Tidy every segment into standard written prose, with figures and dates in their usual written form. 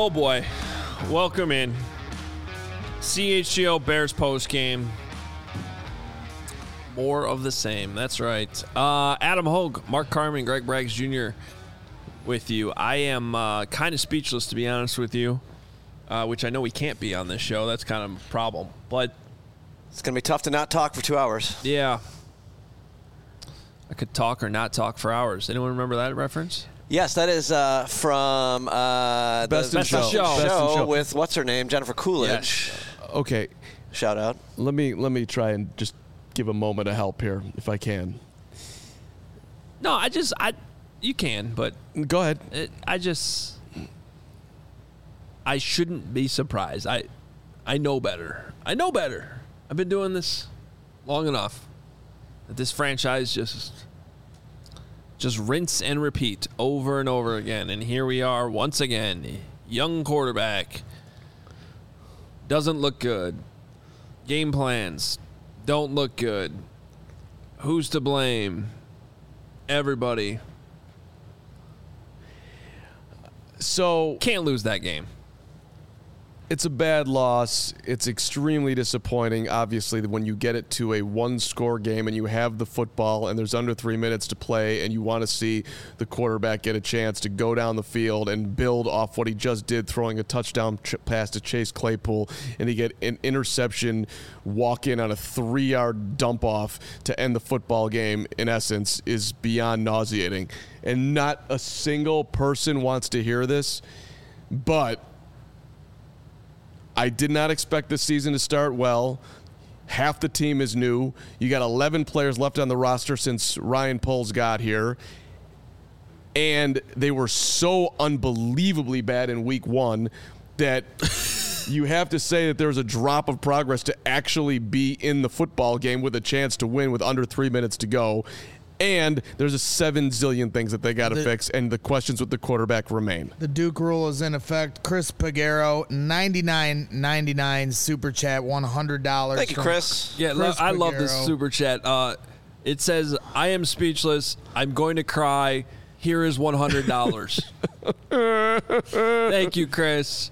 Oh boy, welcome in. CHGO Bears post game. More of the same. That's right. Adam Hogue, Mark Carmen, Greg Braggs Jr. with you. I am kind of speechless, to be honest with you, which I know we can't be on this show. That's kind of a problem. But it's going to be tough to not talk for 2 hours. Yeah. I could talk or not talk for hours. Anyone remember that reference? Yes, that is from Best in Show with what's her name, Jennifer Coolidge. Yes. Okay, shout out. Let me try and just give a moment of help here, if I can. No, you can, but go ahead. I shouldn't be surprised. I know better. I've been doing this long enough that this franchise just rinse and repeat over and over again. And here we are once again. Young quarterback. Doesn't look good. Game plans don't look good. Who's to blame? Everybody. So can't lose that game. It's a bad loss. It's extremely disappointing, obviously, when you get it to a one-score game and you have the football and there's under 3 minutes to play and you want to see the quarterback get a chance to go down the field and build off what he just did, throwing a touchdown pass to Chase Claypool, and he get an interception, walk in on a 3-yard dump-off to end the football game, in essence, is beyond nauseating. And not a single person wants to hear this, but I did not expect this season to start well. Half the team is new. You got 11 players left on the roster since Ryan Poles got here. And they were so unbelievably bad in week one that you have to say that there was a drop of progress to actually be in the football game with a chance to win with under 3 minutes to go. And there's a 7 zillion things that they got to fix, and the questions with the quarterback remain. The Duke rule is in effect. Chris Pagero, $99.99 super chat, $100. Thank you, Chris. Yeah, I love this super chat. It says, "I am speechless. I'm going to cry. Here is $100." Thank you, Chris.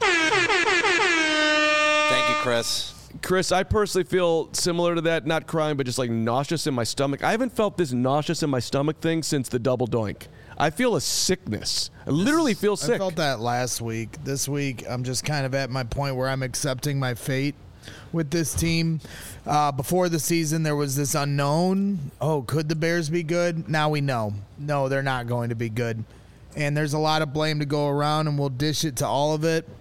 Thank you, Chris. Chris, I personally feel similar to that, not crying, but just like nauseous in my stomach. I haven't felt this nauseous in my stomach thing since the double doink. I feel a sickness. I literally feel sick. I felt that last week. This week, I'm just kind of at my point where I'm accepting my fate with this team. Before the season, there was this unknown. Oh, could the Bears be good? Now we know. No, they're not going to be good. And there's a lot of blame to go around, and we'll dish it to all of it.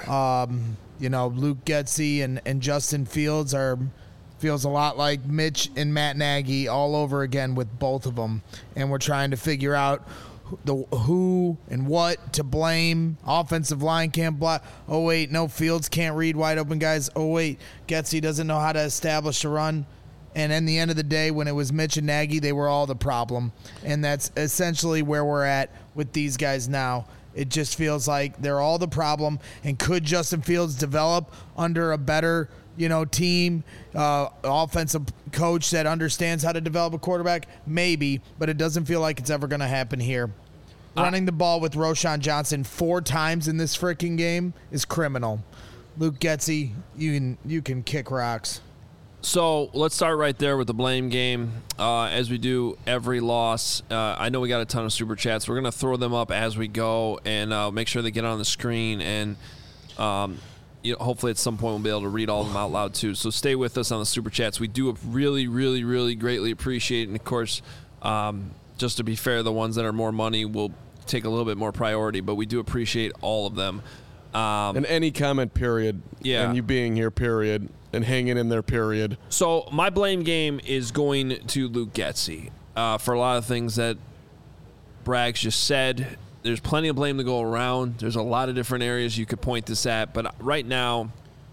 Luke Getsy and Justin Fields feels a lot like Mitch and Matt Nagy all over again with both of them. And we're trying to figure out who and what to blame. Offensive line can't block. Oh, wait, no, Fields can't read wide open guys. Oh, wait, Getsy doesn't know how to establish a run. And in the end of the day, when it was Mitch and Nagy, they were all the problem. And that's essentially where we're at with these guys now. It just feels like they're all the problem. And could Justin Fields develop under a better, team, offensive coach that understands how to develop a quarterback? Maybe, but it doesn't feel like it's ever going to happen here. Running the ball with Roschon Johnson 4 times in this freaking game is criminal. Luke Getsy, you can kick rocks. So let's start right there with the blame game. As we do every loss, I know we got a ton of super chats. We're going to throw them up as we go and make sure they get on the screen. And hopefully at some point we'll be able to read all of them out loud too. So stay with us on the super chats. We do really, really, really greatly appreciate it. And of course, just to be fair, the ones that are more money will take a little bit more priority, but we do appreciate all of them. And any comment, period. Yeah. And you being here, period. And hanging in there, period. So my blame game is going to Luke Getsy for a lot of things that Braggs just said. There's plenty of blame to go around. There's a lot of different areas you could point this at. But right now,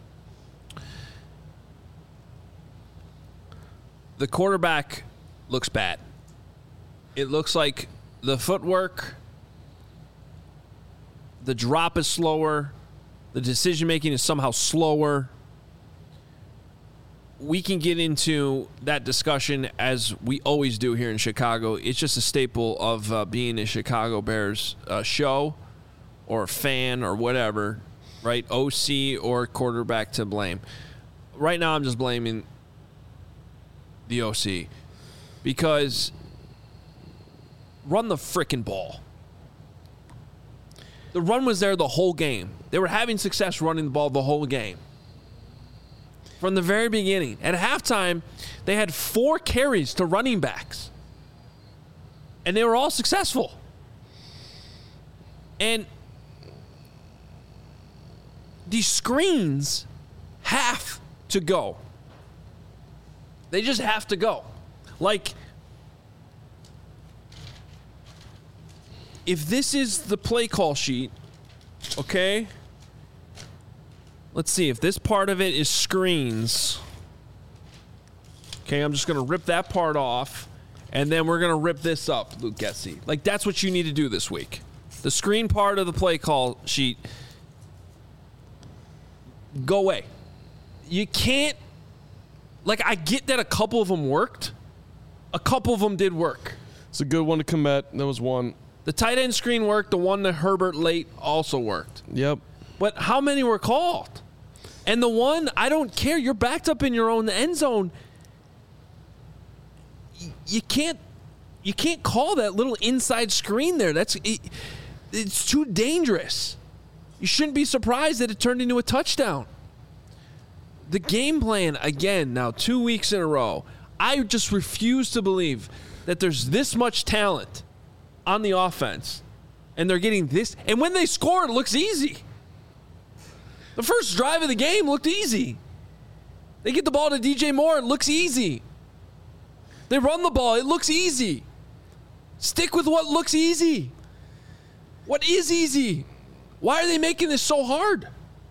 the quarterback looks bad. It looks like the footwork, the drop is slower, the decision-making is somehow slower. We can get into that discussion as we always do here in Chicago. It's just a staple of being a Chicago Bears show. or fan or whatever, right? OC or quarterback to blame. Right now, I'm just blaming the OC because run the frickin' ball. The run was there the whole game. They were having success running the ball the whole game. From the very beginning. At halftime, they had 4 carries to running backs. And they were all successful. And these screens have to go. They just have to go. Like, if this is the play call sheet, okay? Let's see if this part of it is screens. Okay, I'm just going to rip that part off, and then we're going to rip this up, Luke Getsy. Like, that's what you need to do this week. The screen part of the play call sheet, go away. You can't, like, I get that a couple of them worked. A couple of them did work. It's a good one to commit. That was one. The tight end screen worked. The one that Herbert late also worked. Yep. But how many were called? And the one, I don't care. You're backed up in your own end zone. You can't call that little inside screen there. It's too dangerous. You shouldn't be surprised that it turned into a touchdown. The game plan, again, now 2 weeks in a row, I just refuse to believe that there's this much talent on the offense, and they're getting this. And when they score, it looks easy. The first drive of the game looked easy. They get the ball to DJ Moore, it looks easy. They run the ball, it looks easy. Stick with what looks easy. What is easy? Why are they making this so hard?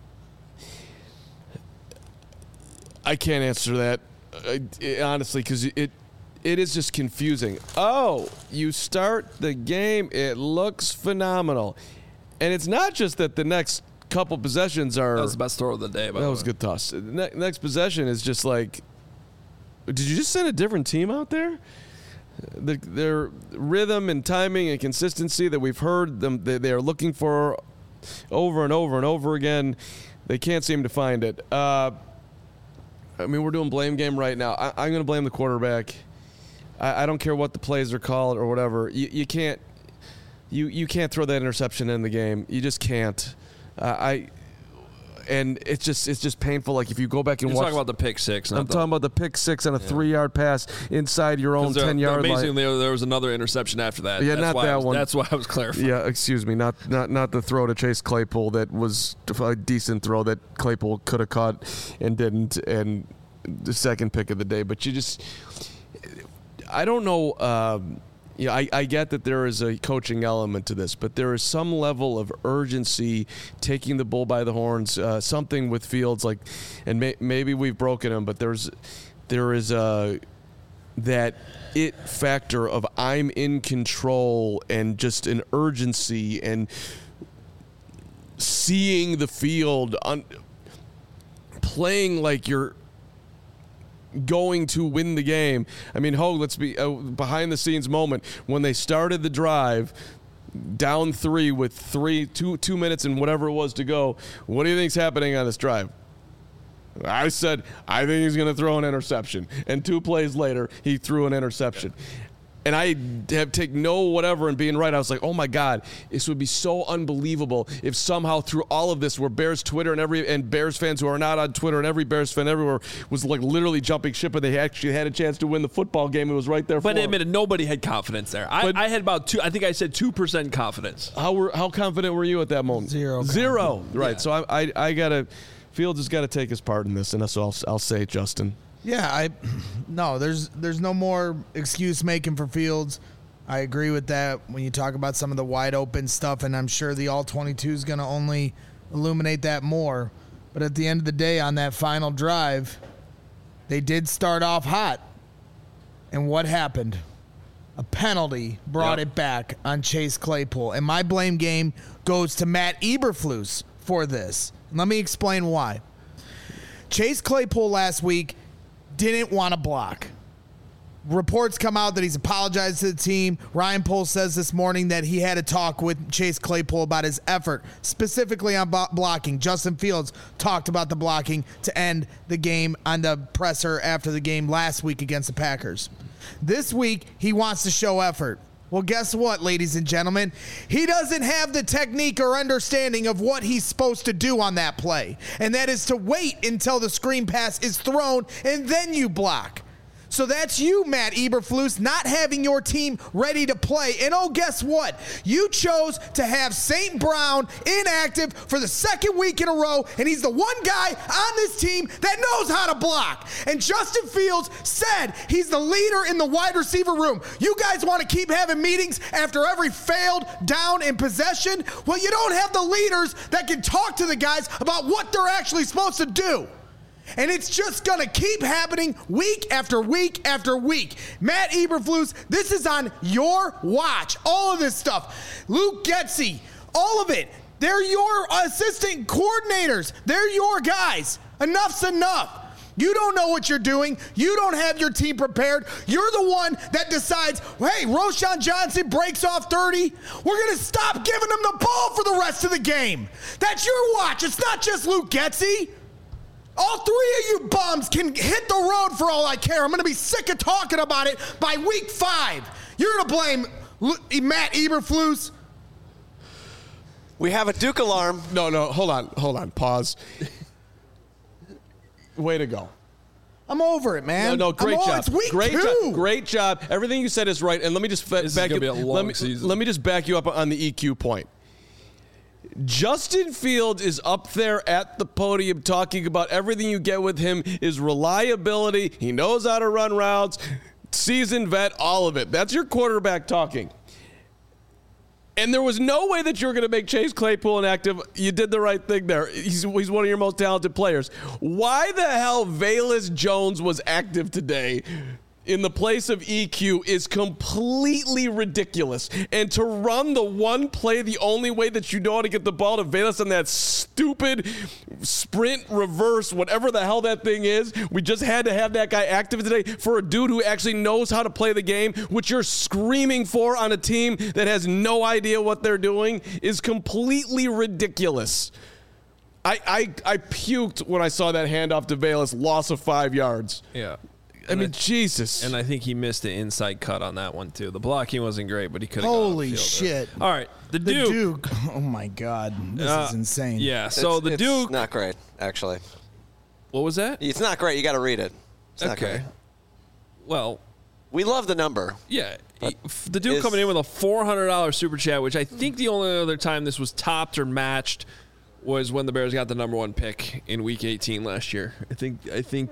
I can't answer that, honestly, because it is just confusing. Oh, you start the game, it looks phenomenal. And it's not just that the next couple possessions are... That was the best throw of the day, by the way. That was a good toss. The next possession is just like, did you just send a different team out there? Their rhythm and timing and consistency that we've heard them they are looking for over and over and over again, they can't seem to find it. I mean, we're doing blame game right now. I'm going to blame the quarterback. I don't care what the plays are called or whatever. You can't throw that interception in the game. You just can't. And it's just painful. Like if you go back and You're watch. talking about the pick six. I'm talking about the pick six on a 3-yard pass inside your own 10-yard line. Amazingly, there was another interception after that. Yeah, not that one. That's why I was clarifying. Yeah, excuse me, not the throw to Chase Claypool that was a decent throw that Claypool could have caught and didn't, and the second pick of the day. But I don't know. I get that there is a coaching element to this, but there is some level of urgency taking the bull by the horns. Something with Fields, like, and maybe we've broken him, but there is that it factor of I'm in control and just an urgency and seeing the field playing like you're going to win the game. I mean, let's be behind the scenes moment when they started the drive down 3 with 2 minutes and whatever it was to go. What do you think's happening on this drive? I said, I think he's going to throw an interception. And 2 plays later, he threw an interception. And I have taken no whatever and being right. I was like, oh my God, this would be so unbelievable if somehow through all of this where Bears Twitter and Bears fans who are not on Twitter and every Bears fan everywhere was like literally jumping ship, but they actually had a chance to win the football game. It was right there for them. But admitted, nobody had confidence there. I had about 2. I think I said 2% confidence. How confident were you at that moment? Zero. Right. Yeah. So I gotta. Fields has got to take his part in this, and that's what I'll say, Justin. Yeah, there's no more excuse making for Fields. I agree with that when you talk about some of the wide open stuff, and I'm sure the All-22 is going to only illuminate that more. But at the end of the day, on that final drive, they did start off hot. And what happened? A penalty brought it back on Chase Claypool. And my blame game goes to Matt Eberflus for this. And let me explain why. Chase Claypool last week didn't want to block. Reports come out that he's apologized to the team. Ryan Poles says this morning that he had a talk with Chase Claypool about his effort, specifically on blocking. Justin Fields talked about the blocking to end the game on the presser after the game last week against the Packers. This week, he wants to show effort. Well, guess what, ladies and gentlemen? He doesn't have the technique or understanding of what he's supposed to do on that play, and that is to wait until the screen pass is thrown and then you block. So that's you, Matt Eberflus, not having your team ready to play. And oh, guess what? You chose to have St. Brown inactive for the second week in a row, and he's the one guy on this team that knows how to block. And Justin Fields said he's the leader in the wide receiver room. You guys want to keep having meetings after every failed down in possession? Well, you don't have the leaders that can talk to the guys about what they're actually supposed to do. And it's just going to keep happening week after week after week. Matt Eberflus, this is on your watch. All of this stuff. Luke Getsy, all of it. They're your assistant coordinators. They're your guys. Enough's enough. You don't know what you're doing. You don't have your team prepared. You're the one that decides, hey, Roschon Johnson breaks off 30. We're going to stop giving him the ball for the rest of the game. That's your watch. It's not just Luke Getsy. All three of you bums can hit the road for all I care. I'm going to be sick of talking about it by week 5. You're going to blame Matt Eberflus. We have a Duke alarm. No, hold on, pause. Way to go. I'm over it, man. No, great job. It's week 2. Great job. Everything you said is right. And let me just back you. Let me just back you up on the EQ point. Justin Fields is up there at the podium talking about everything you get with him is reliability. He knows how to run routes, seasoned vet, all of it. That's your quarterback talking. And there was no way that you were going to make Chase Claypool inactive. You did the right thing there. He's one of your most talented players. Why the hell Velus Jones was active today in the place of EQ is completely ridiculous. And to run the one play, the only way that you know how to get the ball to Velus on that stupid sprint reverse, whatever the hell that thing is, we just had to have that guy active today for a dude who actually knows how to play the game, which you're screaming for on a team that has no idea what they're doing, is completely ridiculous. I puked when I saw that handoff to Velus, loss of 5 yards. Yeah. I mean, Jesus. And I think he missed the inside cut on that one, too. The blocking wasn't great, but he could have Holy shit. All right. The Duke. Oh, my God. This is insane. Yeah, so the Duke. It's not great, actually. What was that? It's not great. You got to read it. It's not great. Well, we love the number. Yeah. The Duke coming in with a $400 super chat, which I think the only other time this was topped or matched was when the Bears got the number 1 pick in Week 18 last year. I think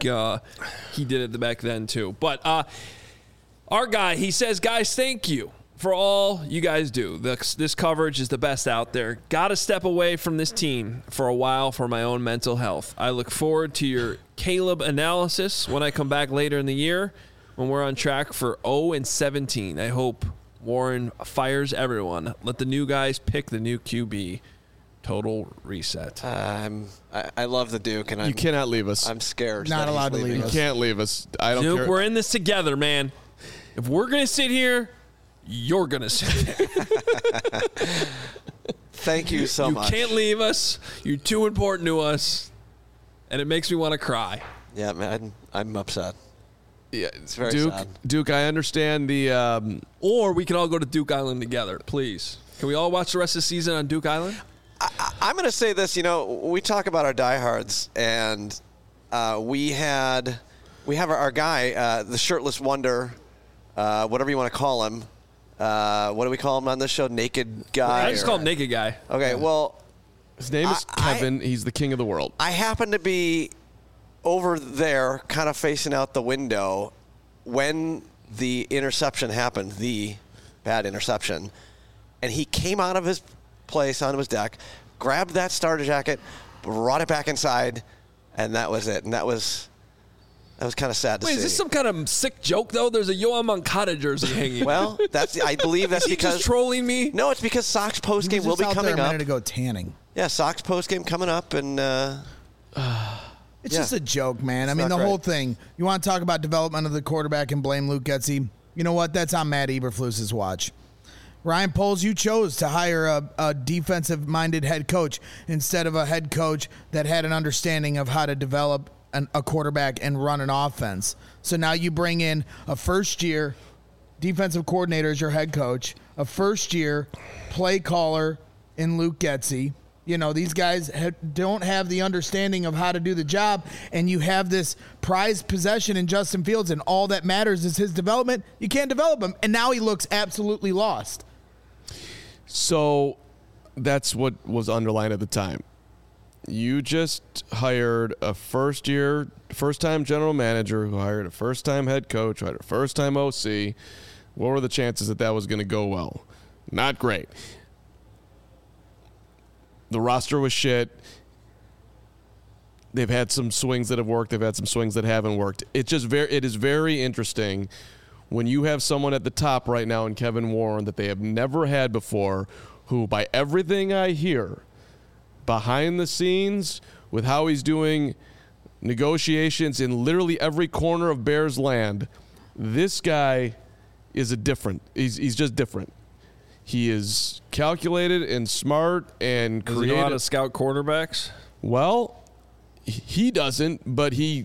he did it back then too. But our guy, he says, guys, thank you for all you guys do. This coverage is the best out there. Got to step away from this team for a while for my own mental health. I look forward to your Caleb analysis when I come back later in the year when we're on track for 0-17. I hope Warren fires everyone. Let the new guys pick the new QB. Total reset. I love the Duke, and you cannot leave us. I'm scared. Not allowed to leave us. You can't leave us. I don't Duke, care. we're in this together, man. If we're gonna sit here, you're gonna sit there. Thank you so much. You can't leave us. You're too important to us, and it makes me want to cry. Yeah, man, I'm upset. Yeah, it's very sad. Duke, I understand the. Or we can all go to Duke Island together, please. Can we all watch the rest of the season on Duke Island? I'm going to say this. You know, we talk about our diehards, and we have our guy, the shirtless wonder, whatever you want to call him. What do we call him on this show? Naked guy? I just call him Naked Guy. Okay, well. His name is Kevin. He's the king of the world. I happen to be over there kind of facing out the window when the interception happened, the bad interception, and he came out of his place onto his deck, grabbed that starter jacket, brought it back inside, and that was it. And that was kind of sad to see. Wait, is this some kind of sick joke, though? There's a Yohan Moncada jersey hanging. Well, I believe that's because... just trolling me? No, it's because Sox postgame will be coming up. A minute ago tanning. Yeah, Sox postgame coming up, and... It's just a joke, man. I mean, not the great. whole thing. You want to talk about development of the quarterback and blame Luke Getsy? You know what? That's on Matt Eberflus's watch. Ryan Poles, you chose to hire a defensive-minded head coach instead of a head coach that had an understanding of how to develop a quarterback and run an offense. So now you bring in a first-year defensive coordinator as your head coach, a first-year play caller in Luke Getsy. You know, these guys don't have the understanding of how to do the job, and you have this prized possession in Justin Fields, and all that matters is his development. You can't develop him, and now he looks absolutely lost. So that's what was underlined at the time. You just hired a first-time general manager who hired a first-time head coach, who hired a first-time OC. What were the chances that was going to go well? Not great. The roster was shit. They've had some swings that have worked. They've had some swings that haven't worked. It is very interesting when you have someone at the top right now in Kevin Warren that they have never had before, who, by everything I hear, behind the scenes with how he's doing negotiations in literally every corner of Bears land, this guy is he's just different. He is calculated and smart and Does creative. he know how to scout quarterbacks? Well, he doesn't, but he...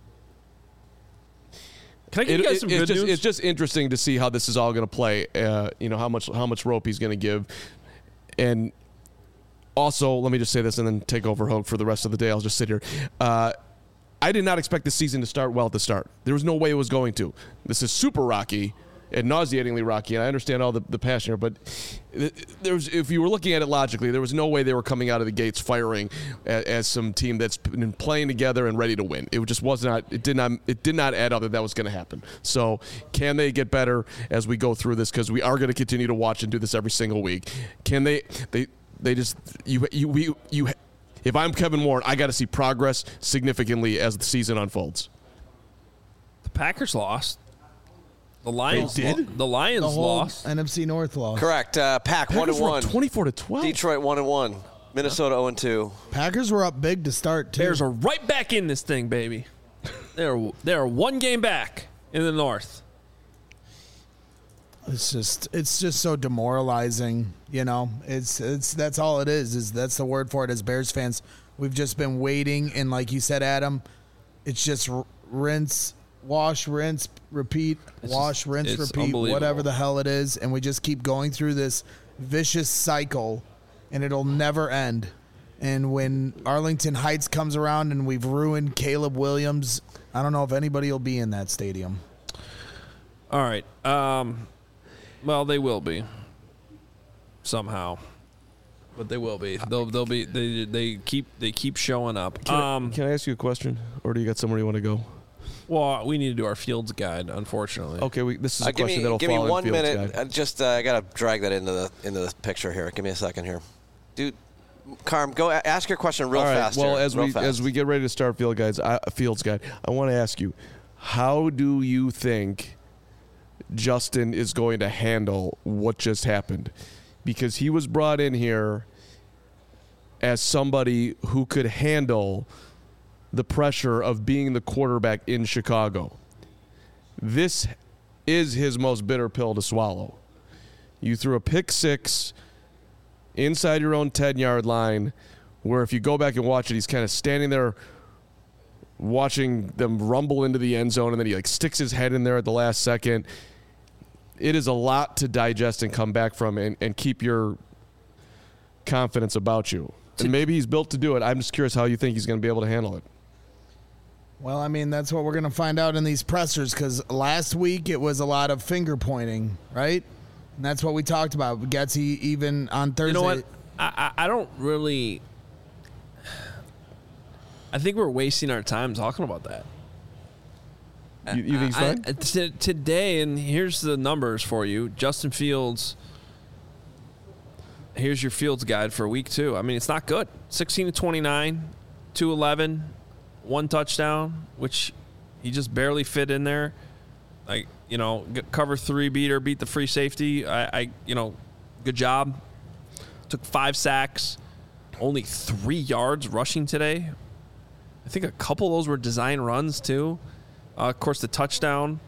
Can I give you guys some good news? It's just interesting to see how this is all going to play. How much rope he's going to give, and also let me just say this and then take over Hogue for the rest of the day. I'll just sit here. I did not expect this season to start well at the start. There was no way it was going to. This is super rocky and nauseatingly rocky, and I understand all the passion here, but if you were looking at it logically, there was no way they were coming out of the gates firing as some team that's been playing together and ready to win. It just was not. It did not add up that was going to happen. So can they get better as we go through this? Because we are going to continue to watch and do this every single week. Can they just if I'm Kevin Warren, I got to see progress significantly as the season unfolds. The Packers lost. The Lions did? The Lions The whole lost. NFC North lost. Correct. Pack 1-1. 24-12. Detroit 1-1. Minnesota 0-2. Packers were up big to start, too. Bears are right back in this thing, baby. They're one game back in the North. It's just so demoralizing, you know. It's that's all it is that's the word for it as Bears fans. We've just been waiting, and like you said, Adam, it's just rinse, wash, rinse, repeat, wash, rinse, it's repeat, whatever the hell it is, and we just keep going through this vicious cycle, and it'll never end. And when Arlington Heights comes around and we've ruined Caleb Williams, I don't know if anybody will be in that stadium. All right. Well, they will be somehow, but they will be. They'll be. They keep showing up. Can I ask you a question, or do you got somewhere you want to go? Well, we need to do our Fields guide, unfortunately. Okay, this is a question that'll give me fall 1 in Fields minute. guide. I gotta drag that into the picture here. Give me a second here, dude. Carm, go ask your question real All right. fast. Well, here, as we get ready to start Fields guide, I want to ask you, how do you think Justin is going to handle what just happened? Because he was brought in here as somebody who could handle the pressure of being the quarterback in Chicago. This is his most bitter pill to swallow. You threw a pick six inside your own 10-yard line, where if you go back and watch it, he's kind of standing there watching them rumble into the end zone, and then he sticks his head in there at the last second. It is a lot to digest and come back from and keep your confidence about you. And maybe he's built to do it. I'm just curious how you think he's going to be able to handle it. Well, I mean, that's what we're going to find out in these pressers, because last week it was a lot of finger pointing, right? And that's what we talked about. Getsy even on Thursday. You know what? I don't really. I think we're wasting our time talking about that. You think he's fine? Today, and here's the numbers for you. Justin Fields. Here's your Fields guide for week 2. I mean, it's not good. 16-29, 211, 1 touchdown, which he just barely fit in there. Cover 3 beat the free safety. Good job. Took 5 sacks, only 3 yards rushing today. I think a couple of those were design runs too. Of course, the touchdown.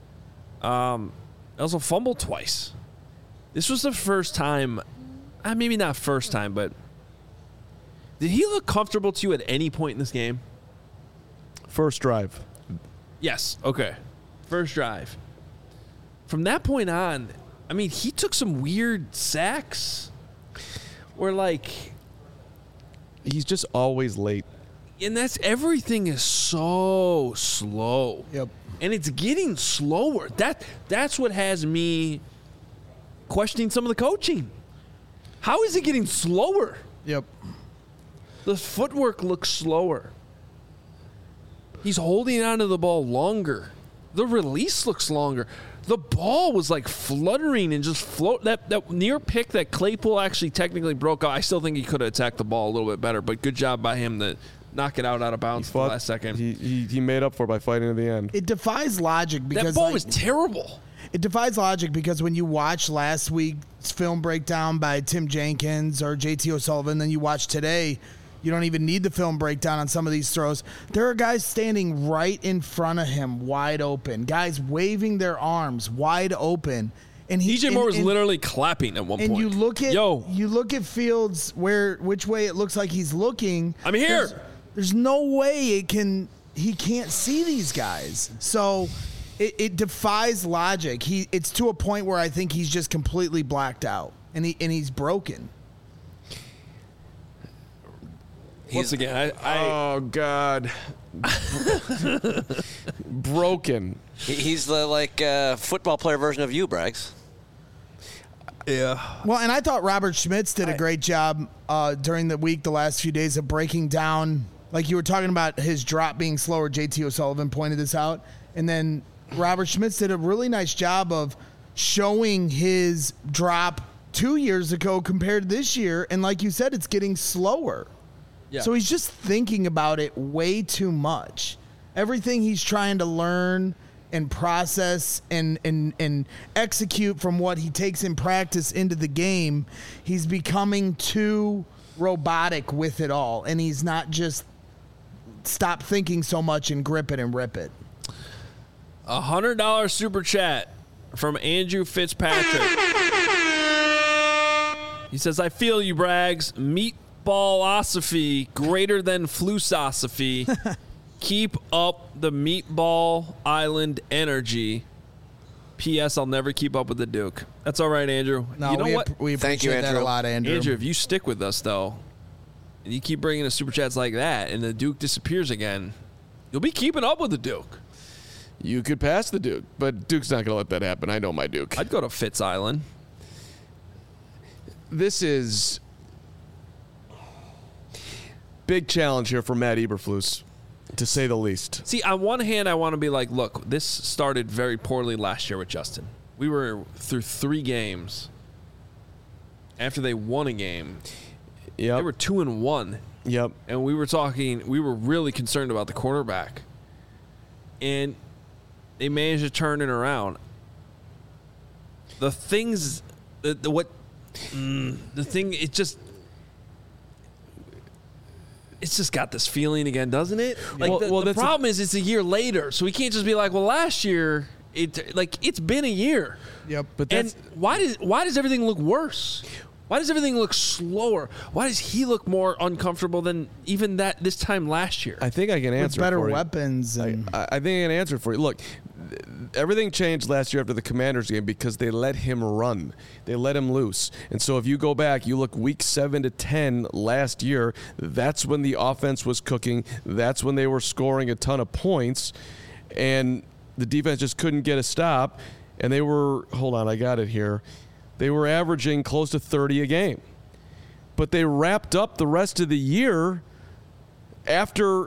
Also fumbled twice. This was the first time, maybe not first time, but did he look comfortable to you at any point in this game? First drive. Yes. Okay. First drive. From that point on, I mean, he took some weird sacks where, like, he's just always late. And everything is so slow. Yep. And it's getting slower. That's what has me questioning some of the coaching. How is it getting slower? Yep. The footwork looks slower. He's holding onto the ball longer. The release looks longer. The ball was like fluttering and just float. That near pick that Claypool actually technically broke out. I still think he could have attacked the ball a little bit better, but good job by him to knock it out of bounds at the last second. He made up for it by fighting to the end. It defies logic because that ball was terrible. It defies logic because when you watch last week's film breakdown by Tim Jenkins or JT O'Sullivan, then you watch today, you don't even need the film breakdown on some of these throws. There are guys standing right in front of him, wide open. Guys waving their arms, wide open. And DJ Moore was literally clapping at one point. And you look at Fields which way it looks like he's looking. I'm here. There's no way he can't see these guys. So it defies logic. It's to a point where I think he's just completely blacked out and he's broken. Once again, oh God, broken. He's the football player version of you, Braggs. Yeah. Well, and I thought Robert Schmitz did a great job during the week, the last few days, of breaking down. Like you were talking about his drop being slower. JT O'Sullivan pointed this out, and then Robert Schmitz did a really nice job of showing his drop 2 years ago compared to this year. And like you said, it's getting slower. Yeah. So he's just thinking about it way too much. Everything he's trying to learn and process and execute from what he takes in practice into the game, he's becoming too robotic with it all. And he's not just stop thinking so much and grip it and rip it. $100 super chat from Andrew Fitzpatrick. He says, I feel you, Braggs. Meatballosophy greater than flusosophy. Keep up the Meatball Island energy. P.S. I'll never keep up with the Duke. That's all right, Andrew. No, you know what? We appreciate Thank you, that Andrew. a lot, Andrew. Andrew, if you stick with us, though, and you keep bringing us super chats like that, and the Duke disappears again, you'll be keeping up with the Duke. You could pass the Duke, but Duke's not going to let that happen. I know my Duke. I'd go to Fitz Island. This is big challenge here for Matt Eberflus, to say the least. See, on one hand, I want to be like, look, this started very poorly last year with Justin. We were through 3 games. After they won a game, they were 2-1. Yep. And we were really concerned about the quarterback. And they managed to turn it around. The things, it's just got this feeling again, doesn't it? Like the problem is it's a year later, so we can't just be like, well, last year it's been a year. Yep. But why does everything look worse? Why does everything look slower? Why does he look more uncomfortable than even this time last year? I think I can answer with better for you. weapons. And I think I can answer for you. Look, everything changed last year after the Commanders game because they let him run. They let him loose. And so if you go back, you look week 7 to 10 last year, that's when the offense was cooking. That's when they were scoring a ton of points. And the defense just couldn't get a stop. And they were, hold on, I got it here. They were averaging close to 30 a game. But they wrapped up the rest of the year after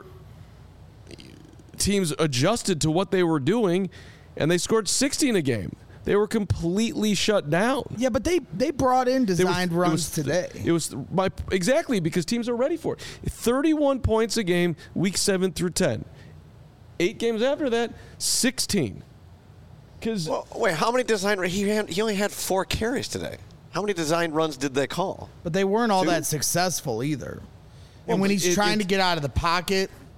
teams adjusted to what they were doing, and they scored 16 a game. They were completely shut down. Yeah, but they brought in designed runs today. It was exactly because teams are ready for it. 31 points a game, week 7 through 10. 8 games after that, 16. Wait, how many design? He only had 4 carries today. How many design runs did they call? But they weren't all 2? that successful either. Well, and when he's trying to get out of the pocket,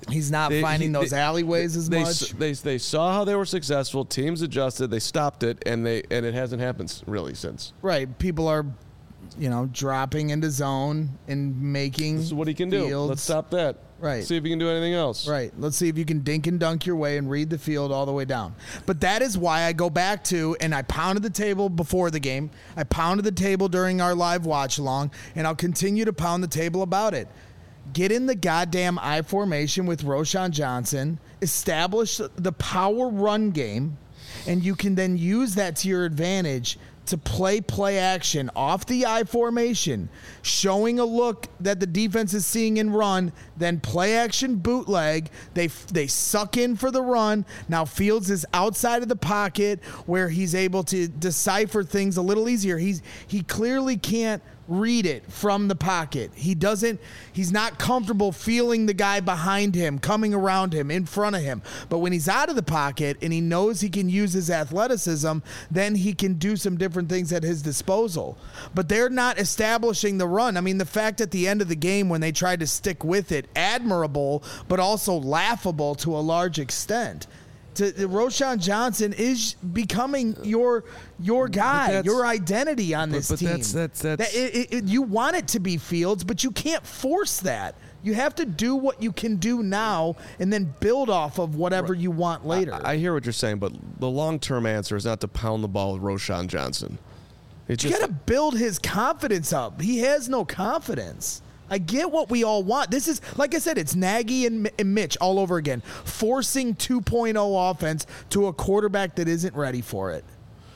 He's not finding those alleyways as much. They saw how they were successful. Teams adjusted. They stopped it, and it hasn't happened really since. Right. People are, dropping into zone and making. This is what he can do. Let's stop that. Right. See if he can do anything else. Right. Let's see if you can dink and dunk your way and read the field all the way down. But that is why I go back to, and I pounded the table before the game. I pounded the table during our live watch along, and I'll continue to pound the table about it. Get in the goddamn I formation with Roschon Johnson, establish the power run game, and you can then use that to your advantage to play action off the I formation, showing a look that the defense is seeing in run, then play action bootleg. They suck in for the run. Now Fields is outside of the pocket where he's able to decipher things a little easier. He clearly can't read it from the pocket. He's not comfortable feeling the guy behind him, coming around him, in front of him. But when he's out of the pocket and he knows he can use his athleticism, then he can do some different things at his disposal. But they're not establishing the run. I mean, the fact at the end of the game when they tried to stick with it, admirable, but also laughable to a large extent. Roschon Johnson is becoming your guy, your identity on this team. You want it to be Fields, but you can't force that. You have to do what you can do now and then build off of whatever you want later. I hear what you're saying, but the long-term answer is not to pound the ball with Roschon Johnson. You got to build his confidence up. He has no confidence. I get what we all want. This is, like I said, it's Nagy and Mitch all over again, forcing 2.0 offense to a quarterback that isn't ready for it.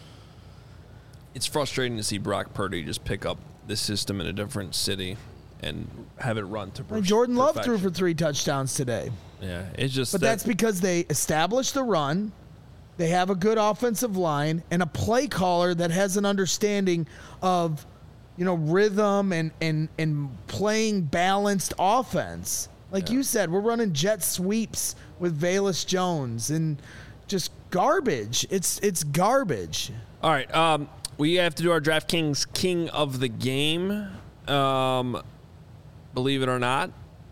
It's frustrating to see Brock Purdy just pick up this system in a different city and have it run to perfection. Jordan Love threw for 3 touchdowns today. Yeah, it's just. But that's because they established the run. They have a good offensive line and a play caller that has an understanding of, rhythm and playing balanced offense. Like you said, we're running jet sweeps with Velus Jones and just garbage. It's garbage. All right. We have to do our DraftKings King of the Game. Believe it or not,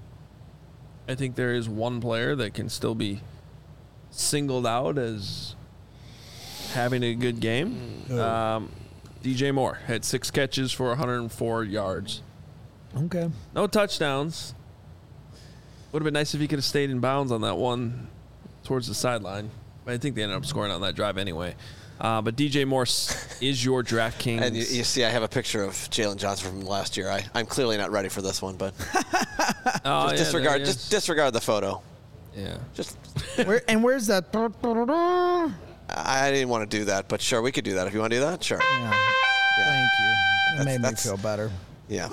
I think there is one player that can still be singled out as having a good game. DJ Moore had 6 catches for 104 yards. Okay. No touchdowns. Would have been nice if he could have stayed in bounds on that one towards the sideline. But I think they ended up scoring on that drive anyway. But DJ Moore is your DraftKings. And you see I have a picture of Jalen Johnson from last year. I'm clearly not ready for this one, but just disregard the photo. Yeah. Just where's that? I didn't want to do that, but sure, we could do that. If you want to do that, sure. Yeah. Thank you. That made me feel better. Yeah.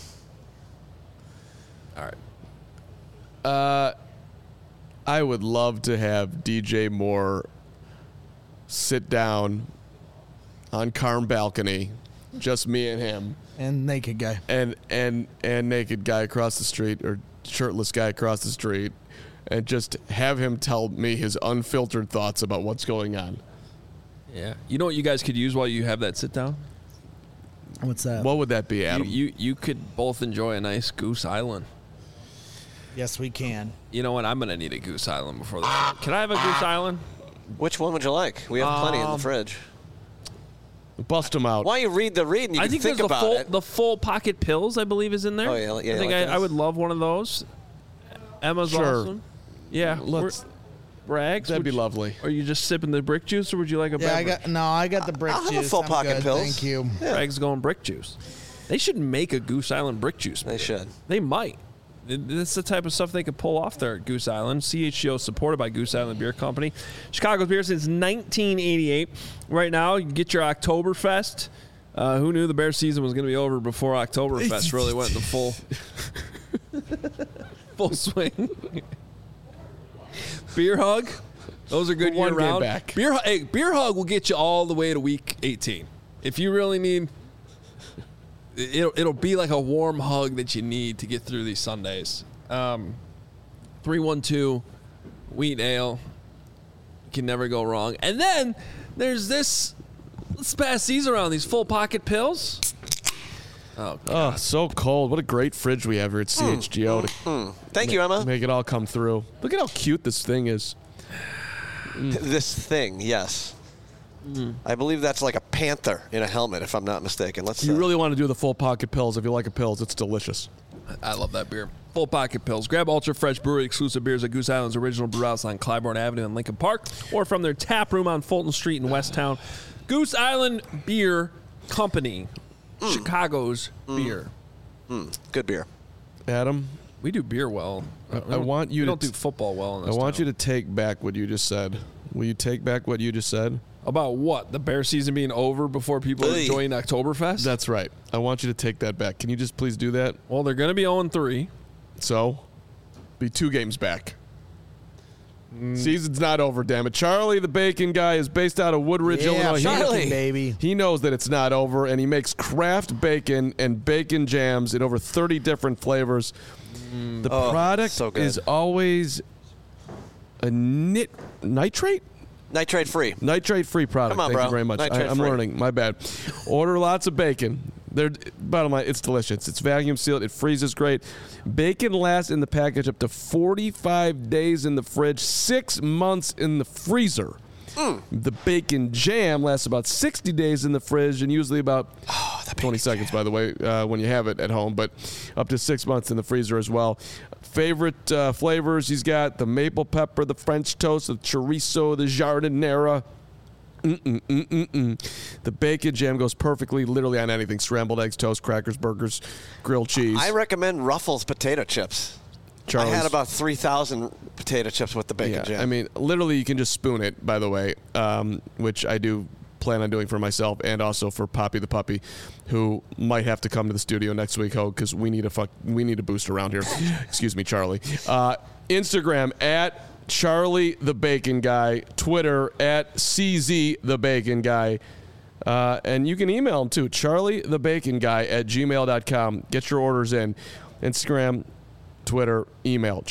All right. I would love to have DJ Moore sit down on Carm balcony, just me and him, and naked guy, and naked guy across the street, or shirtless guy across the street, and just have him tell me his unfiltered thoughts about what's going on. Yeah. You know what you guys could use while you have that sit down? What's that? What would that be, Adam? You could both enjoy a nice Goose Island. Yes, we can. You know what? I'm going to need a Goose Island before the show. Can I have a Goose Island? Which one would you like? We have plenty in the fridge. Bust them out. Why don't you read the read and you can think about it? The full pocket pills, I believe, is in there. Oh, yeah. I think I would love one of those. Emma's awesome. Yeah. Brags. That'd be lovely. Are you just sipping the brick juice, or would you like a beverage? I got the brick I'll juice. have a full pocket good. pills. Thank you. Yeah. Bragg's going brick juice. They should make a Goose Island brick juice. They should. They might. That's the type of stuff they could pull off there at Goose Island. CHGO supported by Goose Island Beer Company. Chicago's beer since 1988. Right now, you can get your Oktoberfest. Who knew the bear season was going to be over before Oktoberfest really went into full swing? Beer Hug. Those are good year round. Beer Hug will get you all the way to week 18. If you really need, it'll be like a warm hug that you need to get through these Sundays. 312 Wheat Ale. You can never go wrong. And then there's this. Let's pass these around. These full pocket pills. Oh, Oh, so cold. What a great fridge we have here at CHGO to Thank you, Emma. make it all come through. Look at how cute this thing is. This thing, yes. I believe that's like a panther in a helmet, if I'm not mistaken. Let's. You really want to do the full pocket pills. If you like a pills, it's delicious. I love that beer. Full Pocket Pills. Grab Ultra Fresh Brewery exclusive beers at Goose Island's original brew house on Clybourne Avenue in Lincoln Park, or from their tap room on Fulton Street in Westtown. Goose Island Beer Company, Chicago's beer. Good beer. Adam, We do beer well. I want you we to don't do football well in I this want town. you to take back what you just said. Will you take back what you just said? About what? The bear season being over before people are Hey. enjoying Oktoberfest? That's right. I want you to take that back. Can you just please do that? Well, they're going to be 0-3. So, be 2 games back. Season's not over, damn it. Charlie, the bacon guy, is based out of Woodridge, Yeah, Illinois. Charlie. baby. He knows that it's not over, and he makes craft bacon and bacon jams in over 30 different flavors. The product so good. is always a nitrate? Nitrate-free. Nitrate-free product. Come on, Thank bro. you very much. I'm Nitrate-free. learning. My bad. Order lots of bacon. Bottom line, it's delicious. It's vacuum sealed. It freezes great. Bacon lasts in the package up to 45 days in the fridge, 6 months in the freezer. The bacon jam lasts about 60 days in the fridge and usually about 20 seconds, by the way, when you have it at home, but up to 6 months in the freezer as well. Favorite flavors, he's got the maple pepper, the French toast, the chorizo, the jardinera. The bacon jam goes perfectly literally on anything. Scrambled eggs, toast, crackers, burgers, grilled cheese. I recommend Ruffles potato chips. Charlie's. I had about 3,000 potato chips with the bacon jam. I mean, literally, you can just spoon it, by the way, which I do plan on doing for myself and also for Poppy the puppy, who might have to come to the studio next week, because we need a boost around here. Excuse me, Charlie. Instagram at Charlie the Bacon Guy, Twitter at CZ the Bacon Guy. And you can email him too, charliethebaconguy@gmail.com. Get your orders in. Instagram, Twitter, email,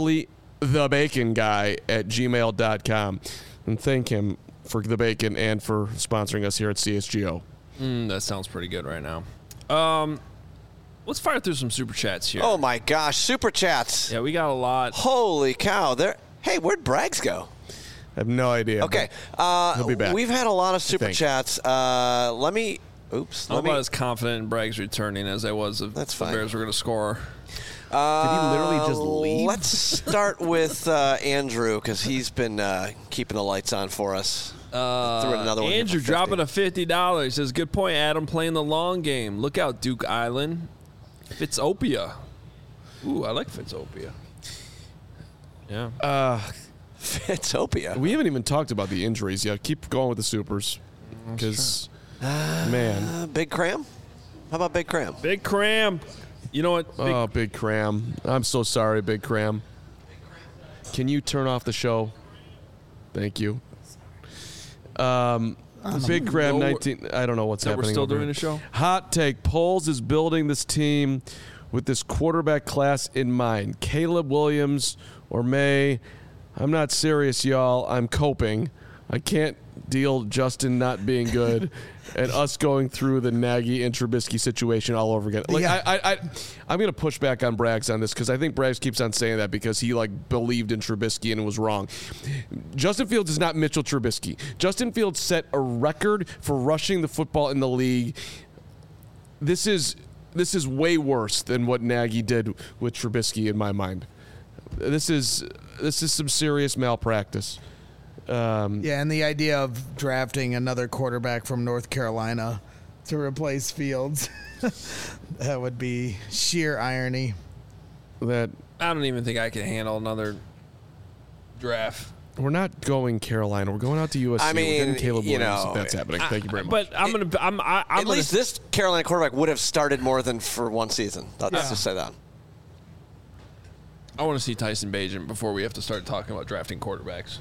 charliethebaconguy@gmail.com. And thank him for the bacon and for sponsoring us here at CSGO. That sounds pretty good right now. Let's fire through some super chats here. Oh my gosh, super chats. Yeah, we got a lot. Holy cow. Hey, where'd Braggs go? I have no idea. Okay. He'll be back. We've had a lot of super think. chats. Let me. Oops. I'm Let me. not as confident in Bragg's returning as I was if That's the fine. Bears were going to score. Did he literally just leave? Let's start with Andrew, because he's been keeping the lights on for us. Threw in another one here Andrew for 50. dropping a $50. Says, good point, Adam, playing the long game. Look out, Duke Island. Fitzopia. Ooh, I like Fitzopia. Yeah. Fitzopia. We haven't even talked about the injuries yet. Keep going with the supers. Because, man. Big Cram? How about Big Cram? Big Cram. You know what? Oh, Big Cram. I'm so sorry, Big Cram. Can you turn off the show? Thank you. Big Cram 19. I don't know what's happening. We're still over doing here. a show? Hot take. Poles is building this team with this quarterback class in mind. Caleb Williams or May. I'm not serious, y'all. I'm coping. I can't deal Justin not being good and us going through the Nagy and Trubisky situation all over again. Like, Yeah. I'm going to push back on Braggs on this because I think Braggs keeps on saying that because he believed in Trubisky and it was wrong. Justin Fields is not Mitchell Trubisky. Justin Fields set a record for rushing the football in the league. This is way worse than what Nagy did with Trubisky in my mind. This is some serious malpractice. Yeah, and the idea of drafting another quarterback from North Carolina to replace Fields, that would be sheer irony. That I don't even think I can handle another draft. we're not going Carolina. We're going out to USC. I We're getting mean, Caleb you Williams. know, If that's happening. Thank you very much. But I'm gonna. I'm At gonna, least this Carolina quarterback would have started more than for one season. Let's just say that. I want to see Tyson Bagent before we have to start talking about drafting quarterbacks.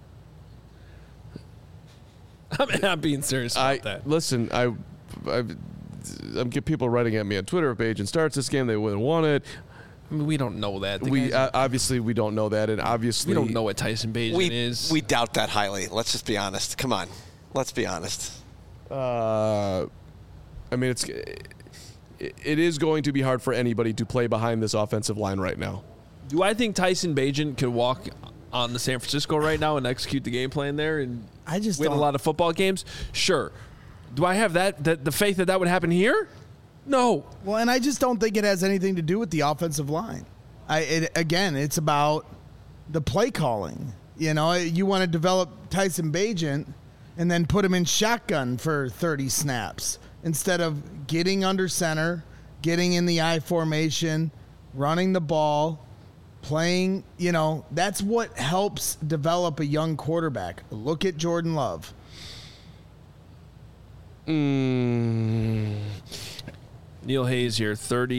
I'm being serious about that. Listen. I'm get people writing at me on Twitter. If Agent starts this game, they wouldn't want it. I mean, we don't know that. The We guy's- obviously we don't know that, and obviously we don't know what Tyson Bagent is. We doubt that highly. Let's just be honest. Come on. Let's be honest. I mean, it is going to be hard for anybody to play behind this offensive line right now. Do I think Tyson Bagent could walk on the San Francisco right now and execute the game plan there and I just win a don't- lot of football games? Sure. Do I have the faith that would happen here? No. Well, and I just don't think it has anything to do with the offensive line. Again, it's about the play calling. You know, you want to develop Tyson Bagent and then put him in shotgun for 30 snaps instead of getting under center, getting in the I formation, running the ball, playing. You know, that's what helps develop a young quarterback. Look at Jordan Love. Neil Hayes here,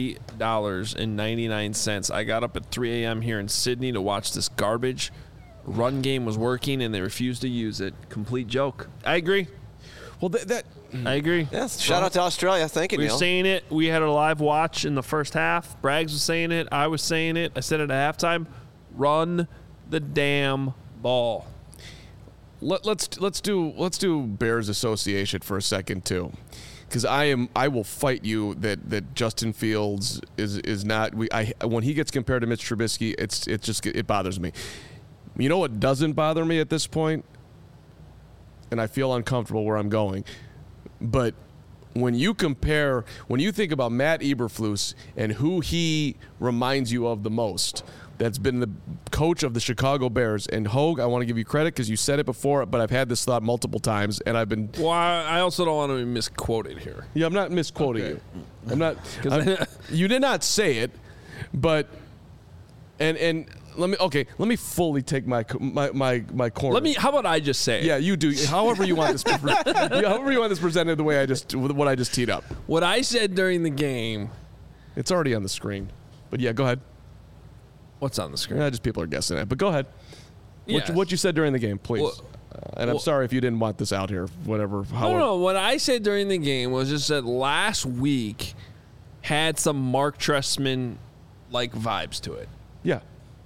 $30.99. I got up at 3 a.m. here in Sydney to watch this garbage. Run game was working, and they refused to use it. Complete joke. I agree. Well, I agree. Yes. Shout out to Australia. Thank you, We were Neil. saying it. We had a live watch in the first half. Braggs was saying it. I was saying it. I said it at halftime. Run the damn ball. let's do Bears Association for a second too, because I will fight you that Justin Fields is not. When he gets compared to Mitch Trubisky, it bothers me. You know what doesn't bother me at this point, and I feel uncomfortable where I'm going, but when you think about Matt Eberflus and who he reminds you of the most, that's been the coach of the Chicago Bears. And Hogue, I want to give you credit because you said it before, but I've had this thought multiple times, and I've been. Well, I also don't want to be misquoted here. Yeah, I'm not misquoting Okay. you. I'm not. You did not say it, but and let me fully take my corner. How about I just say it? Yeah, you do. However you want this. However you want this presented, the way what I just teed up. What I said during the game. It's already on the screen, but yeah, go ahead. What's on the screen? Yeah, just people are guessing it, but go ahead. Yes. What you said during the game, please. Well, and I'm sorry if you didn't want this out here. Whatever. No. What I said during the game was just that last week had some Mark Trestman like vibes to it. Yeah.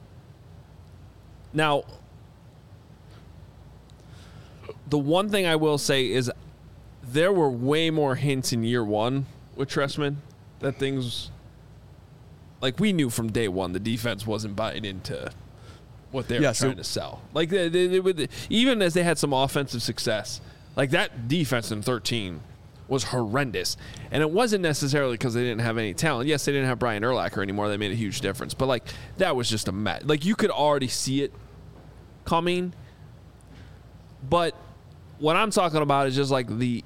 Now, the one thing I will say is there were way more hints in year one with Trestman that things, like we knew from day one, the defense wasn't buying into what they were trying to sell. Like they would, even as they had some offensive success, like that defense in 13 was horrendous. And it wasn't necessarily because they didn't have any talent. Yes, they didn't have Brian Urlacher anymore. That made a huge difference. But like that was just a mess. Like you could already see it coming. But what I'm talking about is just like I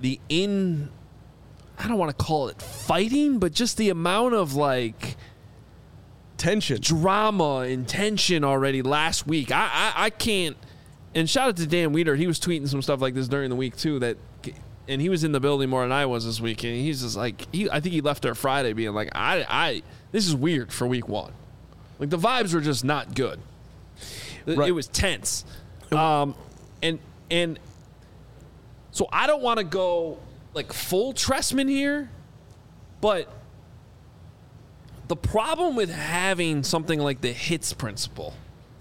don't want to call it fighting, but just the amount of like tension, drama and tension already last week. I can't. And shout out to Dan Weeder. He was tweeting some stuff like this during the week too. And he was in the building more than I was this week. And he's just like, I think he left there Friday being like, this is weird for week one. Like the vibes were just not good. Right. It was tense. And so I don't want to go like full Trestman here, but the problem with having something like the hits principle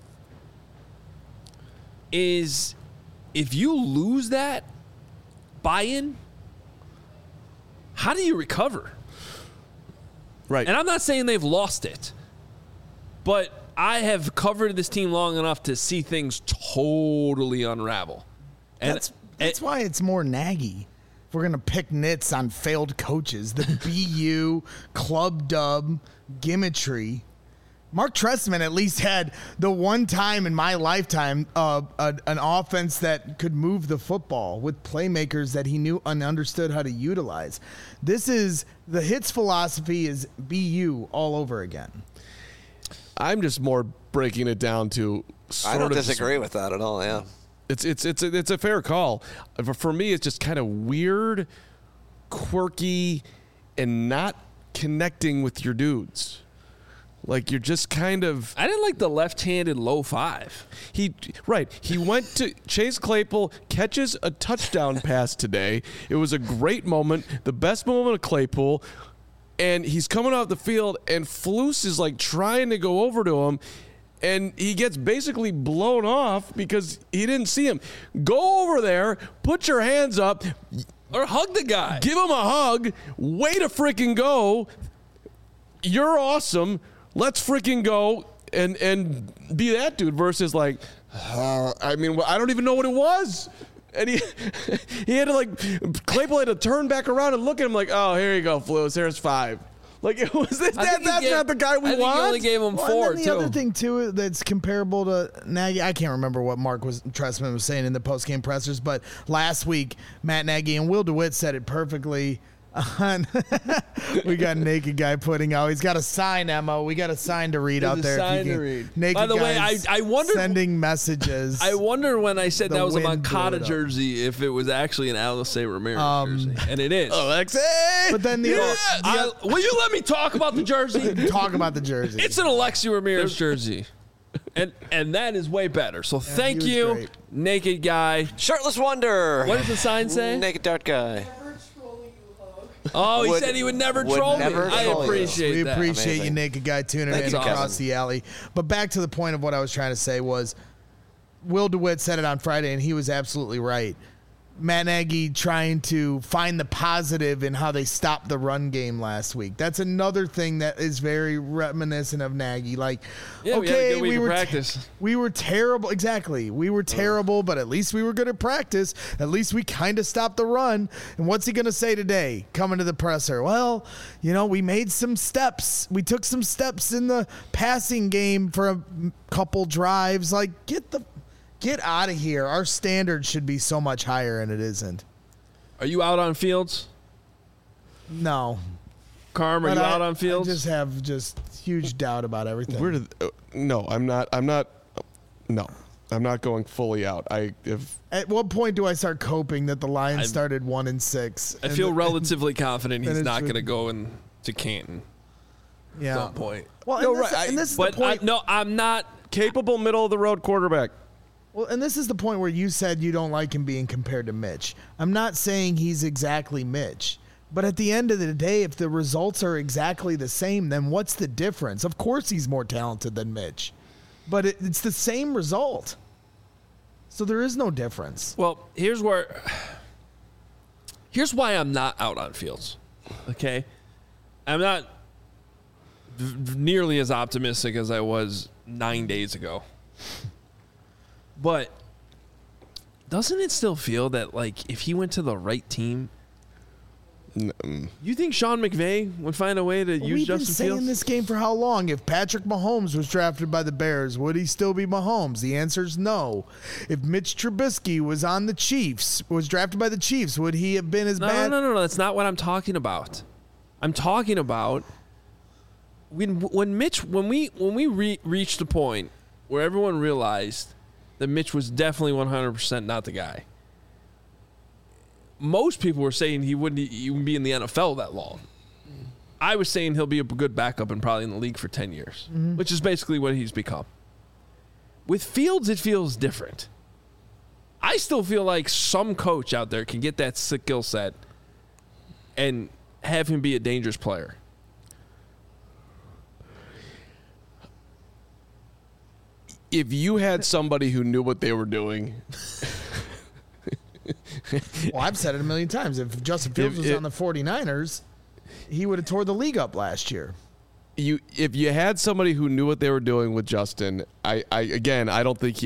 is if you lose that buy-in, how do you recover? Right. And I'm not saying they've lost it, but I have covered this team long enough to see things totally unravel. And That's why it's more Nagy. If we're going to pick nits on failed coaches, the BU, club dub, gimmickry. Mark Trestman at least had the one time in my lifetime an offense that could move the football with playmakers that he knew and understood how to utilize. The hits philosophy is BU all over again. I'm just more breaking it down to I don't disagree with that at all, yeah. It's a fair call. For me, it's just kind of weird, quirky, and not connecting with your dudes. Like you're just kind of. I didn't like the left-handed low five. He went to Chase Claypool, catches a touchdown pass today. It was a great moment, the best moment of Claypool, and he's coming off the field, and Flus is like trying to go over to him. And he gets basically blown off because he didn't see him. Go over there, put your hands up, Or hug the guy. Give him a hug. Way to freaking go. You're awesome. Let's freaking go and be that dude versus like, I don't even know what it was. And he had to like, Claypool had to turn back around and look at him like, oh, here you go, Flus. Here's 5. Like, it was that's not the guy we want. I think he only gave him 4, and then the other thing, too, that's comparable to Nagy, I can't remember what Trestman was saying in the post-game pressers, but last week, Matt Nagy and Will DeWitt said it perfectly. We got a naked guy putting out. He's got a sign, Emma. We got a sign to read out there. Sign to read. Naked By the way, guys I wonder sending messages. I wonder when I said The that was a wind blew Moncada it up. jersey if it was actually an Alexei Ramirez jersey, and it is. Alexei! But then Will you let me talk about the jersey? talk about the jersey. It's an Alexei Ramirez jersey, and that is way better. So thank he was you, great. naked guy. Shirtless Wonder. What does the sign say? Naked Dart Guy. Oh, he Would- said he would never would troll me. never I troll you. appreciate We that. appreciate you, Amazing. naked guy, tuning Thank in you, across Kevin. the alley. But back to the point of what I was trying to say was, Will DeWitt said it on Friday, and he was absolutely right. Matt Nagy trying to find the positive in how they stopped the run game last week. That's another thing that is very reminiscent of Nagy. Like, Yeah, we had a okay, good week we of were practice. we were terrible. Exactly, we were terrible, but at least we were good at practice. At least we kind of stopped the run. And what's he going to say today? Coming to the presser. Well, we made some steps. We took some steps in the passing game for a couple drives. Like, Get out of here. Our standard should be so much higher, and it isn't. Are you out on Fields? No. Carm, are But you out on Fields? I just have huge doubt about everything. No, I'm not. No, I'm not going fully out. At what point do I start coping that the Lions started 1-6? I feel relatively confident he's it's not with- going to go to Canton yeah. at some point. Well, No, and this, right, and this is the But point. I'm not. Capable middle of the road quarterback. Well, and this is the point where you said you don't like him being compared to Mitch. I'm not saying he's exactly Mitch. But at the end of the day, if the results are exactly the same, then what's the difference? Of course he's more talented than Mitch. But it's the same result. So there is no difference. Well, here's why I'm not out on Fields. Okay, I'm not nearly as optimistic as I was 9 days ago. But doesn't it still feel that, like, if he went to the right team, you think Sean McVay would find a way to use We've been Justin saying Fields? this game for how long? If Patrick Mahomes was drafted by the Bears, would he still be Mahomes? The answer is no. If Mitch Trubisky was drafted by the Chiefs, would he have been as bad? No. That's not what I'm talking about. I'm talking about when we reached the point where everyone realized that Mitch was definitely 100% not the guy. Most people were saying he wouldn't even be in the NFL that long. I was saying he'll be a good backup and probably in the league for 10 years, which is basically what he's become. With Fields, it feels different. I still feel like some coach out there can get that skill set and have him be a dangerous player. If you had somebody who knew what they were doing, Well, I've said it a million times. If Justin Fields was on the 49ers, he would have tore the league up last year. if you had somebody who knew what they were doing with Justin, I just think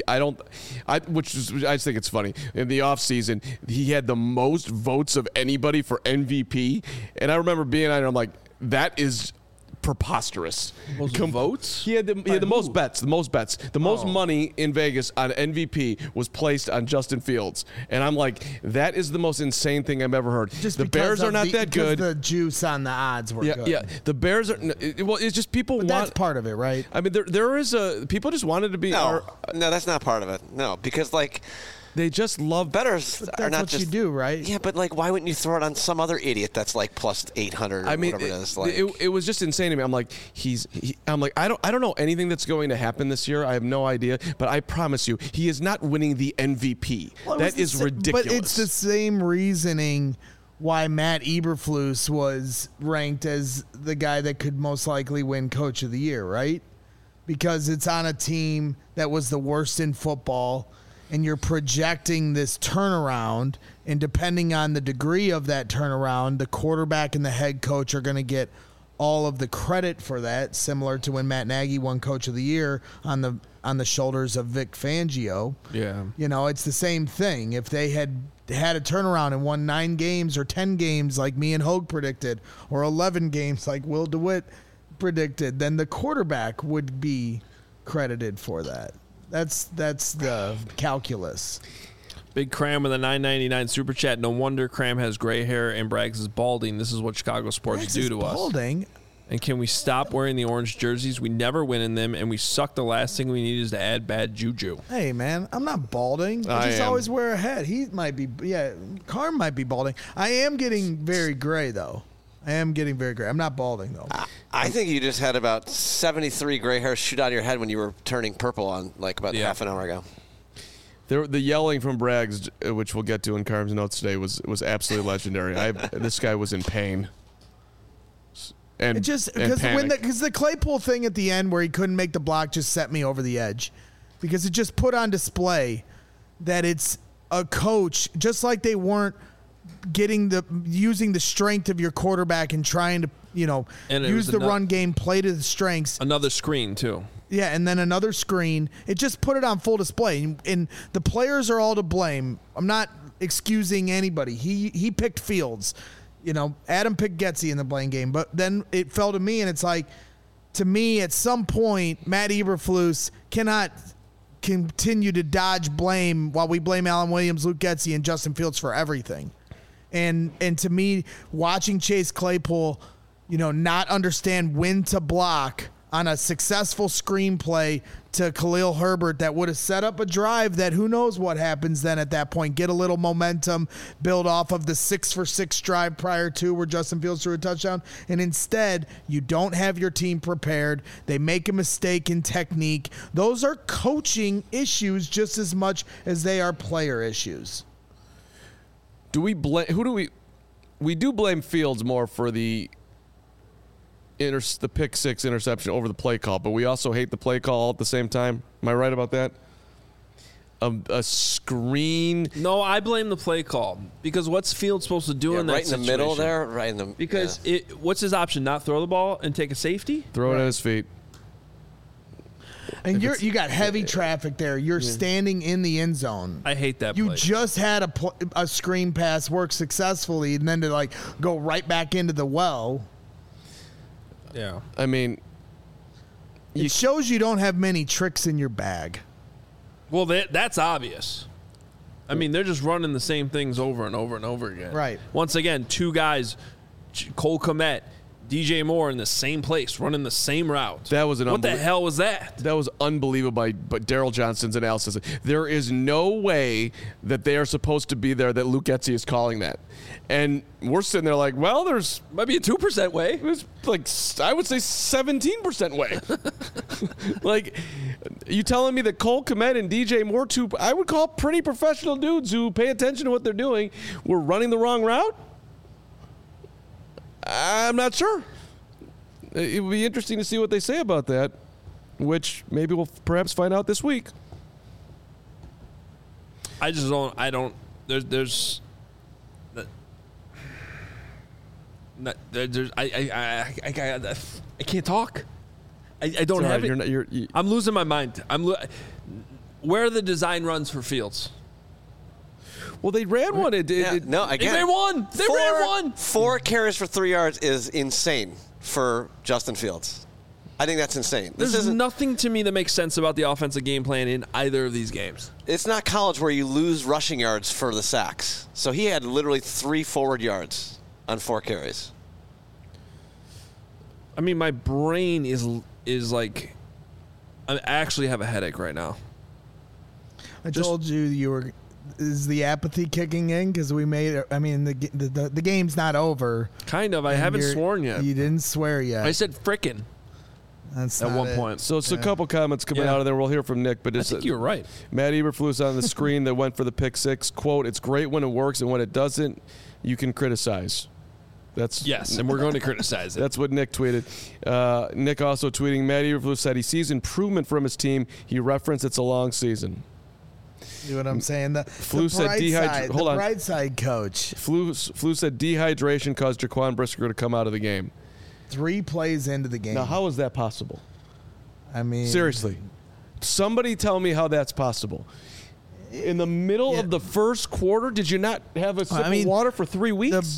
it's funny. In the offseason, he had the most votes of anybody for MVP, and I remember being on it, I'm like, that is preposterous. Most votes? He had the most bets. The most money in Vegas on MVP was placed on Justin Fields, and I'm like, that is the most insane thing I've ever heard. Just the because Bears are of not that because good. The juice on the odds were good. Yeah. The Bears are. Well, it's just people But want. that's part of it, right? I mean, there is people just wanted to be. No, that's not part of it. No, because They just love bettors But are that's not what just you do, right? Yeah, but why wouldn't you throw it on some other idiot that's like plus 800? Or I mean, whatever it is. it was just insane to me. I'm like, I don't know anything that's going to happen this year. I have no idea, but I promise you, he is not winning the MVP. Well, it That was the is sa- ridiculous. But it's the same reasoning why Matt Eberflus was ranked as the guy that could most likely win Coach of the Year, right? Because it's on a team that was the worst in football, and you're projecting this turnaround, and depending on the degree of that turnaround, the quarterback and the head coach are going to get all of the credit for that, similar to when Matt Nagy won Coach of the Year on the shoulders of Vic Fangio. Yeah. You know, it's the same thing. If they had a turnaround and won 9 games or 10 games like me and Hogue predicted, or 11 games like Will DeWitt predicted, then the quarterback would be credited for that. That's the calculus. Big Cram with a $9.99 super chat. No wonder Cram has gray hair and Braggs is balding. This is what Chicago sports do to us. Balding. And can we stop wearing the orange jerseys? We never win in them, and we suck. The last thing we need is to add bad juju. Hey, man, I'm not balding. I just always wear a hat. He might be, Carm might be balding. I am getting very gray, though. I'm not balding, though. I think you just had about 73 gray hairs shoot out of your head when you were turning purple on about half an hour ago. The yelling from Braggs, which we'll get to in Carm's notes today, was absolutely legendary. This guy was in pain. And it just because the Claypool thing at the end where he couldn't make the block just set me over the edge, because it just put on display that it's a coach, just like they weren't using the strength of your quarterback and trying to use the run game, play to the strengths. Another screen too. Yeah, and then another screen. It just put it on full display, and the players are all to blame. I'm not excusing anybody. He picked Fields. Adam picked Getsy in the blame game, but then it fell to me, and it's like, to me, at some point, Matt Eberflus cannot continue to dodge blame while we blame Alan Williams, Luke Getsy, and Justin Fields for everything. And to me, watching Chase Claypool, not understand when to block on a successful screenplay to Khalil Herbert that would have set up a drive that who knows what happens then at that point. Get a little momentum, build off of the 6-for-6 drive prior to where Justin Fields threw a touchdown. And instead, you don't have your team prepared. They make a mistake in technique. Those are coaching issues just as much as they are player issues. Do we blame? We do blame Fields more for the pick 6 interception over the play call, but we also hate the play call all at the same time. Am I right about that? A screen. No, I blame the play call, because what's Fields supposed to do in that situation? Right in the middle there, right in the. Because what's his option? Not throw the ball and take a safety? Throw it at his feet. And you got heavy traffic there. You're standing in the end zone. I hate that. You just had a screen pass work successfully, and then to go right back into the well. Yeah. I mean, it shows you don't have many tricks in your bag. Well, that's obvious. I mean, they're just running the same things over and over and over again. Right. Once again, 2 guys, Cole Kmet, DJ Moore in the same place, running the same route. That was what the hell was that? That was unbelievable but Daryl Johnson's analysis. There is no way that they are supposed to be there that Luke Getsy is calling that. And we're sitting there like, well, there's might be a 2% way. There's I would say 17% way. You telling me that Cole Kmet and DJ Moore, 2 I would call pretty professional dudes who pay attention to what they're doing, were running the wrong route? I'm not sure. It would be interesting to see what they say about that, which maybe we'll perhaps find out this week. I can't talk. I don't have it. I'm losing my mind. Where are the design runs for Fields? Well, they ran one. They ran one. They ran one. 4 carries for 3 yards is insane for Justin Fields. I think that's insane. There's nothing to me that makes sense about the offensive game plan in either of these games. It's not college where you lose rushing yards for the sacks. So he had literally 3 forward yards on 4 carries. I mean, my brain is like, I actually have a headache right now. I told you were. Is the apathy kicking in? Because we made it. I mean, the game's not over. Kind of. I haven't sworn yet. You didn't swear yet. I said frickin'. That's at one point. So it's a couple comments coming out of there. We'll hear from Nick. But I think you're right. Matt Eberflus on the screen that went for the pick 6. Quote, "It's great when it works, and when it doesn't, you can criticize." Yes, and we're going to criticize it. That's what Nick tweeted. Nick also tweeting, Matt Eberflus said he sees improvement from his team. He referenced it's a long season. See what I'm saying? The said the bright side coach. Flu said dehydration caused Jaquan Brisker to come out of the game. 3 plays into the game. Now, how is that possible? I mean, seriously, somebody tell me how that's possible. In the middle of the first quarter, did you not have a sip of water for 3 weeks?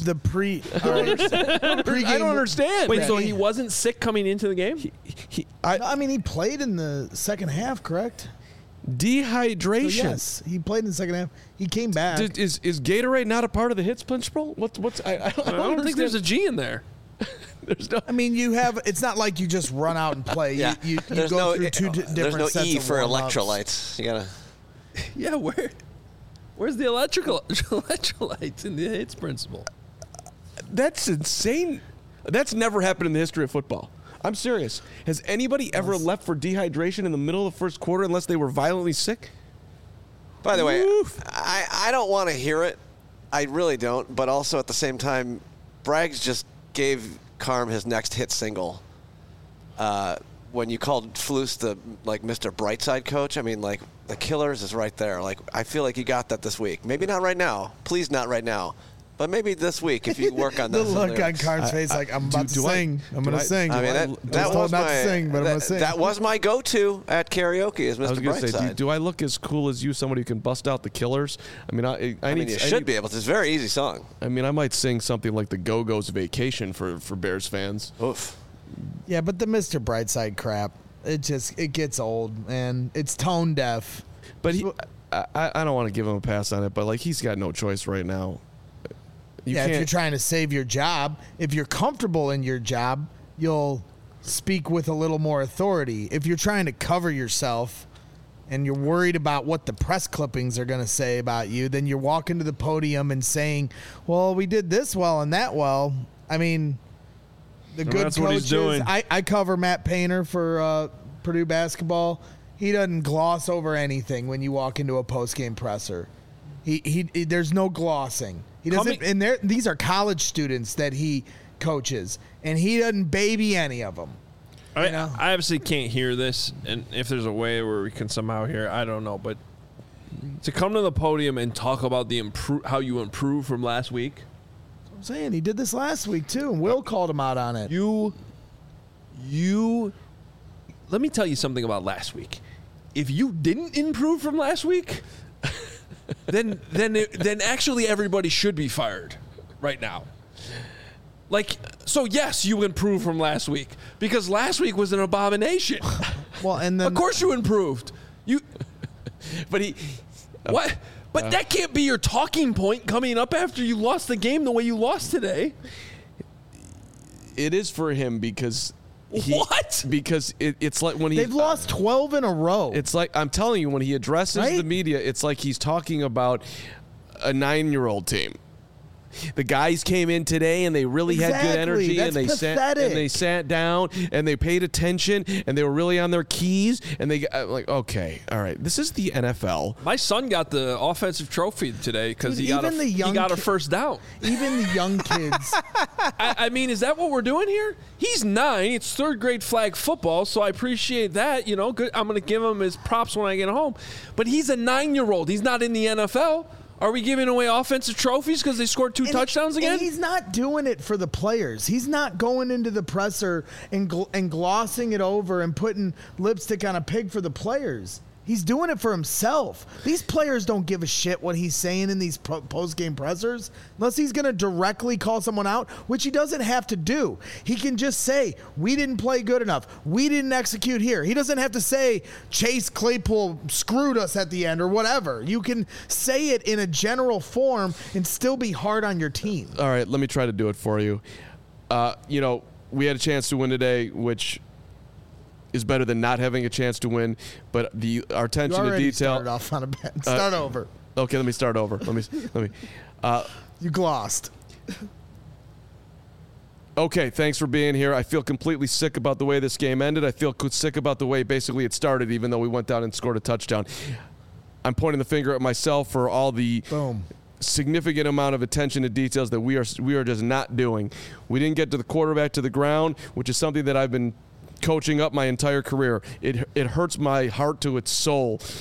Pre-game, I don't understand. Wait, so he wasn't sick coming into the game? He played in the second half, correct? Dehydration. So yes, he played in the second half. He came back. Is Gatorade not a part of the HITS principle? I don't think there's a G in there. There's no. I mean, it's not like you just run out and play. Yeah. You go through two different There's no sets E of for warm-ups. electrolytes. You gotta. Yeah, where's the electrolytes in the HITS principle? That's insane. That's never happened in the history of football. I'm serious. Has anybody ever left for dehydration in the middle of the first quarter unless they were violently sick? By the way, I don't want to hear it. I really don't. But also at the same time, Braggs just gave Carm his next hit single. When you called Flus the Mr. Brightside coach, I mean, the Killers is right there. I feel like you got that this week. Maybe not right now. Please, not right now. But maybe this week if you work on the those look lyrics. on Carm's face, I'm about to sing. I'm going to sing. I mean, that was not to sing, but I'm going to sing. That was my go-to at karaoke. Is Mr. I was going to say, Brightside. do I look as cool as you? Somebody who can bust out the Killers? I mean, you should be able to. It's a very easy song. I mean, I might sing something like the Go-Go's Vacation for Bears fans. Oof. Yeah, but the Mr. Brightside crap, it gets old and it's tone deaf. But I don't want to give him a pass on it, but he's got no choice right now. If you're trying to save your job, if you're comfortable in your job, you'll speak with a little more authority. If you're trying to cover yourself and you're worried about what the press clippings are going to say about you, then you're walking to the podium and saying, well, we did this well and that well. I mean, the good that's what he's coaches. doing. I cover Matt Painter for Purdue basketball. He doesn't gloss over anything when you walk into a post-game presser. He there's no glossing. He doesn't, and these are college students that he coaches, and he doesn't baby any of them. I obviously can't hear this, and if there's a way where we can somehow hear, I don't know. But to come to the podium and talk about how you improved from last week. I'm saying he did this last week too, and Will called him out on it. Let me tell you something about last week. If you didn't improve from last week, then actually everybody should be fired right now. So yes, you improved from last week because last week was an abomination. Well, and then of course you improved. What? But that can't be your talking point coming up after you lost the game the way you lost today. It is for him because. What? Because it's like when they've lost 12 in a row. It's like, I'm telling you, when he addresses the media, it's like he's talking about a 9-year-old team. The guys came in today and they really had good energy. That's and they sat down and they paid attention and they were really on their keys and they okay, all right, this is the NFL. My son got the offensive trophy today because he got a first down. Even the young kids. I mean, is that what we're doing here? He's 9. It's third grade flag football, so I appreciate that. Good. I'm going to give him his props when I get home. But he's a 9-year-old. He's not in the NFL. Are we giving away offensive trophies because they scored 2 touchdowns again? And he's not doing it for the players. He's not going into the presser and glossing it over and putting lipstick on a pig for the players. He's doing it for himself. These players don't give a shit what he's saying in these post-game pressers unless he's going to directly call someone out, which he doesn't have to do. He can just say, we didn't play good enough. We didn't execute here. He doesn't have to say Chase Claypool screwed us at the end or whatever. You can say it in a general form and still be hard on your team. All right, let me try to do it for you. We had a chance to win today, which is better than not having a chance to win, but our attention to detail. Started off on a bet. Start over. Okay, let me start over. Let me. You glossed. Okay, thanks for being here. I feel completely sick about the way this game ended. I feel sick about the way basically it started, even though we went down and scored a touchdown. I'm pointing the finger at myself for all the significant amount of attention to details that we are just not doing. We didn't get to the quarterback to the ground, which is something that I've been coaching up my entire career. It hurts my heart to its soul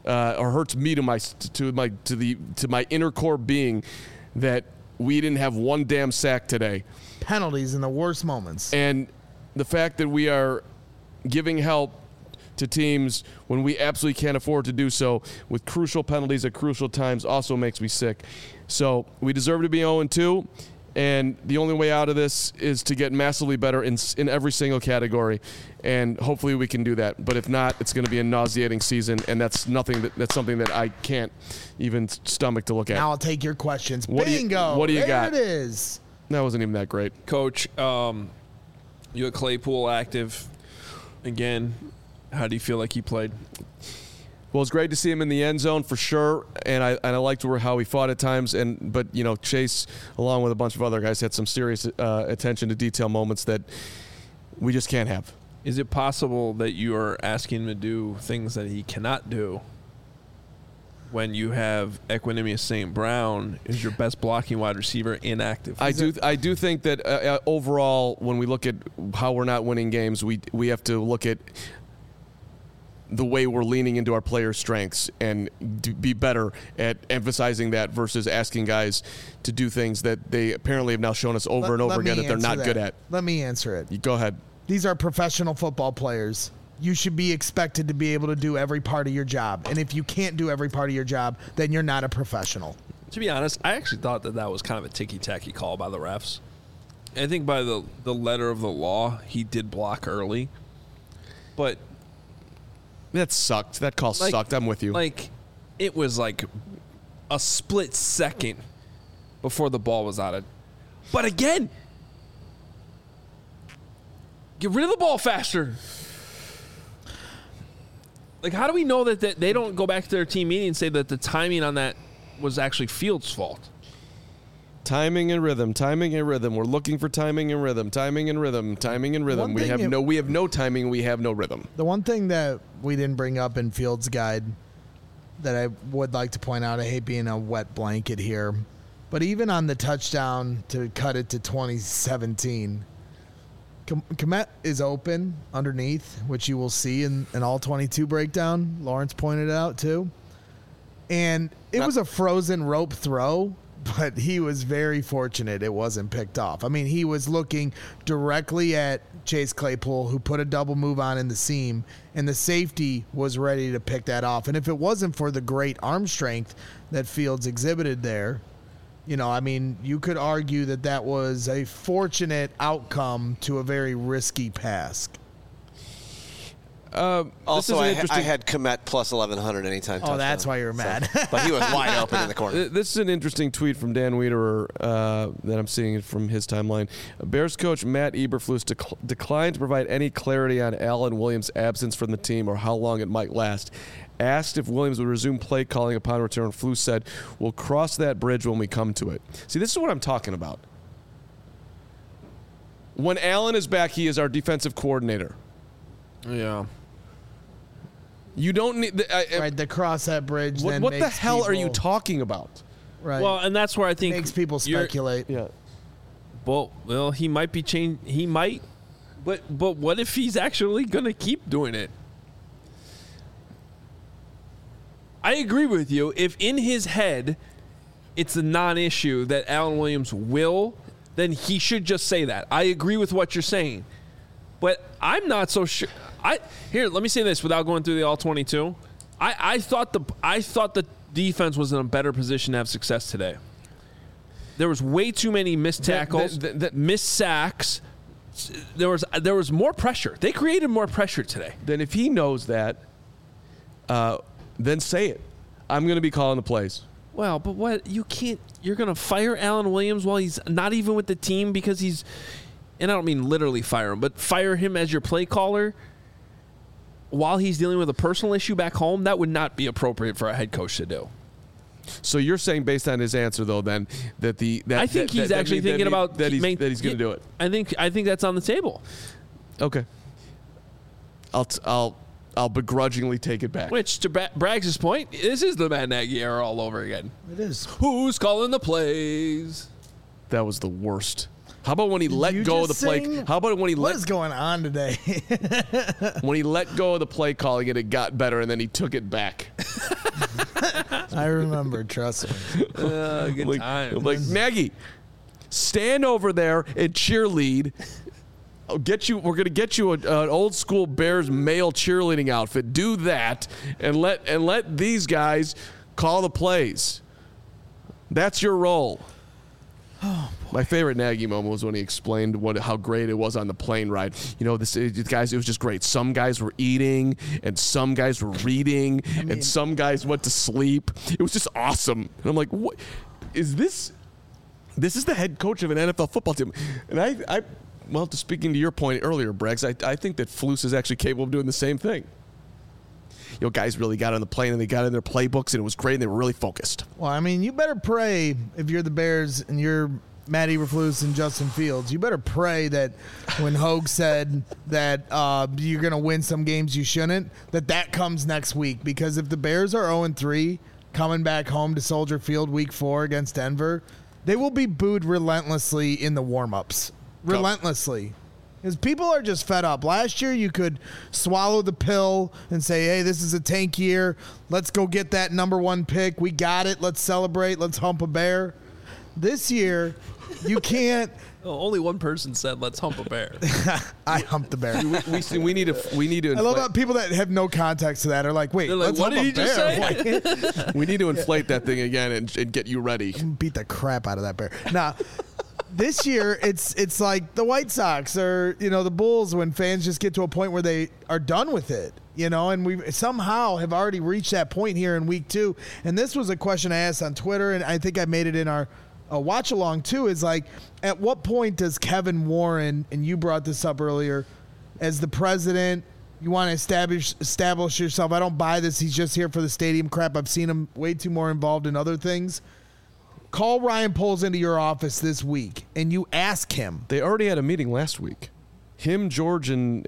or hurts me to my inner core being that we didn't have one damn sack today. Penalties in the worst moments. And the fact that we are giving help to teams when we absolutely can't afford to do so with crucial penalties at crucial times also makes me sick. So we deserve to be 0-2, and the only way out of this is to get massively better in every single category, and hopefully we can do that. But if not, it's going to be a nauseating season, and that's something that I can't even stomach to look at. Now I'll take your questions. Bingo! What do you got? There it is. That wasn't even that great. Coach, you had Claypool active again. How do you feel like he played? Well, it's great to see him in the end zone for sure, and I liked how he fought at times. But Chase, along with a bunch of other guys, had some serious attention to detail moments that we just can't have. Is it possible that you are asking him to do things that he cannot do when you have Equanimeous St. Brown is your best blocking wide receiver inactive? I do think that overall, when we look at how we're not winning games, we have to look at the way we're leaning into our players' strengths and be better at emphasizing that versus asking guys to do things that they apparently have now shown us over and over again that they're not good at. Let me answer it. Go ahead. These are professional football players. You should be expected to be able to do every part of your job. And if you can't do every part of your job, then you're not a professional. To be honest, I actually thought that was kind of a ticky-tacky call by the refs. I think by the letter of the law, he did block early. But that sucked. That call sucked. I'm with you. It was like a split second before the ball was out of. But again, get rid of the ball faster. How do we know that they don't go back to their team meeting and say that the timing on that was actually Fields' fault? Timing and rhythm. We're looking for timing and rhythm. We have no timing. We have no rhythm. The one thing that we didn't bring up in Fields' guide that I would like to point out, I hate being a wet blanket here, but even on the touchdown to cut it to 2017, Kmet is open underneath, which you will see in an all-22 breakdown. Lawrence pointed it out too. And it was a frozen rope throw, but he was very fortunate it wasn't picked off. I mean, he was looking directly at Chase Claypool, who put a double move on in the seam, and the safety was ready to pick that off. And if it wasn't for the great arm strength that Fields exhibited there, you could argue that was a fortunate outcome to a very risky pass. Also, I had Kmet plus 1,100 anytime. Oh, that's why you were mad. But he was wide open in the corner. This is an interesting tweet from Dan Wiederer that I'm seeing from his timeline. Bears coach Matt Eberflus declined to provide any clarity on Alan Williams' absence from the team or how long it might last. Asked if Williams would resume play calling upon return, Flus said, "We'll cross that bridge when we come to it." See, this is what I'm talking about. When Allen is back, he is our defensive coordinator. Yeah. You don't need to cross that bridge. What the hell are you talking about? Right. Well, and that's where I think makes people speculate. Yeah. Well, he might be changed. He might, but what if he's actually going to keep doing it? I agree with you. If in his head it's a non-issue that Alan Williams will, then he should just say that. I agree with what you're saying. But I'm not so sure. Let me say this without going through the all-22. I thought the defense was in a better position to have success today. There was way too many missed tackles, missed sacks. There was more pressure. They created more pressure today. Then if he knows that, then say it. I'm going to be calling the plays. Well, but what you can't. You're going to fire Alan Williams while he's not even with the team because he's. And I don't mean literally fire him, but fire him as your play caller while he's dealing with a personal issue back home. That would not be appropriate for a head coach to do. So you're saying, based on his answer, though, then that I think he's actually thinking about that he's going to do it. I think that's on the table. Okay. I'll begrudgingly take it back. Which, to Braggs' point, this is the Matt Nagy era all over again. It is. Who's calling the plays? That was the worst. How about when he let you go of the just play? sing? How about when he What let is going on today? when he let go of the play calling and it got better and then he took it back? I remember, trust me. Good time. Like Nagy, stand over there and cheerlead. We're gonna get you an old school Bears male cheerleading outfit. Do that and let these guys call the plays. That's your role. My favorite Nagy moment was when he explained how great it was on the plane ride. You know, guys, it was just great. Some guys were eating, and some guys were reading, and some guys went to sleep. It was just awesome. And I'm like, what is this? This is the head coach of an NFL football team. And well, speaking to your point earlier, Braggs, I think that Flus is actually capable of doing the same thing. You know, guys really got on the plane and they got in their playbooks and it was great and they were really focused. Well, I mean, you better pray if you're the Bears and you're Matt Eberflus and Justin Fields. You better pray that when Hogue said that you're going to win some games you shouldn't, that comes next week. Because if the Bears are 0-3 coming back home to Soldier Field week 4 against Denver, they will be booed relentlessly in the warm-ups. Relentlessly. Because people are just fed up. Last year, you could swallow the pill and say, hey, this is a tank year. Let's go get that number 1 pick. We got it. Let's celebrate. Let's hump a bear. This year, you can't. Only one person said, let's hump a bear. I humped the bear. We need to. I love how people that have no context to that are like, wait, Like, let's what hump did a he bear. just say? We need to inflate that thing again and get you ready. Beat the crap out of that bear. Now, this year, it's like the White Sox or, the Bulls when fans just get to a point where they are done with it, and we somehow have already reached that point here in week 2. And this was a question I asked on Twitter, and I think I made it in our watch along too, is like, at what point does Kevin Warren, and you brought this up earlier, as the president, you want to establish yourself. I don't buy this. He's just here for the stadium crap. I've seen him way too more involved in other things. Call Ryan Poles into your office this week, and you ask him. They already had a meeting last week. Him, George, and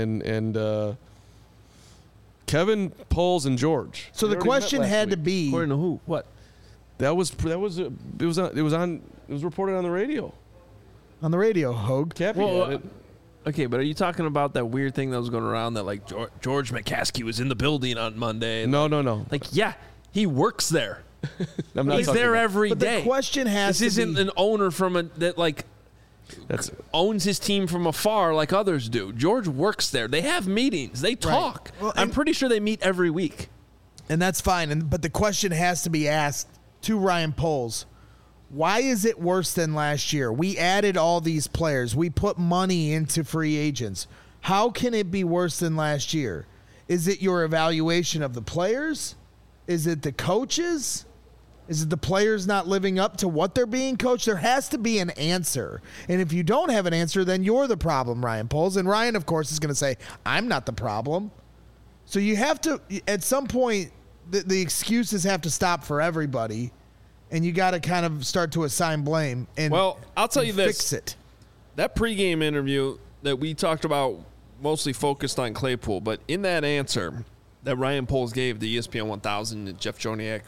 Kevin, Poles, and George. So the question had to be, According to who? What? It was reported on the radio. on the radio, Hogue. Cappy Well, had it. Okay, but are you talking about that weird thing that was going around that, like, George McCaskey was in the building on Monday? No. Like, yeah, he works there. I'm not He's talking there about- every But day. the question has This to isn't be, an owner That's owns his team from afar like others do. George works there. They have meetings. They talk. Well, I'm and- pretty sure they meet every week. and that's fine. But the question has to be asked to Ryan Poles. Why is it worse than last year? We added all these players. We put money into free agents. How can it be worse than last year? Is it your evaluation of the players? Is it the coaches? Is it the players not living up to what they're being coached? There has to be an answer. And if you don't have an answer, then you're the problem, Ryan Poles. And Ryan, of course, is going to say, I'm not the problem. So you have to, at some point, the excuses have to stop for everybody. And you got to kind of start to assign blame and Well, I'll tell you this. fix it. That pregame interview that we talked about mostly focused on Claypool, but in that answer that Ryan Poles gave to ESPN 1000 and Jeff Joniak,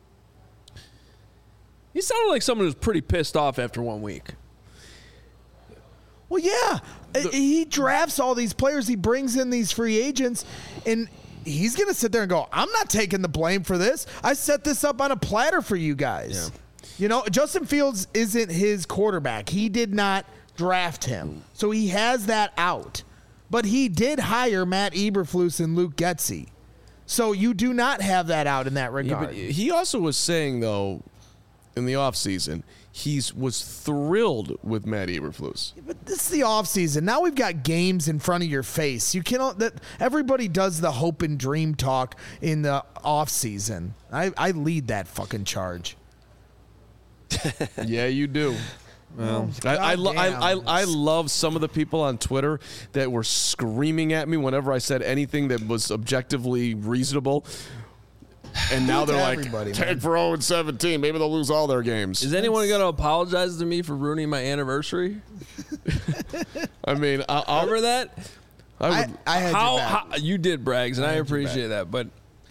he sounded like someone who's pretty pissed off after 1 week. Well, yeah. He drafts all these players. He brings in these free agents, and he's going to sit there and go, I'm not taking the blame for this. I set this up on a platter for you guys. Yeah. Justin Fields isn't his quarterback. He did not draft him. So he has that out. But he did hire Matt Eberflus and Luke Getsy. So you do not have that out in that Yeah, regard. but he also was saying, though, in the offseason, he was thrilled with Matt Eberflus. But this is the offseason. Now we've got games in front of your face. You cannot. That everybody does the hope and dream talk in the offseason. I lead that fucking charge. Yeah, you do. Well, I goddamn. love some of the people on Twitter that were screaming at me whenever I said anything that was objectively reasonable. And now they're like, Everybody, take man. for 0-17. Maybe they'll lose all their games. is anyone going to apologize to me for ruining my anniversary? I mean, Remember that? I would. I had your back. How you did, Braggs, and I had your appreciate that. But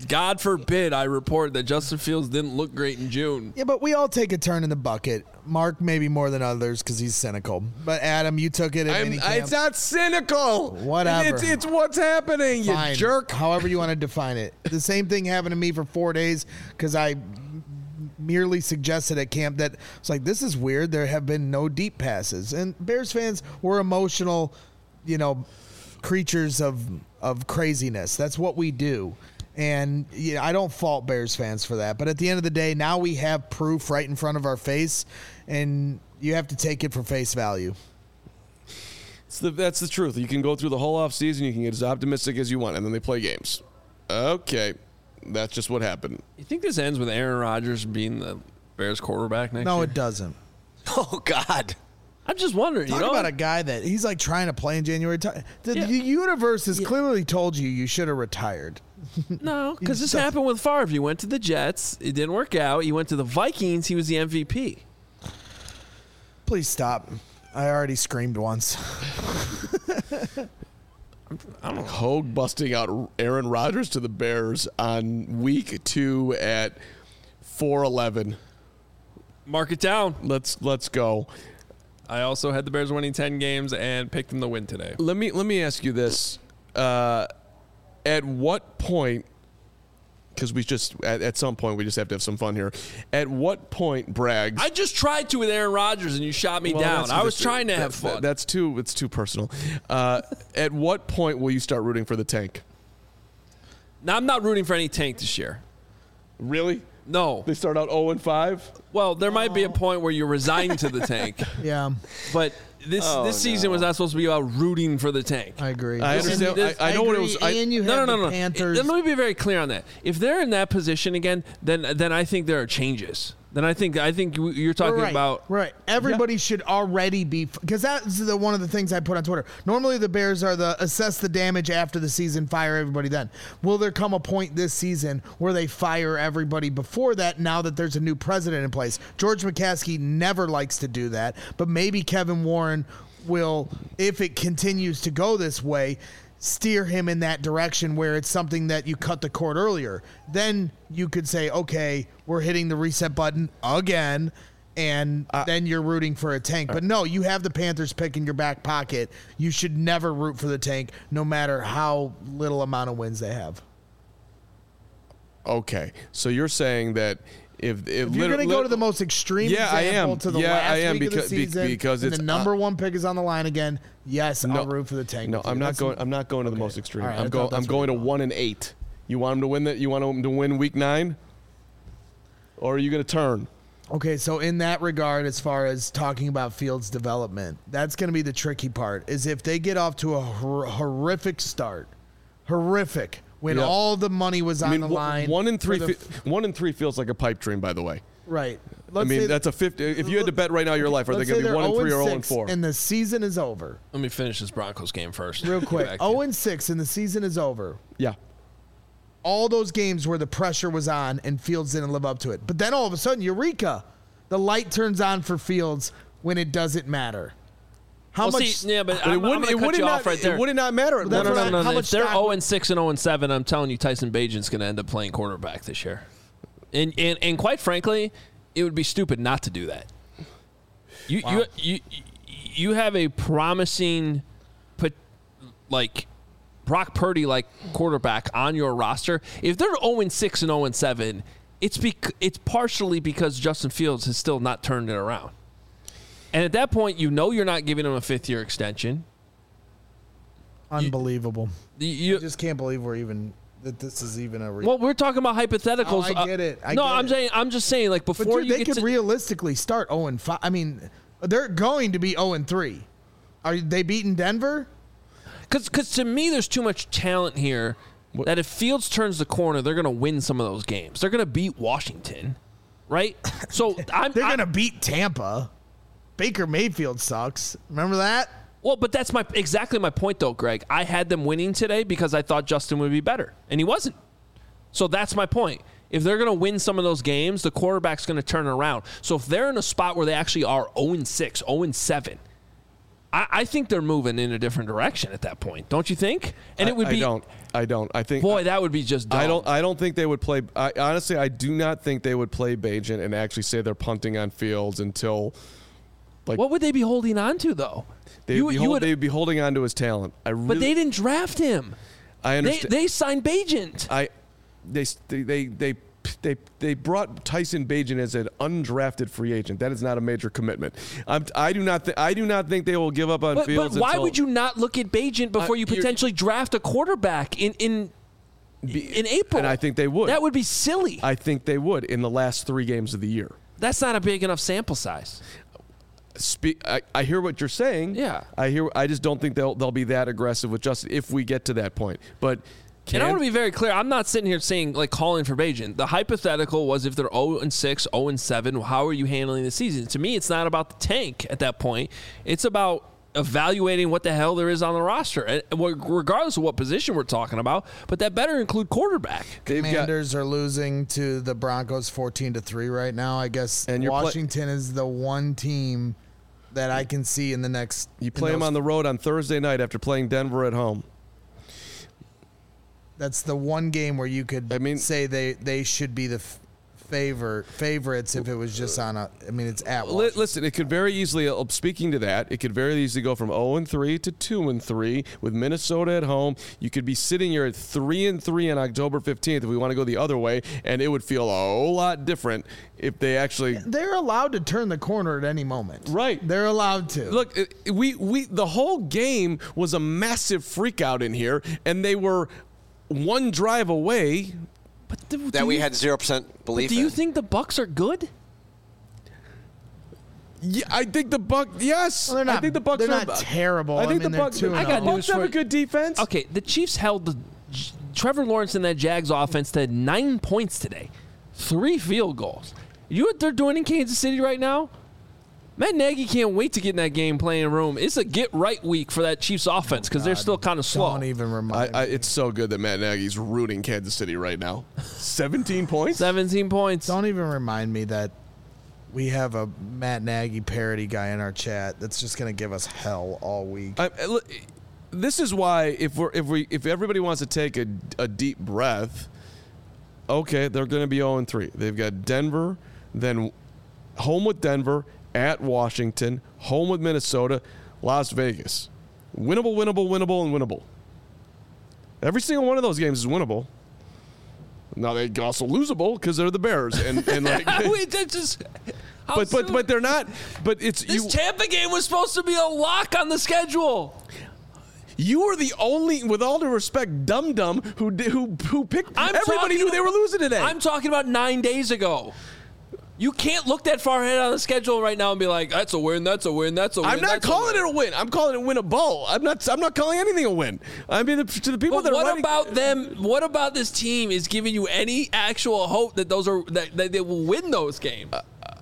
God forbid I report that Justin Fields didn't look great in June. Yeah, but we all take a turn in the bucket. Mark maybe more than others because he's cynical. But Adam, you took it at minicamp. It's not cynical. Whatever. It's what's happening, Fine. you jerk. However you want to define it. The same thing happened to me for 4 days because I merely suggested at camp that it's like, this is weird. There have been no deep passes. And Bears fans were emotional, creatures of craziness. That's what we do. And I don't fault Bears fans for that. But at the end of the day, now we have proof right in front of our face, and you have to take it for face value. That's the truth. You can go through the whole offseason, you can get as optimistic as you want, and then they play games. Okay. That's just what happened. You think this ends with Aaron Rodgers being the Bears quarterback next year? No, it doesn't. Oh, God. I'm just wondering. Talk about a guy that he's like trying to play in January. The universe has clearly told you should have retired. No, because this happened with Favre. He went to the Jets. It didn't work out. He went to the Vikings. He was the MVP. Please stop. I already screamed once. Hogue busting out Aaron Rodgers to the Bears on week 2 at 4-11. Mark it down. Let's go. I also had the Bears winning 10 games and picked them to win today. Let me ask you this: at what point? Because we just at some point we just have to have some fun here. At what point, Braggs? I just tried to with Aaron Rodgers and you shot me down. I was trying to have fun. It's too personal. At what point will you start rooting for the tank? Now, I'm not rooting for any tank this year. Really? No. They start out 0-5? Well, there might be a point where you resign to the tank. Yeah. But this season was not supposed to be about rooting for the tank. I agree. I understand. I know what it was. And you have the Panthers. Let me be very clear on that. If they're in that position again, then I think there are changes. Then I think you're talking about right. Everybody should already be, because that's one of the things I put on Twitter. Normally the Bears are the assess the damage after the season, fire everybody then. Will there come a point this season where they fire everybody before that? Now that there's a new president in place, George McCaskey never likes to do that, but maybe Kevin Warren will, if it continues to go this way, steer him in that direction where it's something that you cut the cord earlier. Then you could say, okay, we're hitting the reset button again, and then you're rooting for a tank. But no, you have the Panthers pick in your back pocket. You should never root for the tank, no matter how little amount of wins they have. Okay, so you're saying that if you're going to go to the most extreme example to the last week of the season, because and the number one pick is on the line again, yes, I'll root for the tank. No, I'm not going to the most extreme. Right, I'm going to 1-8. You want them to win that? You want them to win week 9, or are you going to turn? Okay, so in that regard, as far as talking about Fields' development, that's going to be the tricky part. Is if they get off to a horrific start, when all the money was on the line. 1-3 feels like a pipe dream, by the way. Right. That's a 50. If you had to bet right now your life, are they going to be 1-3 or 0-4? And the season is over. Let me finish this Broncos game first. Real quick. 0-6 and the season is over. Yeah. All those games where the pressure was on and Fields didn't live up to it. But then all of a sudden, eureka, the light turns on for Fields when it doesn't matter. How much? Yeah, but it wouldn't not matter. No. If they're 0-6 and 0-7, I'm telling you, Tyson Bagent's going to end up playing quarterback this year. And quite frankly, it would be stupid not to do that. You have a promising, Brock Purdy quarterback on your roster. If they're 0-6 and 0-7, it's partially because Justin Fields has still not turned it around. And at that point, you're not giving him a 5th-year extension. Unbelievable. I just can't believe that this is even a. Well, we're talking about hypotheticals. I get it. I'm just saying, before they could realistically start 0-5. I mean, they're going to be 0-3. Are they beating Denver? Because to me, there's too much talent here that if Fields turns the corner, they're going to win some of those games. They're going to beat Washington, right? So they're going to beat Tampa. Baker Mayfield sucks. Remember that? Well, but that's exactly my point, though, Greg. I had them winning today because I thought Justin would be better, and he wasn't. So that's my point. If they're going to win some of those games, the quarterback's going to turn it around. So if they're in a spot where they actually are 0-6, 0-7, I think they're moving in a different direction at that point. Don't you think? And it would be. I don't. I think. Boy, that would be just dumb. I don't think they would play. Honestly, I do not think they would play Bagent and actually say they're punting on Fields until. What would they be holding on to, though? They'd be holding on to his talent. But they didn't draft him. I understand. They signed Bagent. They brought Tyson Bagent as an undrafted free agent. That is not a major commitment. I do not think they will give up on Fields. But why would you not look at Bagent before you potentially draft a quarterback in April? And I think they would. That would be silly. I think they would in the last 3 games of the year. That's not a big enough sample size. I hear what you're saying. Yeah. I just don't think they'll be that aggressive with Justin if we get to that point. But and I want to be very clear. I'm not sitting here saying calling for Bagent. The hypothetical was if they're 0-6, 0-7, how are you handling the season? To me, it's not about the tank at that point. It's about evaluating what the hell there is on the roster, and regardless of what position we're talking about. But that better include quarterback. Commanders are losing to the Broncos 14-3 right now. I guess Washington is the one team that I can see in the next. You play them on the road on Thursday night after playing Denver at home. That's the one game where you could say they should be the favorites if it was just on a. I mean, it's at Washington. Listen, it could very easily. Speaking to that, it could very easily go from 0-3 to 2-3 with Minnesota at home. You could be sitting here at 3-3 on October 15th if we want to go the other way, and it would feel a whole lot different if they actually. They're allowed to turn the corner at any moment. Right, they're allowed to. Look, we the whole game was a massive freak out in here, and they were one drive away. But we had 0% belief in. Do you think the Bucs are good? Yeah, I think the Bucs. Yes, well, they're not. I think the Bucs. They're not terrible. I think the Bucs. I got news for you. Have a good defense. Okay, the Chiefs held Trevor Lawrence and that Jags offense to 9 points today, 3 field goals. You know what they're doing in Kansas City right now? Matt Nagy can't wait to get in that game playing room. It's a get-right week for that Chiefs offense because they're still kind of slow. Don't even remind me. It's so good that Matt Nagy's rooting Kansas City right now. 17 points? 17 points. Don't even remind me that we have a Matt Nagy parody guy in our chat that's just going to give us hell all week. This is why if everybody wants to take a deep breath, okay, they're going to be 0-3. They've got Denver, then home with Denver, at Washington, home with Minnesota, Las Vegas. Winnable, winnable, winnable, and winnable. Every single one of those games is winnable. Now they also losable because they're the Bears, and like. Wait, that's just. But they're not. But it's this Tampa game was supposed to be a lock on the schedule. You were the only, with all due respect, dum-dum who picked. Everybody knew they were losing today. I'm talking about 9 days ago. You can't look that far ahead on the schedule right now and be like, "That's a win. That's a win. That's a win." I'm not calling it a win. I'm calling it winnable. I'm not calling anything a win. I mean, to the people that are what about them? What about this team is giving you any actual hope that that they will win those games?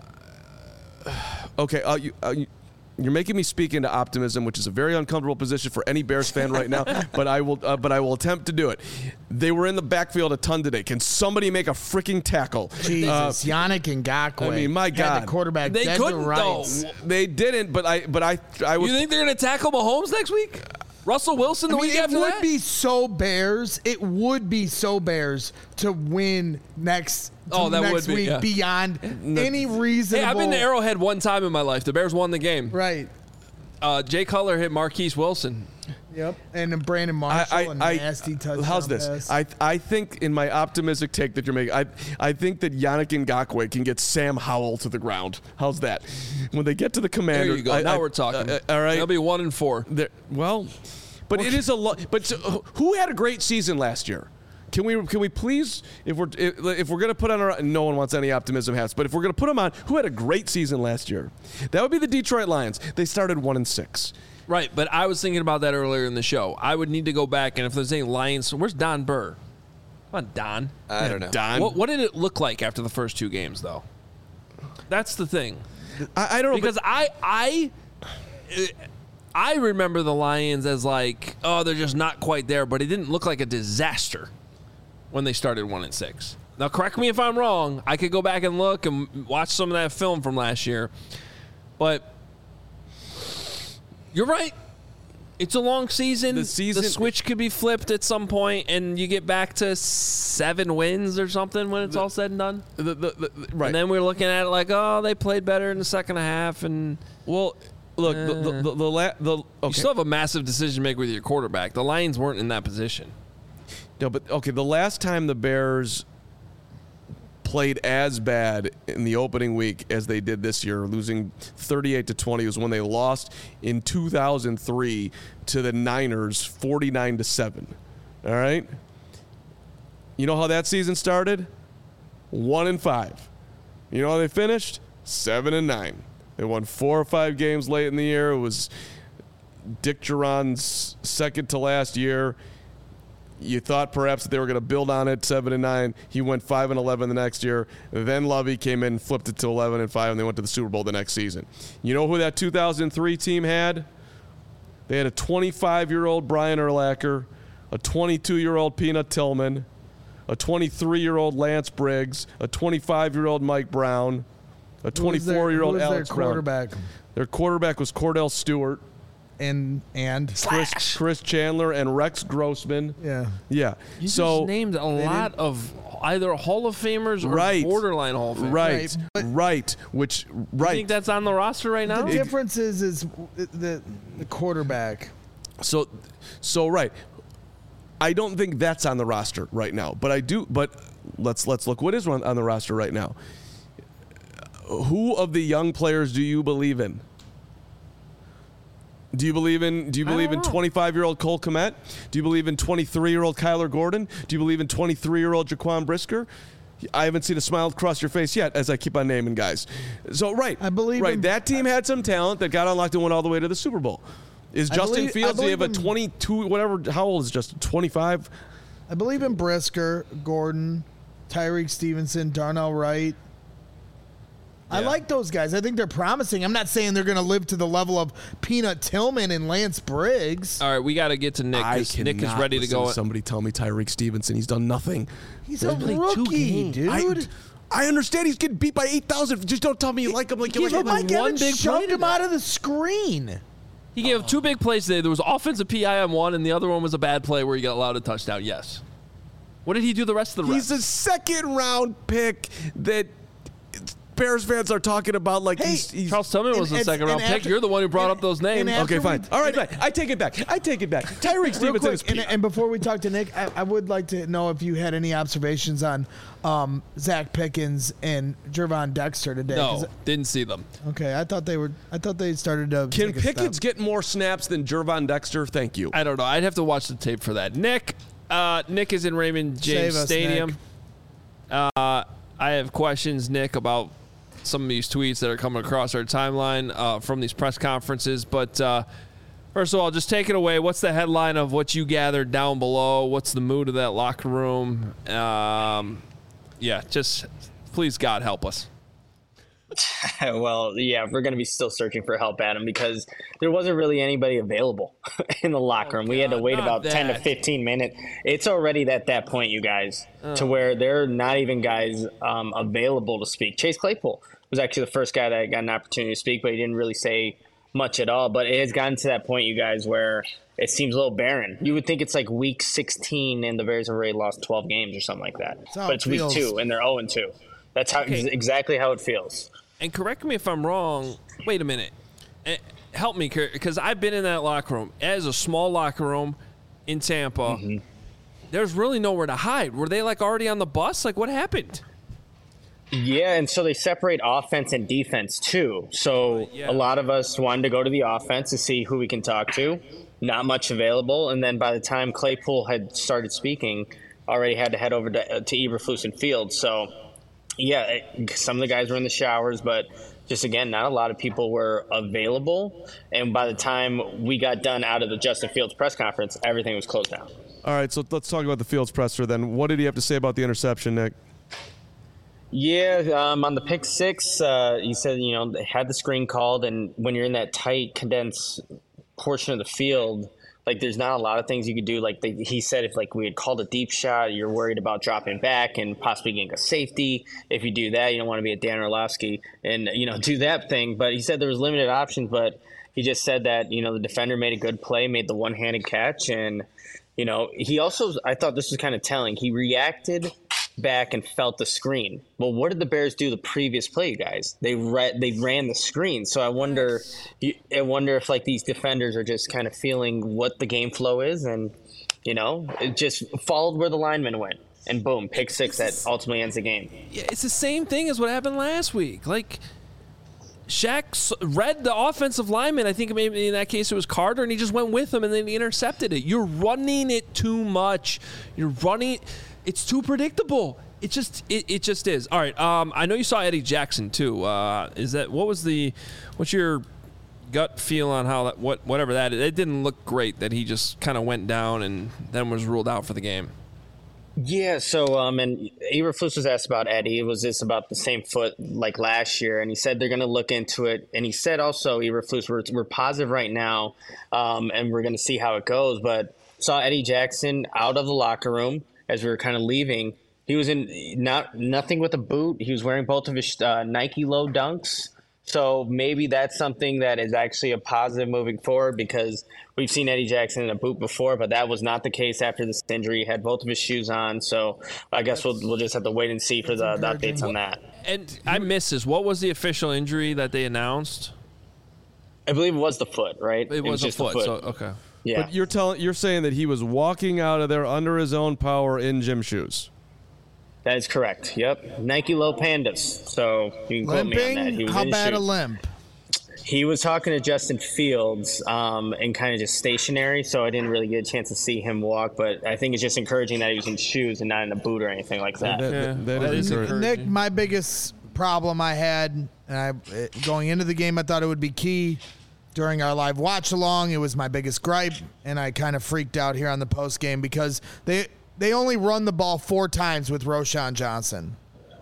Okay, you're making me speak into optimism, which is a very uncomfortable position for any Bears fan right now. But I will attempt to do it. They were in the backfield a ton today. Can somebody make a freaking tackle? Jesus, Yannick Ngakoue. I mean, my God, the quarterback. They couldn't though. They didn't. But I would. You think they're going to tackle Mahomes next week? Russell Wilson the week after that? It would be so Bears. It would be so Bears to win next. Next week beyond any reasonable. Hey, I've been to Arrowhead one time in my life. The Bears won the game. Right. Jay Cutler hit Marquise Wilson. Yep. And then Brandon Marshall, a nasty touchdown. How's this? Pass. I think in my optimistic take that you're making, I think that Yannick Ngakoue can get Sam Howell to the ground. How's that? When they get to the Commander. There you go. Now we're talking. All right. They'll be 1-4. Well, but it is a lot. But who had a great season last year? Can we please, if we're going to put on our, no one wants any optimism hats, but if we're going to put them on, who had a great season last year? That would be the Detroit Lions. They started 1-6. Right, but I was thinking about that earlier in the show. I would need to go back, and if there's any Lions, where's Don Burr? Come on, Don. I don't know. Don. What did it look like after the first 2 games, though? That's the thing. I don't know. Because I remember the Lions as like, oh, they're just not quite there, but it didn't look like a disaster when they started 1-6. Now, correct me if I'm wrong. I could go back and look and watch some of that film from last year. But You're right. It's a long season. The switch could be flipped at some point, and you get back to 7 wins or something when it's all said and done. Right. And then we're looking at it like, oh, they played better in the second half, and Well, look, you okay. still have a massive decision to make with your quarterback. The Lions weren't in that position. No, but okay, the last time the Bears played as bad in the opening week as they did this year, losing 38-20, was when they lost in 2003 to the Niners 49-7. All right? You know how that season started? 1-5. You know how they finished? 7-9. They won 4 or 5 games late in the year. It was Dick Duran's second to last year. You thought perhaps that they were going to build on it, 7-9. He went 5-11 the next year. Then Lovey came in, flipped it to 11-5, and they went to the Super Bowl the next season. You know who that 2003 team had? They had a 25-year-old Brian Urlacher, a 22-year-old Peanut Tillman, a 23-year-old Lance Briggs, a 25-year-ld Mike Brown, a 24-year-old Alex their Brown. quarterback? Their quarterback was Cordell Stewart, And Chris Chandler, and Rex Grossman. yeah. Yeah. You so just named a lot of either Hall of Famers or Right. borderline Hall of Famers. Right, Right, right. Which right. You think that's on the roster right now? The difference is the quarterback. So right. I don't think that's on the roster right now, but I do. But let's look. What is on the roster right now? Who of the young players do you believe in? Do you believe in 25-year-old Cole Kmet? Do you believe in 23-year-old Kyler Gordon? Do you believe in 23-year-old Jaquan Brisker? I haven't seen a smile across your face yet as I keep on naming guys. So right. I believe right. in- That team had some talent that got unlocked and went all the way to the Super Bowl. Is Justin believe- Fields? I Do you have a believe in- 22? Whatever. How old is Justin? 25. I believe in Brisker, Gordon, Tyreek Stevenson, Darnell Wright. I Yeah. like those guys. I think they're promising. I'm not saying they're going to live to the level of Peanut Tillman and Lance Briggs. All right, we got to get to Nick because Nick is ready to go. Somebody tell me Tyreek Stevenson. He's done nothing. He's a played 2 rookie, games. dude. I understand he's getting beat by 8,000. Just don't tell me you like him like you like Give him. him Mike one Evans big shoved play him out of the screen. He gave 2 big plays today. There was offensive PI on one, and the other one was a bad play where he got allowed a touchdown. Yes. What did he do the rest of the He's reps? a second-round pick that Bears fans are talking about like Hey, he's Charles Tillman was the and- second round and pick. after- You're the one who brought up those names. and after Okay, fine. we- All right, fine. I take it back. Tyreek Real Stevenson is quick, and before we talk to Nick, I would like to know if you had any observations on Zach Pickens and Jervon Dexter today. No, didn't see them. Okay, I thought they started to. Can take a Pickens step. get more snaps than Jervon Dexter? Thank you. I don't know. I'd have to watch the tape for that. Nick is in Raymond James Save us, Stadium. Nick. I have questions, Nick, about some of these tweets that are coming across our timeline from these press conferences. But first of all, just take it away. What's the headline of what you gathered down below? What's the mood of that locker room? Just please, God, help us. Well, yeah, we're going to be still searching for help, Adam, because there wasn't really anybody available in the locker room. We had to God, wait not about 10 to that. 15 minutes. It's already at that point, you guys, to where there are not even guys available to speak. Chase Claypool was actually the first guy that got an opportunity to speak, but he didn't really say much at all. But it has gotten to that point, you guys, where it seems a little barren. You would think it's like week 16 and the Bears have already lost 12 games or something like that. That's how But it it's week feels. 2 and they're 0-2. That's how exactly how it feels. And correct me if I'm wrong. Wait a minute. Help me, because I've been in that locker room. As a small locker room in Tampa, there's really nowhere to hide. Were they like already on the bus? Like, what happened? Yeah, and so they separate offense and defense too. So Yeah. a lot of us wanted to go to the offense to see who we can talk to. Not much available, and then by the time Claypool had started speaking, already had to head over to Eberflus and Field. So, yeah, some of the guys were in the showers, but just again, not a lot of people were available. And by the time we got done out of the Justin Fields press conference, everything was closed down. All right, so let's talk about the Fields presser then. What did he have to say about the interception, Nick? Yeah, on the pick 6, he said, they had the screen called, and when you're in that tight, condensed portion of the field, like there's not a lot of things you could do. Like he said, if like we had called a deep shot, you're worried about dropping back and possibly getting a safety. If you do that, you don't want to be a Dan Orlovsky and do that thing. But he said there was limited options. But He just said that, the defender made a good play, made the one-handed catch. And, he also, I thought this was kind of telling. He reacted back and felt the screen. Well, what did the Bears do the previous play, you guys? They ran the screen. So I wonder if like these defenders are just kind of feeling what the game flow is, and it just followed where the lineman went, and boom, pick six that ultimately ends the game. Yeah, it's the same thing as what happened last week. Like, Shaq read the offensive lineman. I think maybe in that case it was Carter, and he just went with him, and then he intercepted it. You're running it too much. It's too predictable. It just is. All right. I know you saw Eddie Jackson too. What's your gut feel on how that whatever that is? It didn't look great that he just kind of went down and then was ruled out for the game. Yeah, so and Eberflus was asked about Eddie. Was this about the same foot like last year? And he said they're going to look into it. And he said also, Eberflus, we're positive right now, and we're going to see how it goes. But saw Eddie Jackson out of the locker room as we were kind of leaving. He was in nothing with a boot. He was wearing both of his Nike Low Dunks. So maybe that's something that is actually a positive moving forward, because we've seen Eddie Jackson in a boot before, but that was not the case after this injury. He had both of his shoes on. So I guess we'll just have to wait and see for the updates on that. And I missed this. What was the official injury that they announced? I believe it was the foot, right? It was just a foot. the foot. So, okay. Yeah. But you're saying that he was walking out of there under his own power in gym shoes. That is correct. Yep. Nike Low Pandas. So you can quote me on that. He was How in bad shoes. a limp? He was talking to Justin Fields and kind of just stationary, so I didn't really get a chance to see him walk. But I think it's just encouraging that he was in shoes and not in a boot or anything like that. That is encouraging. Nick, my biggest problem I had, going into the game, I thought it would be key. During our live watch along, it was my biggest gripe, and I kind of freaked out here on the post game because they only run the ball 4 times with Roschon Johnson.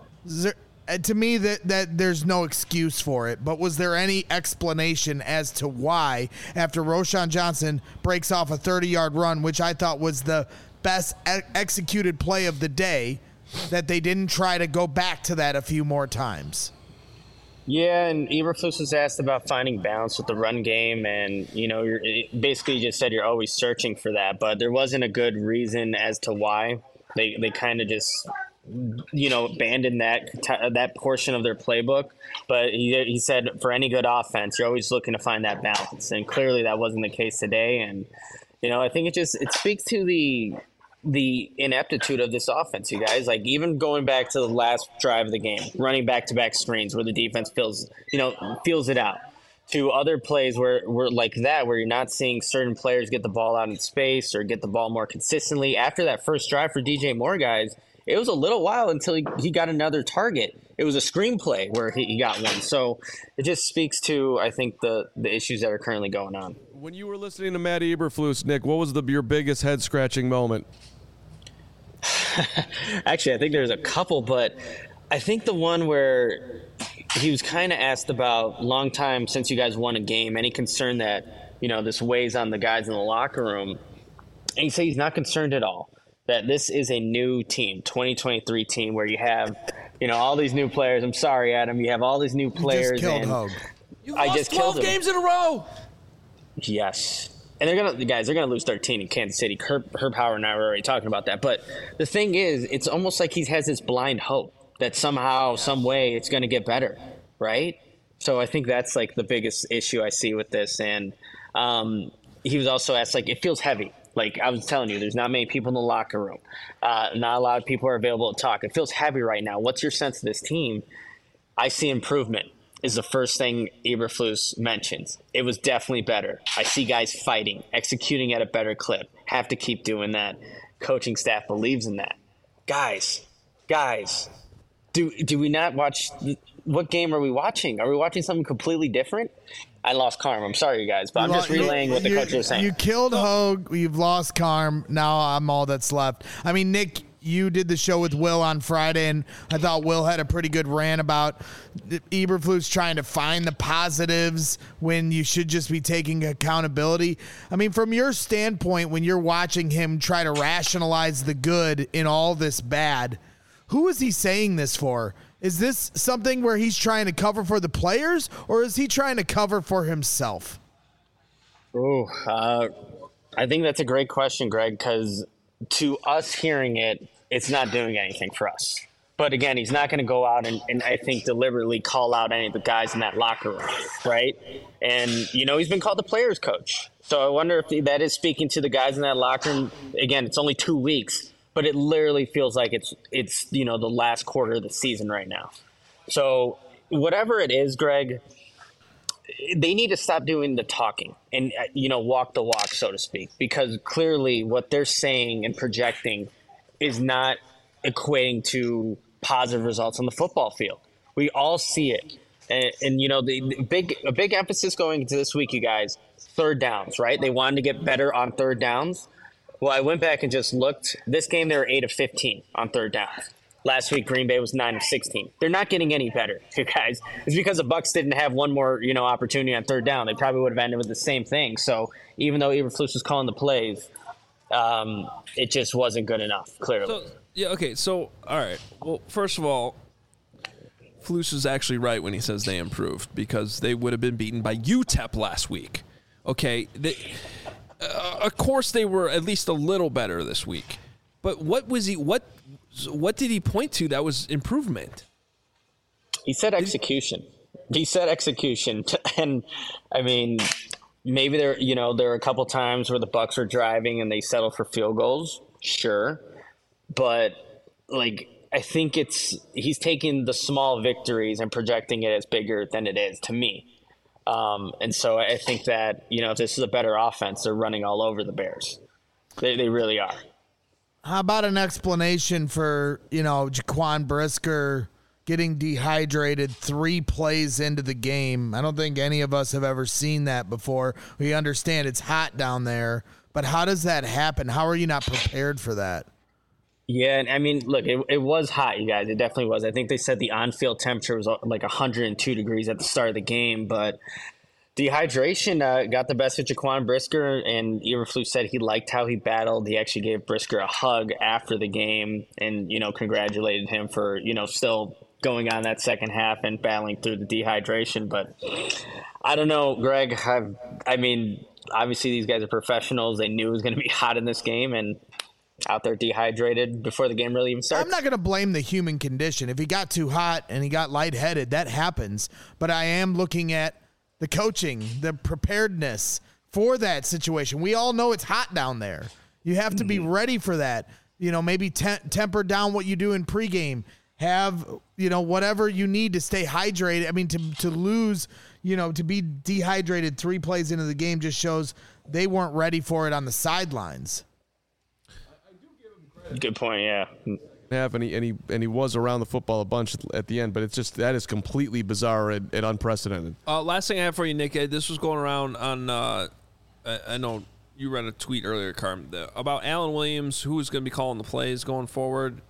To me, that there's no excuse for it. But was there any explanation as to why, after Roschon Johnson breaks off a 30-yard run, which I thought was the best executed play of the day, that they didn't try to go back to that a few more times? Yeah, and Eberflus was asked about finding balance with the run game, and you're basically just said you're always searching for that, but there wasn't a good reason as to why they kind of just abandoned that portion of their playbook. But he said for any good offense, you're always looking to find that balance, and clearly that wasn't the case today. And I think it speaks to the ineptitude of this offense, you guys. Like, even going back to the last drive of the game, running back-to-back screens where the defense feels it out, to other plays where like that, where you're not seeing certain players get the ball out in space or get the ball more consistently. After that first drive for DJ Moore, guys, it was a little while until he got another target. It was a screenplay where he got one. So it just speaks to, I think, the issues that are currently going on. When you were listening to Matt Eberflus, Nick, what was your biggest head-scratching moment? Actually, I think there's a couple, but I think the one where he was kind of asked about, long time since you guys won a game, any concern that, this weighs on the guys in the locker room. And he said he's not concerned at all, that this is a new team, 2023 team, where you have, all these new players. I'm sorry, Adam. You have all these new players. You just killed Hogue. You lost 12 games in a row. Yes. And they're gonna lose 13 in Kansas City. Herb Howard and I were already talking about that. But the thing is, it's almost like he has this blind hope that somehow, some way, it's gonna get better, right? So I think that's like the biggest issue I see with this. And he was also asked, like, it feels heavy. Like I was telling you, there's not many people in the locker room. Not a lot of people are available to talk. It feels heavy right now. What's your sense of this team? I see improvement. Is the first thing Eberflus mentions. It was definitely better. I see guys fighting, executing at a better clip. Have to keep doing that. Coaching staff believes in that. Guys, do we not watch? What game are we watching? Are we watching something completely different? I lost Carm. I'm sorry, you guys, but I'm just relaying what the coach was saying. You killed Hogue. You've lost Carm. Now I'm all that's left. I mean, Nick, you did the show with Will on Friday, and I thought Will had a pretty good rant about Eberflus trying to find the positives when you should just be taking accountability. I mean, from your standpoint, when you're watching him try to rationalize the good in all this bad, who is he saying this for? Is this something where he's trying to cover for the players, or is he trying to cover for himself? I think that's a great question, Greg, because to us hearing it, it's not doing anything for us. But again, he's not going to go out and I think deliberately call out any of the guys in that locker room, right? And, he's been called the players coach. So I wonder if that is speaking to the guys in that locker room. Again, it's only 2 weeks, but it literally feels like it's the last quarter of the season right now. So whatever it is, Greg, they need to stop doing the talking and, walk the walk, so to speak, because clearly what they're saying and projecting is not equating to positive results on the football field. We all see it. And a big emphasis going into this week, you guys, third downs, right? They wanted to get better on third downs. Well, I went back and just looked. This game, they were 8 of 15 on third downs. Last week, Green Bay was 9 of 16. They're not getting any better, you guys. It's because the Bucs didn't have one more, opportunity on third down. They probably would have ended with the same thing. So even though Eberflus was calling the plays, it just wasn't good enough, clearly. So, yeah, okay. So, all right. Well, first of all, Flus is actually right when he says they improved because they would have been beaten by UTEP last week. Okay. Of course, they were at least a little better this week. But what did he point to that was improvement? He said execution. And I mean, maybe there are a couple times where the Bucs are driving and they settle for field goals. Sure. But I think he's taking the small victories and projecting it as bigger than it is to me. And so I think that, if this is a better offense, they're running all over the Bears. They really are. How about an explanation for, Jaquan Brisker getting dehydrated 3 plays into the game? I don't think any of us have ever seen that before. We understand it's hot down there, but how does that happen? How are you not prepared for that? Yeah, and I mean, look, it was hot, you guys. It definitely was. I think they said the on-field temperature was like 102 degrees at the start of the game, but dehydration got the best of Jaquan Brisker, and Eberflus said he liked how he battled. He actually gave Brisker a hug after the game and, congratulated him for, still going on that second half and battling through the dehydration. But I don't know, Greg. I mean, obviously these guys are professionals. They knew it was going to be hot in this game, and out there dehydrated before the game really even starts. I'm not going to blame the human condition. If he got too hot and he got lightheaded, that happens. But I am looking at the coaching, the preparedness for that situation. We all know it's hot down there. You have to be ready for that. Maybe temper down what you do in pregame. Have, whatever you need to stay hydrated. I mean, to lose, to be dehydrated 3 plays into the game just shows they weren't ready for it on the sidelines. Good point, yeah. And he was around the football a bunch at the end, but it's just that is completely bizarre and unprecedented. Last thing I have for you, Nick, this was going around on I know you read a tweet earlier, Carm, about Alan Williams, who is going to be calling the plays going forward.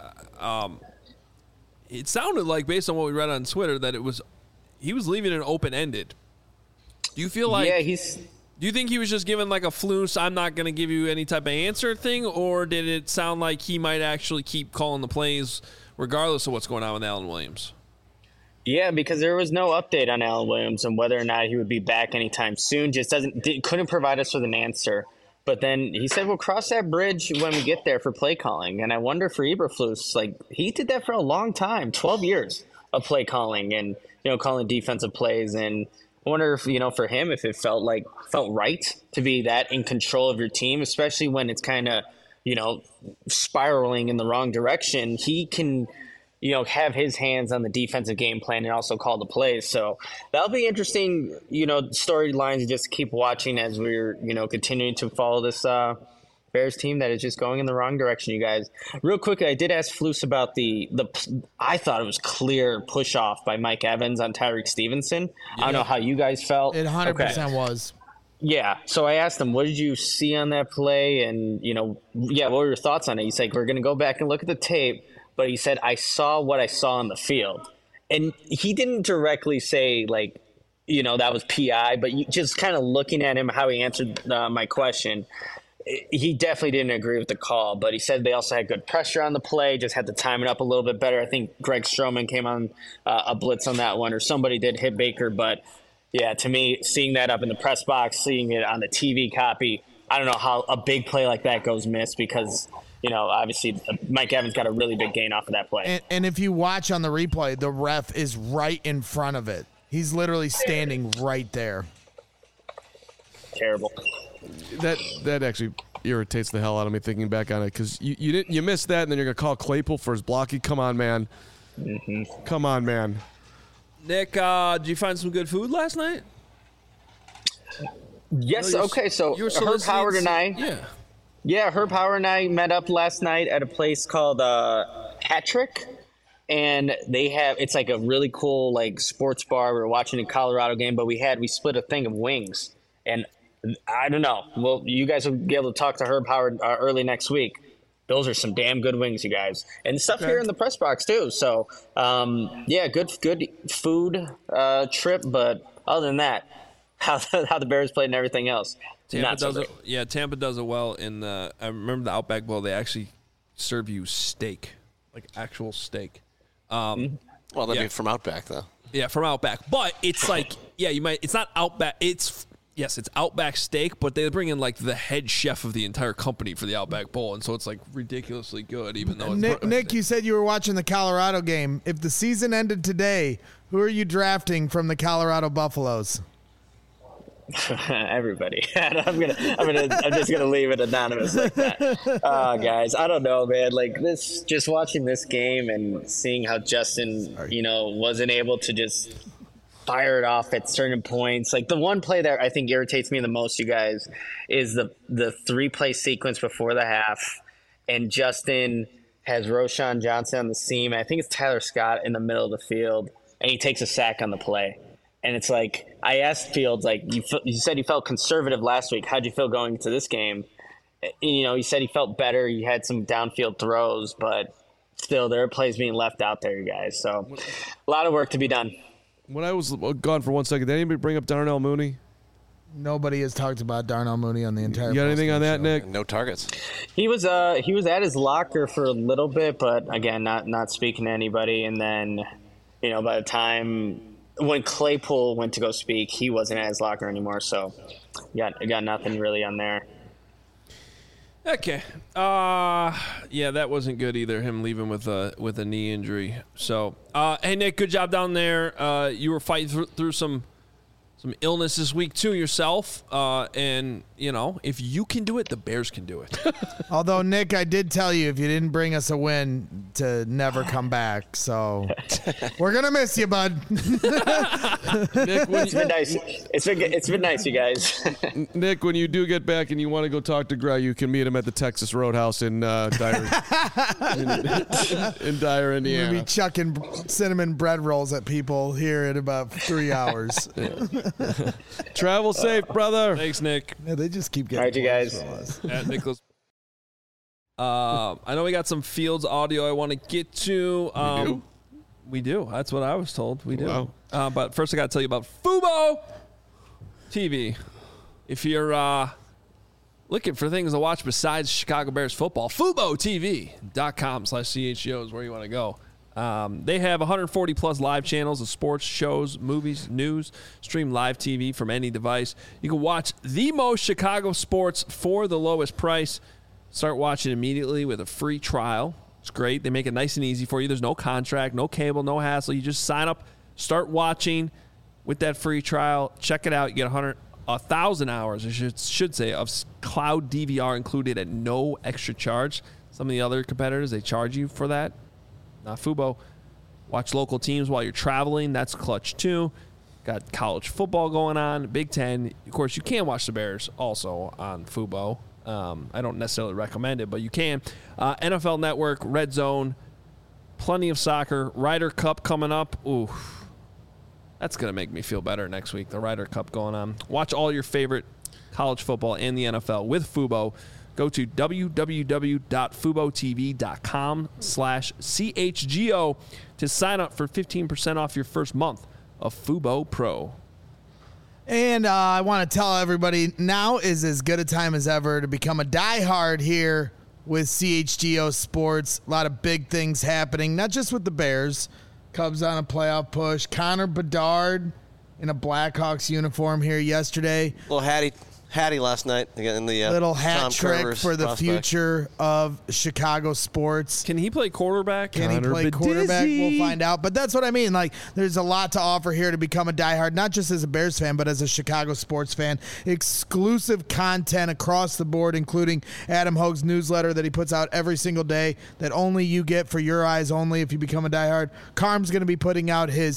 It sounded like, based on what we read on Twitter, that he was leaving it open-ended. Do you feel like... Yeah, Do you think he was just given like a Flus, I'm not going to give you any type of answer thing, or did it sound like he might actually keep calling the plays regardless of what's going on with Alan Williams? Yeah, because there was no update on Alan Williams and whether or not he would be back anytime soon. Couldn't provide us with an answer. But then he said, we'll cross that bridge when we get there for play calling. And I wonder for Eberflus, he did that for a long time, 12 years of play calling and, calling defensive plays. And I wonder if, for him, if it felt right to be that in control of your team, especially when it's kind of, spiraling in the wrong direction. He can, have his hands on the defensive game plan and also call the plays. So that'll be interesting, storylines to just keep watching as we're, continuing to follow this Bears team that is just going in the wrong direction, you guys. Real quickly, I did ask Flus about the I thought it was clear push off by Mike Evans on Tyreek Stevenson. Yeah. I don't know how you guys felt. It 100% was. Yeah. So I asked him, what did you see on that play? And, what were your thoughts on it? He's like, we're going to go back and look at the tape. But he said, I saw what I saw on the field. And he didn't directly say, that was PI, but just kind of looking at him, how he answered my question, he definitely didn't agree with the call, but he said they also had good pressure on the play, just had to time it up a little bit better. I think Greg Stroman came on a blitz on that one, or somebody did hit Baker, but Yeah, to me, seeing that up in the press box, seeing it on the TV copy, I don't know how a big play like that goes missed because, obviously Mike Evans got a really big gain off of that play. And if you watch on the replay, the ref is right in front of it. He's literally standing right there. Terrible. That actually irritates the hell out of me thinking back on it because you missed that and then you're gonna call Claypool for his blocking. Come on, man. Mm-hmm. Come on, man. Nick, did you find some good food last night? Yes. Okay. So Herb Howard and I. Yeah, Herb Howard and I met up last night at a place called Hat-Trick, and it's like a really cool like sports bar. We were watching a Colorado game, but we split a thing of wings, and I don't know. Well, you guys will be able to talk to Herb Howard early next week. Those are some damn good wings, you guys, and stuff here in the press box too. So, good food trip. But other than that, how the Bears played and everything else. Tampa does it well. I remember the Outback Bowl. They actually serve you steak, like actual steak. Well, that'd be from Outback, though. Yeah, from Outback. But it's like, it's not Outback. It's Outback steak, but they bring in like the head chef of the entire company for the Outback Bowl, and so it's like ridiculously good, even though it's Nick, you said you were watching the Colorado game. If the season ended today, who are you drafting from the Colorado Buffaloes? Everybody. I'm just gonna leave it anonymous like that. Guys, I don't know, man. Like this, just watching this game and seeing how Justin, wasn't able to just fire it off at certain points. Like the one play that I think irritates me the most, you guys, is the 3-play sequence before the half, and Justin has Roschon Johnson on the seam. I think it's Tyler Scott in the middle of the field, and he takes a sack on the play. And it's like, I asked Fields, like, you said you felt conservative last week. How'd you feel going into this game? He said he felt better. He had some downfield throws, but still there are plays being left out there, you guys. So a lot of work to be done. When I was gone for 1 second, did anybody bring up Darnell Mooney? Nobody has talked about Darnell Mooney on the entire. You got anything on that, show. Nick? No targets. He was at his locker for a little bit, but again, not speaking to anybody. And then, by the time when Claypool went to go speak, he wasn't at his locker anymore. So, got nothing really on there. Okay. That wasn't good either. Him leaving with a knee injury. So, hey Nick, good job down there. You were fighting through some illness this week too yourself. And if you can do it, the Bears can do it. Although Nick, I did tell you if you didn't bring us a win to never come back. So we're gonna miss you, bud. Nick, it's been nice. It's been nice, you guys. Nick, when you do get back and you want to go talk to Gray, you can meet him at the Texas Roadhouse in Dyer, in Dyer, Indiana. We'll be chucking cinnamon bread rolls at people here in about 3 hours. Travel safe, brother. Thanks, Nick. Yeah, they just keep getting. All right, you guys. At Nicholas. I know we got some Fields audio I want to get to. We do. That's what I was told. We do. Wow. But first, I got to tell you about Fubo TV. If you're looking for things to watch besides Chicago Bears football, FuboTV.com/CHGO is where you want to go. They have 140 plus live channels of sports, shows, movies, news, stream live TV from any device. You can watch the most Chicago sports for the lowest price. Start watching immediately with a free trial. It's great. They make it nice and easy for you. There's no contract, no cable, no hassle. You just sign up, start watching with that free trial. Check it out. You get 1,000 hours, I should say, of cloud DVR included at no extra charge. Some of the other competitors, they charge you for that. Not Fubo. Watch local teams while you're traveling. That's clutch too. Got college football going on, Big Ten. Of course, you can watch the Bears also on Fubo. I don't necessarily recommend it, but you can. NFL Network, Red Zone, plenty of soccer. Ryder Cup coming up. Ooh, that's going to make me feel better next week. The Ryder Cup going on. Watch all your favorite college football and the NFL with Fubo. Go to www.FuboTV.com/CHGO to sign up for 15% off your first month of Fubo Pro. And I want to tell everybody, now is as good a time as ever to become a diehard here with CHGO Sports. A lot of big things happening, not just with the Bears. Cubs on a playoff push. Connor Bedard in a Blackhawks uniform here yesterday. Little Hattie last night in the Little hat Tom trick Curvers for the prospect. future of Chicago sports. Can he play quarterback? Can he play quarterback? We'll find out. But that's what I mean. Like, there's a lot to offer here to become a diehard, not just as a Bears fan, but as a Chicago sports fan. Exclusive content across the board, including Adam Hogue's newsletter that he puts out every single day that only you get for your eyes only if you become a diehard. Carm's going to be putting out his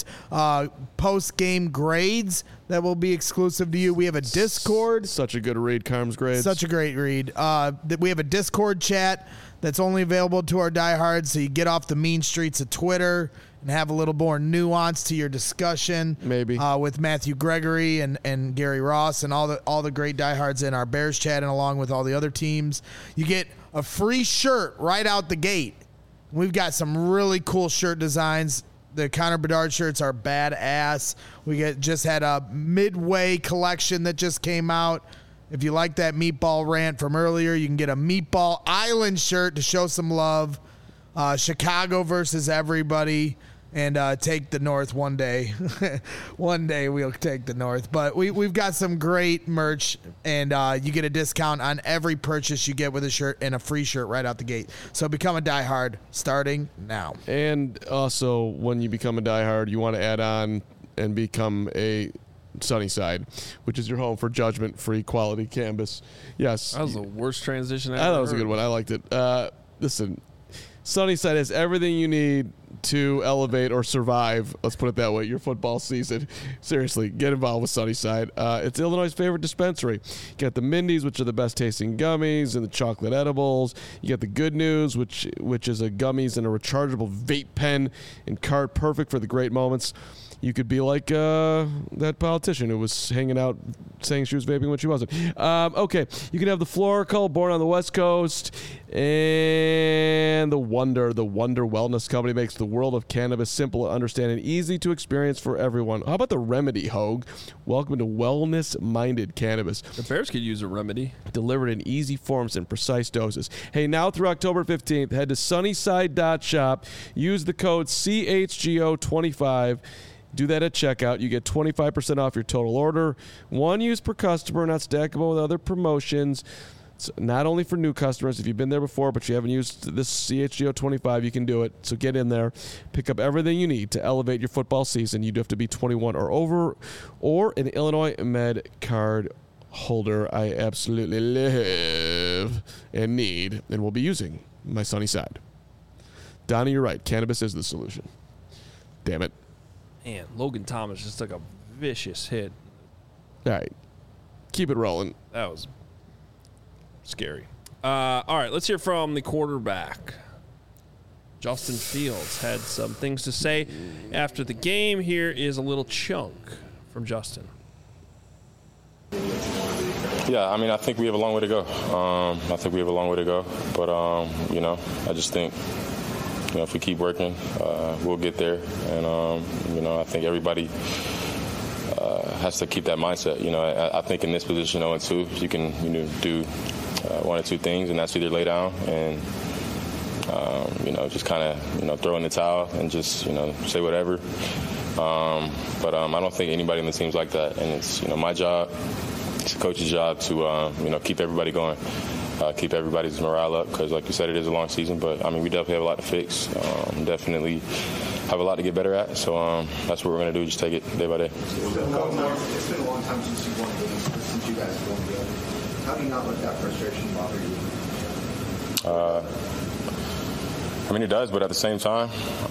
post-game grades that will be exclusive to you. We have a Discord. Such a good read, Carm's grades. Such a great read. We have a Discord chat that's only available to our diehards, so you get off the mean streets of Twitter and have a little more nuance to your discussion. Maybe. With Matthew Gregory and Gary Ross and all the great diehards in our Bears chat and along with all the other teams. You get a free shirt right out the gate. We've got some really cool shirt designs. The Connor Bedard shirts are badass. We just had a Midway collection that just came out. If you like that meatball rant from earlier, you can get a Meatball Island shirt to show some love. Chicago versus everybody. And take the North one day. One day we'll take the North. But we've got some great merch, and you get a discount on every purchase you get with a shirt and a free shirt right out the gate. So become a diehard starting now. And also, when you become a diehard, you want to add on and become a Sunnyside, which is your home for judgment-free quality cannabis. Yes. That was the worst transition I thought it was a good one. I liked it. Listen, Sunnyside has everything you need to elevate or survive, let's put it that way, your football season. Seriously, get involved with Sunnyside. It's Illinois' favorite dispensary. You got the Mindy's, which are the best tasting gummies, and the chocolate edibles. You got the Good News, which is a gummies and a rechargeable vape pen and cart, perfect for the great moments. You could be like that politician who was hanging out saying she was vaping when she wasn't. Okay, you can have the Florical, born on the West Coast, and the Wonder Wellness Company makes the world of cannabis simple to understand and easy to experience for everyone. How about the Remedy, Hogue? Welcome to wellness-minded cannabis. The Bears could use a remedy. Delivered in easy forms and precise doses. Hey, now through October 15th, head to sunnyside.shop. Use the code CHGO25. Do that at checkout. You get 25% off your total order. One use per customer, not stackable with other promotions. It's not only for new customers. If you've been there before, but you haven't used this CHGO 25, you can do it. So get in there. Pick up everything you need to elevate your football season. You do have to be 21 or over or an Illinois Med card holder. I absolutely live and need and will be using my Sunnyside. Donnie, you're right. Cannabis is the solution. Damn it. Man, Logan Thomas just took a vicious hit. All right. Keep it rolling. That was scary. All right, let's hear from the quarterback. Justin Fields had some things to say after the game. Here is a little chunk from Justin. Yeah, I mean, I think we have a long way to go. But, I just think, if we keep working, we'll get there. And, I think everybody has to keep that mindset. I think in this position, 0-2, you can do one or two things, and that's either lay down and, just kind of, throw in the towel and just, say whatever. But I don't think anybody in the team's like that. And it's, my job, it's the coach's job to, keep everybody going. Keep everybody's morale up because, like you said, it is a long season. But, we definitely have a lot to fix. Definitely have a lot to get better at. So that's what we're going to do, just take it day by day. It's been a long time since you won games, since you guys won games. How do you not let that frustration bother you? It does, but at the same time,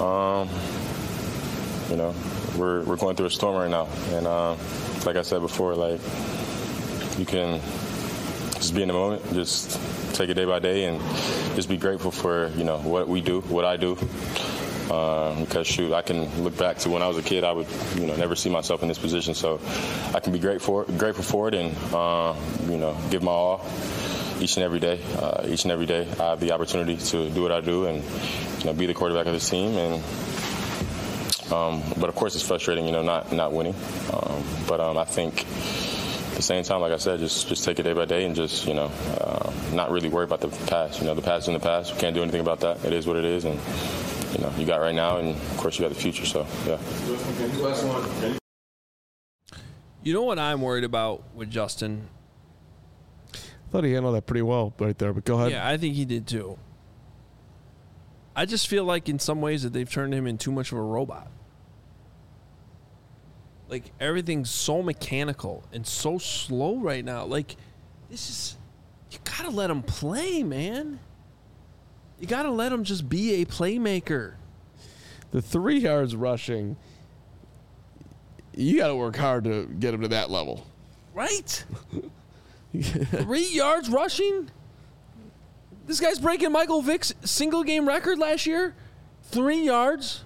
we're going through a storm right now. And like I said before, you can just be in the moment, just take it day by day, and just be grateful for what we do, what I do. Because I can look back to when I was a kid, I would never see myself in this position. So I can be grateful for it, and give my all each and every day. Each and every day, I have the opportunity to do what I do and be the quarterback of this team. And but of course, it's frustrating, not winning. But I think. At the same time, like I said, just take it day by day and just, not really worry about the past. The past is in the past. We can't do anything about that. It is what it is. And, you got right now, and, of course, you got the future. So, yeah. You know what I'm worried about with Justin? I thought he handled that pretty well right there, but go ahead. Yeah, I think he did too. I just feel like in some ways that they've turned him into too much of a robot. Like, everything's so mechanical and so slow right now. Like, this is... You gotta let him play, man. You gotta let him just be a playmaker. The 3 yards rushing, you got to work hard to get him to that level. Right? 3 yards rushing? This guy's breaking Michael Vick's single-game record last year. 3 yards?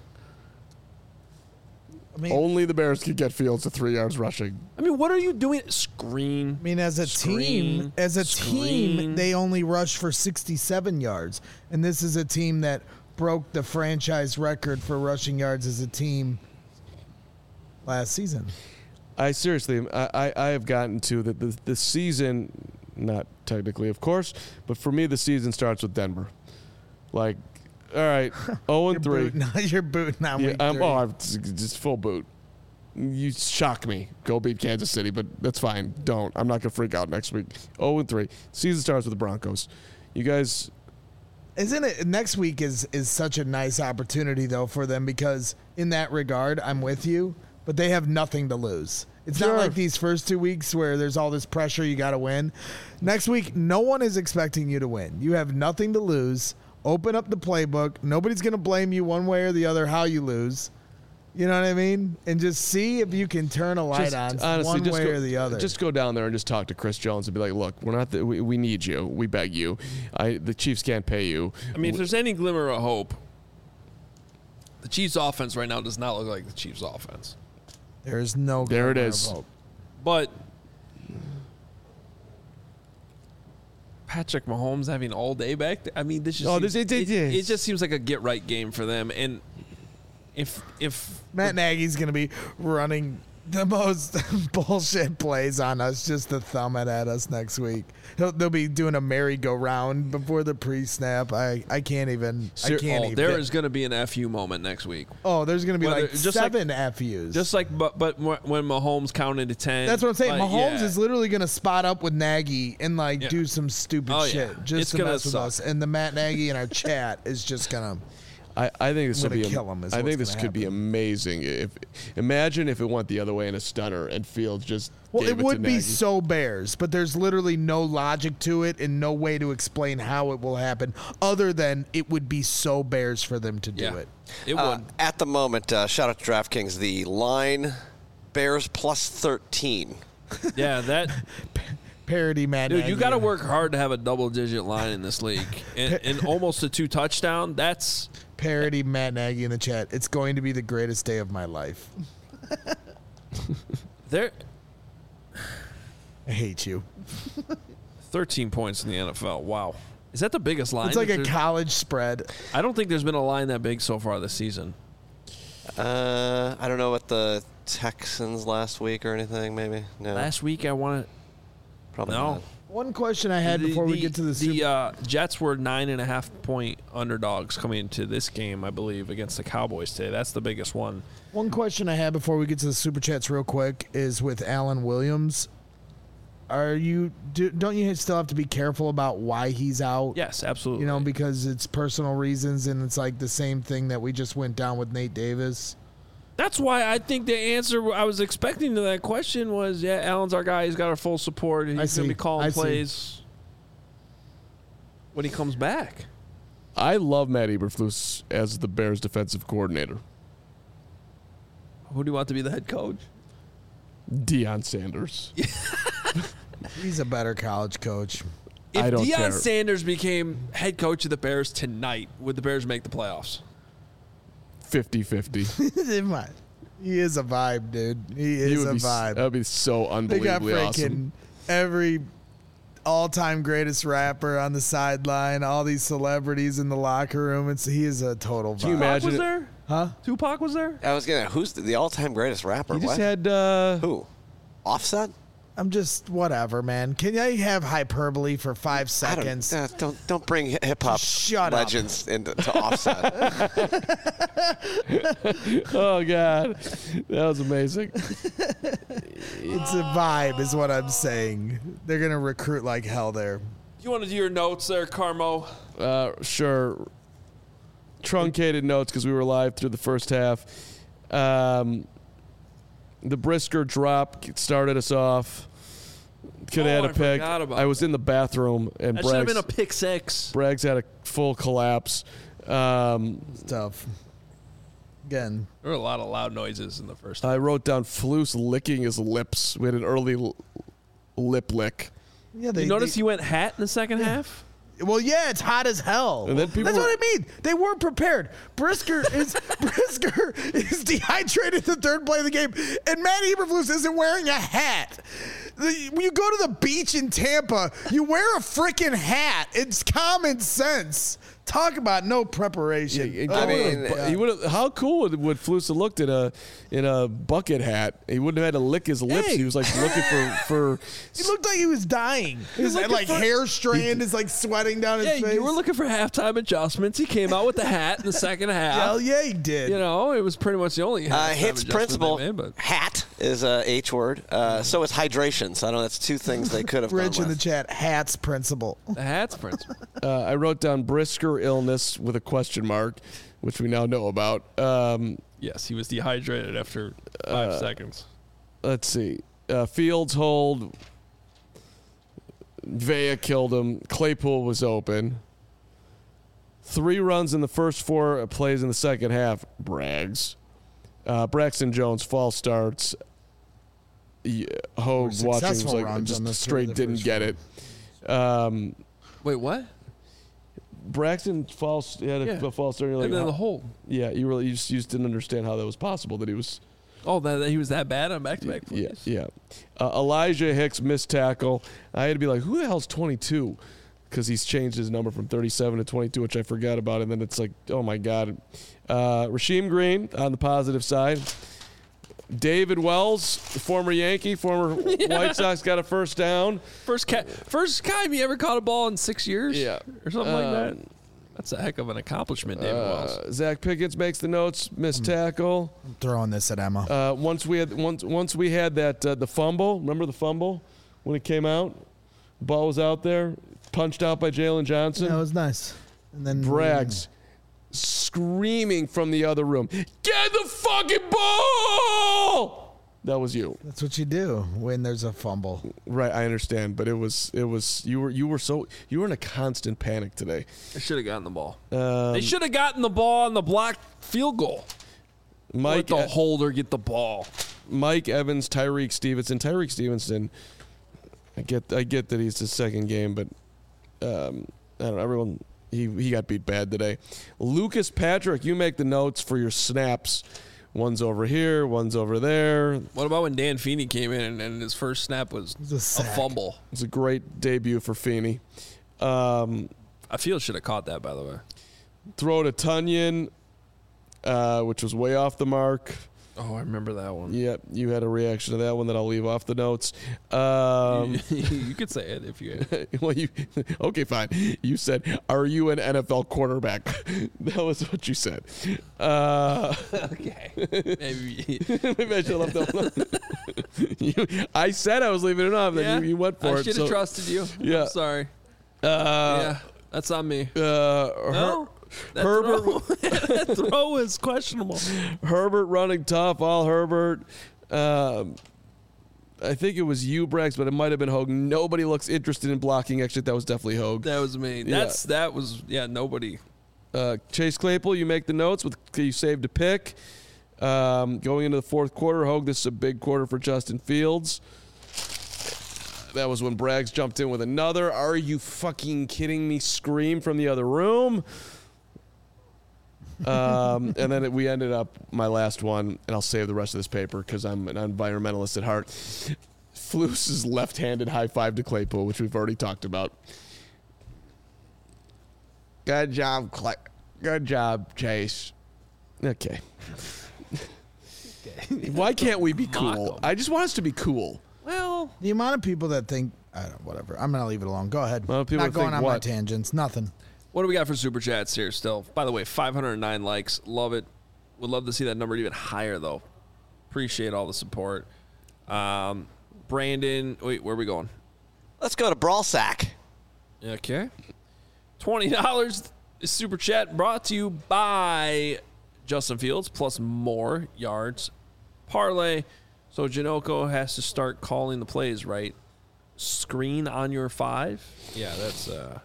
I mean, Only the Bears could get Fields to 3 yards rushing. I mean, what are you doing? Screen. I mean, as a team, they only rushed for 67 yards, and this is a team that broke the franchise record for rushing yards as a team last season. I seriously, I have gotten to the season, not technically, of course, but for me, the season starts with Denver. Like, all right, 0-3. You're booting on week 3. I'm just full boot. You shock me. Go beat Kansas City, but that's fine. Don't. I'm not going to freak out next week. 0-3. Season starts with the Broncos. You guys... Isn't it next week is such a nice opportunity though for them, because in that regard I'm with you, but they have nothing to lose. It's not like these first 2 weeks where there's all this pressure you got to win. Next week no one is expecting you to win. You have nothing to lose. Open up the playbook. Nobody's going to blame you one way or the other how you lose. You know what I mean? And just see if you can turn a light on one way or the other. Just go down there and just talk to Chris Jones and be like, look, we're not. We need you. We beg you. The Chiefs can't pay you. I mean, if there's any glimmer of hope, the Chiefs' offense right now does not look like the Chiefs' offense. There's no there it glimmer is. of hope. But Patrick Mahomes having all day back there, I mean, this just it just seems like a get-right game for them. And if Matt Nagy's going to be running the most bullshit plays on us just to thumb it at us next week. They'll be doing a merry-go-round before the pre-snap. I can't even. There is going to be an FU moment next week. Oh, there's going to be like just 7 FUs. Just like, but when Mahomes counted to 10. That's what I'm saying. Mahomes yeah. is literally going to spot up with Nagy and do some stupid shit just to mess with us. And the Matt Nagy in our chat is just going to. I think this would be. Kill him. I think this could be amazing. Imagine if it went the other way in a stunner and Fields just. Well, gave it would to be Nagy. so Bears, but there's literally no logic to it and no way to explain how it will happen, other than it would be so Bears for them to do it. It would. At the moment, shout out to DraftKings. The line, Bears plus 13. Yeah, that. Parody Matt Dude, Nagy. you got to work hard to have a double-digit line in this league, and almost a 2 touchdown. That's parody Matt Nagy in the chat. It's going to be the greatest day of my life. there. I hate you. 13 points in the NFL. Wow, is that the biggest line? It's like a college spread. I don't think there's been a line that big so far this season. I don't know what the Texans last week or anything. Maybe no. Last week I want to. Probably No. not. One question I had before we get to the Jets were 9.5-point underdogs coming into this game, I believe, against the Cowboys today. That's the biggest one. One question I had before we get to the Super Chats real quick is with Alan Williams. Don't you still have to be careful about why he's out? Yes, absolutely. You know, because it's personal reasons, and it's like the same thing that we just went down with Nate Davis. That's why I think the answer I was expecting to that question was, yeah, Allen's our guy. He's got our full support. And he's going to be calling plays when he comes back. I love Matt Eberflus as the Bears defensive coordinator. Who do you want to be the head coach? Deion Sanders. He's a better college coach. If I don't Deion care. Sanders became head coach of the Bears tonight, would the Bears make the playoffs? 50-50. He is a vibe, dude. He is a vibe. That would be so unbelievably They got awesome. every all-time greatest rapper on the sideline, all these celebrities in the locker room. He is a total vibe. Can you imagine was there? Huh? Tupac was there? I was gonna. Who's the all-time greatest rapper? He just What? had Who? Offset? I'm just whatever, man. Can I have hyperbole for 5 seconds? Don't bring hip hop Shut legends into to Offset. Oh God, that was amazing. It's a vibe, is what I'm saying. They're gonna recruit like hell there. You want to do your notes there, Carmo? Sure. Truncated notes because we were live through the first half. The Brisker drop started us off. Could have had a pick. I was in the bathroom and That should have been a pick six. Braggs had a full collapse. It's tough. Again, There were a lot of loud noises in the first. I wrote down Flus licking his lips. We had an early lip lick. yeah. You notice he went hat in the second half? Well, yeah, it's hot as hell. And then people That's were- what I mean. They weren't prepared. Brisker is dehydrated the third play of the game, and Matt Eberflus isn't wearing a hat. When you go to the beach in Tampa, you wear a freaking hat. It's common sense. Talk about no preparation. He would have. How cool would Flus have looked in a bucket hat? He wouldn't have had to lick his lips. Hey. He was like looking for. He looked like he was dying. His looking for- hair strand is like sweating down his face. You were looking for halftime adjustments. He came out with the hat in the second half. Hell yeah, he did. You know, it was pretty much the only halftime Hits adjustment principle. they made, but Hat is a H word. So is hydration. So I know that's two things they could have Rich gone in the with. chat, hats principle. the hat's principle. I wrote down Brisker illness with a question mark, which we now know about. Yes, he was dehydrated after 5 seconds. Let's see. Fields hold. Vea killed him. Claypool was open. 3 runs in the first 4 plays in the second half. Brags. Braxton Jones false starts. Hogue watching was Successful like runs on the just straight the didn't first get it. Wait, what? Braxton false had a false start. You're like, And then how- the whole. yeah, you just didn't understand how that was possible. That he was. Oh, that he was that bad on back-to-back Yeah, plays? yeah. Elijah Hicks missed tackle. I had to be like, who the hell's 22? Because he's changed his number from 37 to 22, which I forgot about. And then it's like, oh my God. Rasheem Green on the positive side. David Wells, former Yankee, former White Sox, got a first down. First time he ever caught a ball in 6 years? Yeah. Or something like that. That's a heck of an accomplishment, David Wells. Zach Pickens makes the notes, missed tackle. I'm throwing this at Emma. Once we had that the fumble. Remember the fumble when it came out? Ball was out there, punched out by Jalen Johnson. That was nice. And then Braggs screaming from the other room, "Get the fucking ball!" That was you, That's what you do when there's a fumble. right? I understand, but it was you were in a constant panic today. They should have gotten the ball. They should have gotten the ball on the blocked field goal. Mike Let the holder get the ball. Mike Evans, Tyreek Stevenson. Tyreek Stevenson, I get that he's his second game, but I don't know. Everyone he got beat bad today. Lucas Patrick, you make the notes for your snaps. One's over here, one's over there. What about when Dan Feeney came in and his first snap was a a sack. fumble? It's a great debut for Feeney. I feel should have caught that, by the way. Throw to Tunyon, which was way off the mark. Oh, I remember that one. Yep, you had a reaction to that one that I'll leave off the notes. You could say it if you. Well, okay, fine. You said, "Are you an NFL quarterback?" That was what you said. Okay. Maybe. Maybe I should have left that. I said I was leaving it off, then you went for I it. should have trusted you. Yeah. I'm sorry. Yeah, that's on me. No? That Herbert that throw is questionable. Herbert running tough, all Herbert. I think it was you, Brax, but it might have been Hogue. Nobody looks interested in blocking. Actually, that was definitely Hogue. That was me. That was nobody. Chase Claypool, you make the notes. You saved a pick. Going into the fourth quarter, Hogue, this is a big quarter for Justin Fields. That was when Braggs jumped in with another "Are you fucking kidding me?" scream from the other room. And then we ended up, my last one, and I'll save the rest of this paper because I'm an environmentalist at heart. Flus's left-handed high five to Claypool, which we've already talked about. Good job, Good job, Chase. Okay. Why can't we be cool? I just want us to be cool. Well, Well, The amount of people that think, I don't, whatever. I'm gonna leave it alone. Go ahead. Well, people Not going think on my what? tangents. Nothing. what do we got for super chats here still? By the way, 509 likes. Love it. Would love to see that number even higher, though. Appreciate all the support. Brandon, wait, where are we going? Let's go to Brawl Sack. Okay. $20 super chat brought to you by Justin Fields plus more yards parlay. So Janoko has to start calling the plays, right? Screen on your 5. Yeah, that's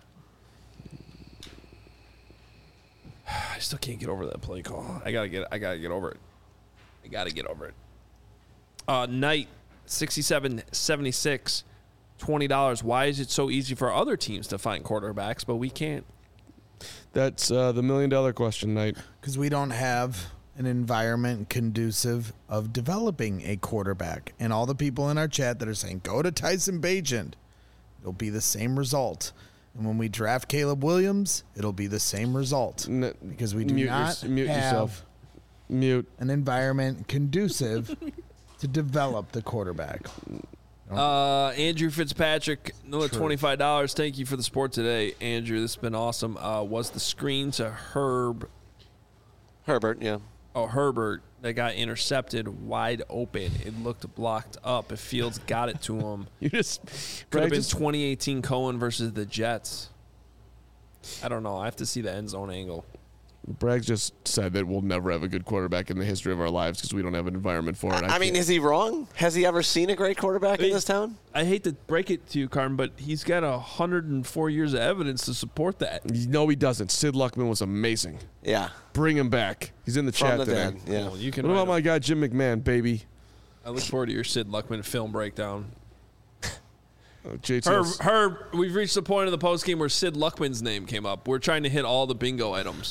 I still can't get over that play call. I gotta get over it. I gotta get over it. Knight 6776, $20. Why is it so easy for other teams to find quarterbacks, but we can't? That's the $1 million question, Knight. Because we don't have an environment conducive of developing a quarterback. And all the people in our chat that are saying, go to Tyson Bagent, it'll be the same result. And when we draft Caleb Williams, it'll be the same result. Because we do Mute not mute have yourself. Mute. an environment conducive to develop the quarterback. Andrew Fitzpatrick, another $25. Thank you for the support today, Andrew. This has been awesome. Was the screen to Herbert, yeah. Herbert that got intercepted wide open? It looked blocked up. If Fields got it to him, You just could have been just 2018 Cohen versus the Jets. I don't know. I have to see the end zone angle. Bragg just said that we'll never have a good quarterback in the history of our lives because we don't have an environment for it. I mean, is he wrong? Has he ever seen a great quarterback in this town? I hate to break it to you, Carmen, but he's got 104 years of evidence to support that. No, he doesn't. Sid Luckman was amazing. Yeah. Bring him back. He's in the From chat the today. dead. Yeah. Well, you can What write about my guy Jim McMahon, baby? I look forward to your Sid Luckman film breakdown. JTS. Herb, we've reached the point of the post game where Sid Luckman's name came up. We're trying to hit all the bingo items.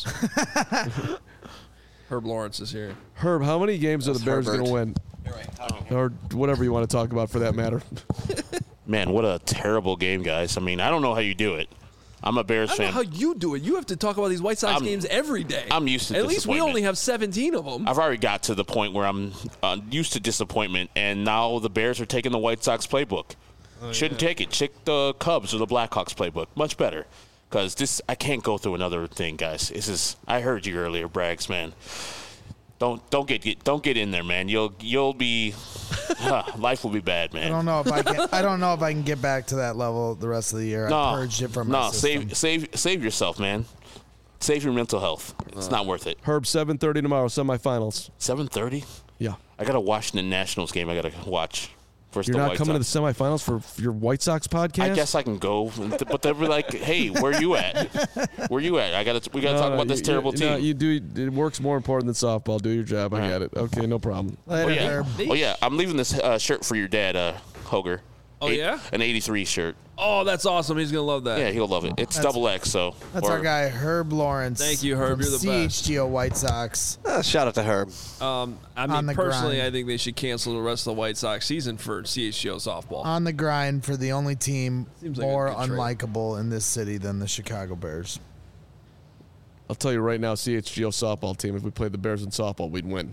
Herb Lawrence is here. Herb, how many games are the Bears Herbert. going to win? Or whatever you want to talk about for that matter. Man, what a terrible game, guys. I mean, I don't know how you do it. I'm a Bears I don't know fan. how you do it. You have to talk about these White Sox games every day. I'm used to At least we disappointment. only have 17 of them. I've already got to the point where I'm used to disappointment, and now the Bears are taking the White Sox playbook. Shouldn't take it. Check the Cubs or the Blackhawks playbook. Much better. Because I can't go through another thing, guys. I heard you earlier, Braggs, man. Don't get in there, man. You'll be life will be bad, man. I don't know if I can get back to that level the rest of the year. I purged it from my system. save yourself, man. Save your mental health. It's not worth it. Herb, 7:30 tomorrow, semifinals. 7:30. Yeah. I got a Washington Nationals game. I got to watch. Versus You're the not White coming Sox. to the semifinals for your White Sox podcast? I guess I can go, but they'll be like, "Hey, where you at? Where you at? We got to talk about this terrible team." No, you do. It works more important than softball. Do your job. I get it. Okay, no problem. Later, Herb. Oh yeah, I'm leaving this shirt for your dad, Hoger. Oh, yeah? An '83 shirt. Oh, that's awesome. He's going to love that. Yeah, he'll love it. It's double X, so. That's our guy, Herb Lawrence. Thank you, Herb. from You're the best. CHGO White Sox. Shout out to Herb. I On mean, the personally, grind. I think they should cancel the rest of the White Sox season for CHGO softball. On the grind for the only team Seems like a more good trade. unlikable in this city than the Chicago Bears. I'll tell you right now, CHGO softball team, if we played the Bears in softball, we'd win.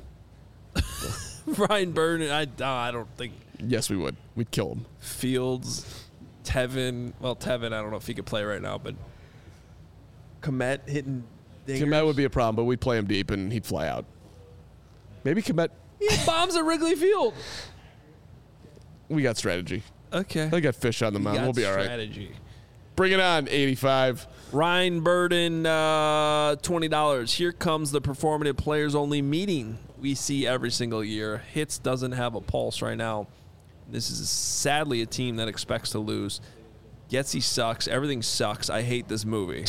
Ryan Burden, I don't think Yes, we would. We'd kill them. Fields, Tevin. Well, Tevin, I don't know if he could play right now, but Komet hitting dingers. Komet would be a problem, but we'd play him deep and he'd fly out. Maybe Komet. He hit bombs at Wrigley Field. We got strategy. Okay. I got fish on the mound. We'll be all right. Strategy. Bring it on, 85. Ryan Burden, $20. Here comes the performative players only meeting we see every single year. Hits doesn't have a pulse right now. This is sadly a team that expects to lose. Getsy sucks. Everything sucks. I hate this movie.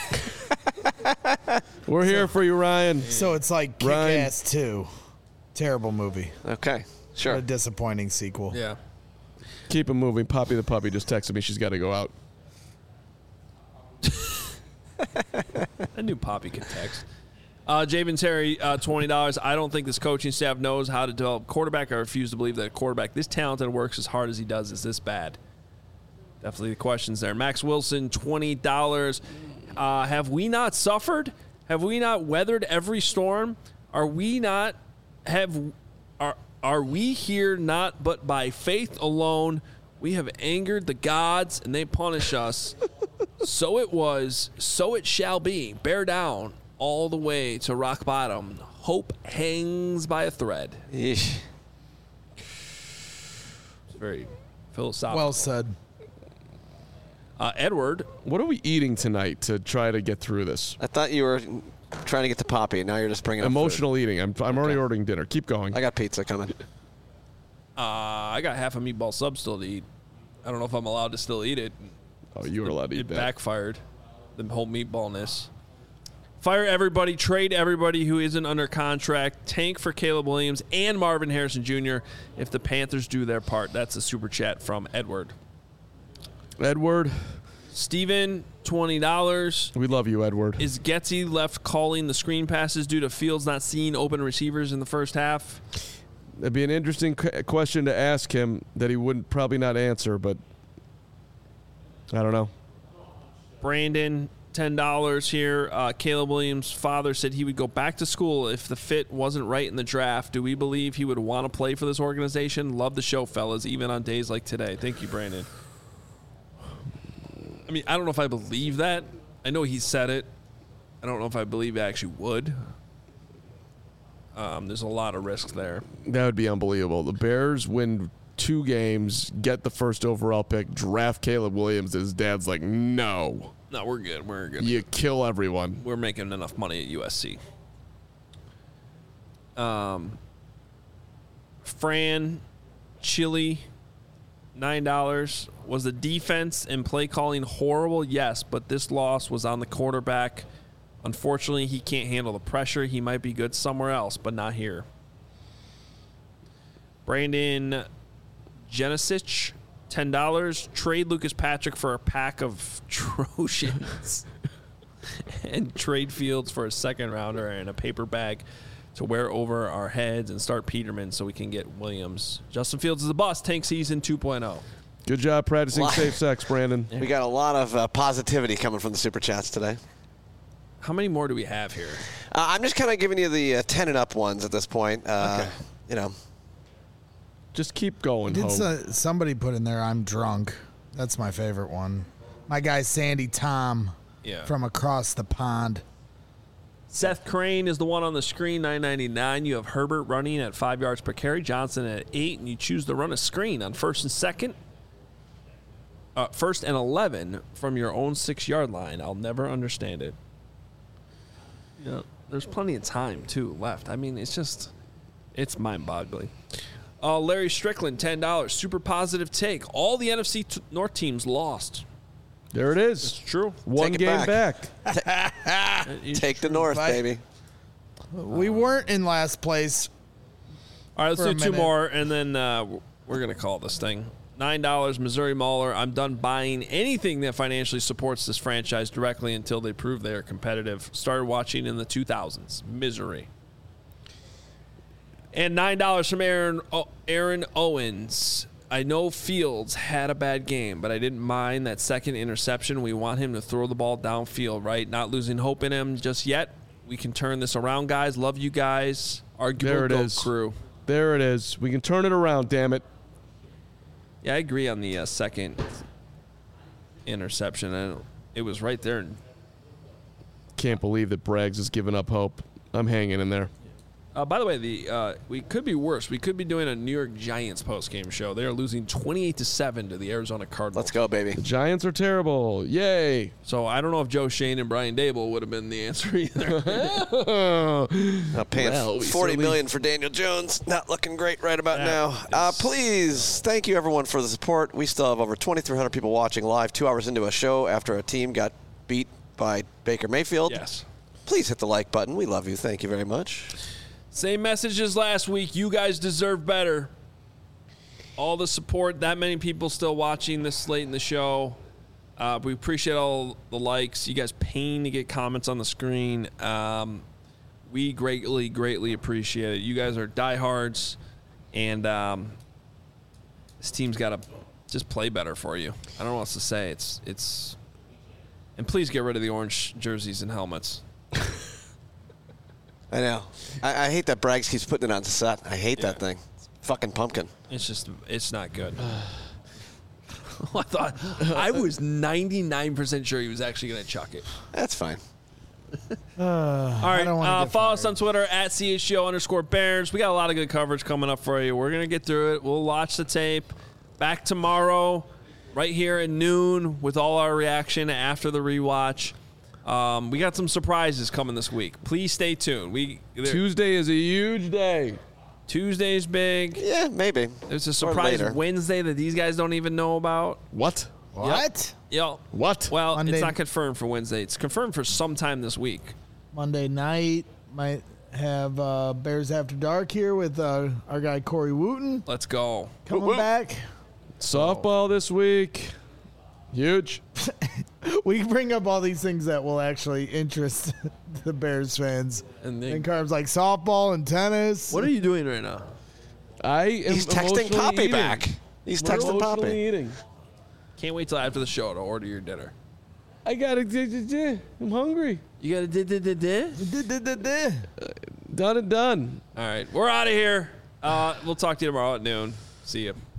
We're here for you, Ryan. So it's like Ryan. Kick-Ass 2. Terrible movie. Okay, What sure. a disappointing sequel. Yeah. Keep it moving. Poppy the puppy just texted me. She's got to go out. I knew Poppy could text. Javen Terry, $20. I don't think this coaching staff knows how to develop quarterback. I refuse to believe that a quarterback this talented and works as hard as he does is this bad. Definitely the questions there. Max Wilson, $20. Have we not suffered? Have we not weathered every storm? Are we not Are we here not but by faith alone? We have angered the gods, and they punish us. So it was, so it shall be. Bear down all the way to rock bottom. Hope hangs by a thread. Yeesh. It's very philosophical. Well said. Edward. What are we eating tonight to try to get through this? I thought you were trying to get to Poppy. Now you're just bringing up Emotional eating. I'm already ordering dinner. Keep going. food. I got pizza coming. I got half a meatball sub still to eat. I don't know if I'm allowed to still eat it. Oh, you were allowed to eat It that. backfired. The whole meatballness. Fire everybody. Trade everybody who isn't under contract. Tank for Caleb Williams and Marvin Harrison Jr. if the Panthers do their part. That's a super chat from Edward. Edward. Steven, $20. We love you, Edward. Is Getsy left calling the screen passes due to Fields not seeing open receivers in the first half? That'd be an interesting question to ask him that he wouldn't probably not answer, but I don't know. Brandon, $10 here. Caleb Williams' father said he would go back to school if the fit wasn't right in the draft. Do we believe he would want to play for this organization? Love the show, fellas, even on days like today. Thank you, Brandon. I mean, I don't know if I believe that. I know he said it. I don't know if I believe he actually would. There's a lot of risks there. That would be unbelievable. The Bears win 2 games, get the first overall pick, draft Caleb Williams. His dad's like, no. No, we're good. We're good. You kill everyone. We're making enough money at USC. Fran, Chili, $9. Was the defense and play calling horrible? Yes, but this loss was on the quarterback. Unfortunately, he can't handle the pressure. He might be good somewhere else, but not here. Brandon Genesic, $10. Trade Lucas Patrick for a pack of Trojans and trade Fields for a second rounder and a paper bag to wear over our heads and start Peterman so we can get Williams. Justin Fields is a bust. Tank season 2.0. Good job practicing safe sex, Brandon. We got a lot of positivity coming from the Super Chats today. How many more do we have here? I'm just kind of giving you the 10 and up ones at this point. Okay. You know. Just keep going, Did Hope. somebody put in there, I'm drunk. That's my favorite one. My guy Sandy Tom from across the pond. Seth Crane is the one on the screen, $9.99. You have Herbert running at 5 yards per carry, Johnson at 8, and you choose to run a screen on first and 11 from your own 6-yard line. I'll never understand it. You know, there's plenty of time, too, left. I mean, it's mind-boggling. Larry Strickland, $10. Super positive take. All the NFC North teams lost. There it is. It's true. One Take it game back. Take the North, baby. We weren't in last place. All right, let's for a do 2 minute. more, and then we're going to call this thing. $9, Missouri Mauler. I'm done buying anything that financially supports this franchise directly until they prove they are competitive. Started watching in the 2000s. Misery. And $9 from Aaron Owens. I know Fields had a bad game, but I didn't mind that second interception. We want him to throw the ball downfield, right? Not losing hope in him just yet. We can turn this around, guys. Love you guys. Arguable There it GOAT is. crew. There it is. We can turn it around, damn it. Yeah, I agree on the second interception. And it was right there. Can't believe that Braggs has given up hope. I'm hanging in there. By the way, we could be worse. We could be doing a New York Giants postgame show. They are losing 28-7 to the Arizona Cardinals. Let's go, baby. The Giants are terrible. Yay. So I don't know if Joe Shane and Brian Dable would have been the answer either. Paying Well, we $40 certainly- million for Daniel Jones. Not looking great right about now. Please, thank you, everyone, for the support. We still have over 2,300 people watching live 2 hours into a show after a team got beat by Baker Mayfield. Yes. Please hit the like button. We love you. Thank you very much. Same message as last week. You guys deserve better. All the support. That many people still watching this late in the show. We appreciate all the likes. You guys paying to get comments on the screen. We greatly, greatly appreciate it. You guys are diehards, and this team's got to just play better for you. I don't know what else to say. It's and please get rid of the orange jerseys and helmets. I know. I hate that Braggs keeps putting it on set. I hate that thing. fucking pumpkin. It's not good. I was 99% sure he was actually going to chuck it. That's fine. All right, follow us on Twitter at @CHGO_Bears. We got a lot of good coverage coming up for you. We're going to get through it. We'll watch the tape. Back tomorrow, right here at noon, with all our reaction after the rewatch. We got some surprises coming this week. Please stay tuned. Tuesday is a huge day. Tuesday's big. Yeah, maybe. There's a surprise Wednesday that these guys don't even know about. What? Yep. What? Well, Monday. it's not confirmed for Wednesday. It's confirmed for sometime this week. Monday night might have Bears After Dark here with our guy Corey Wooten Let's go. coming back. Softball this week. Huge. We bring up all these things that will actually interest the Bears fans. And Carbs like softball and tennis. What are you doing right now? He's texting Poppy back. He's texting Poppy. Eating. Can't wait till after the show to order your dinner. I got to. I'm hungry. You got to Done and done. All right, we're out of here. We'll talk to you tomorrow at noon. See you.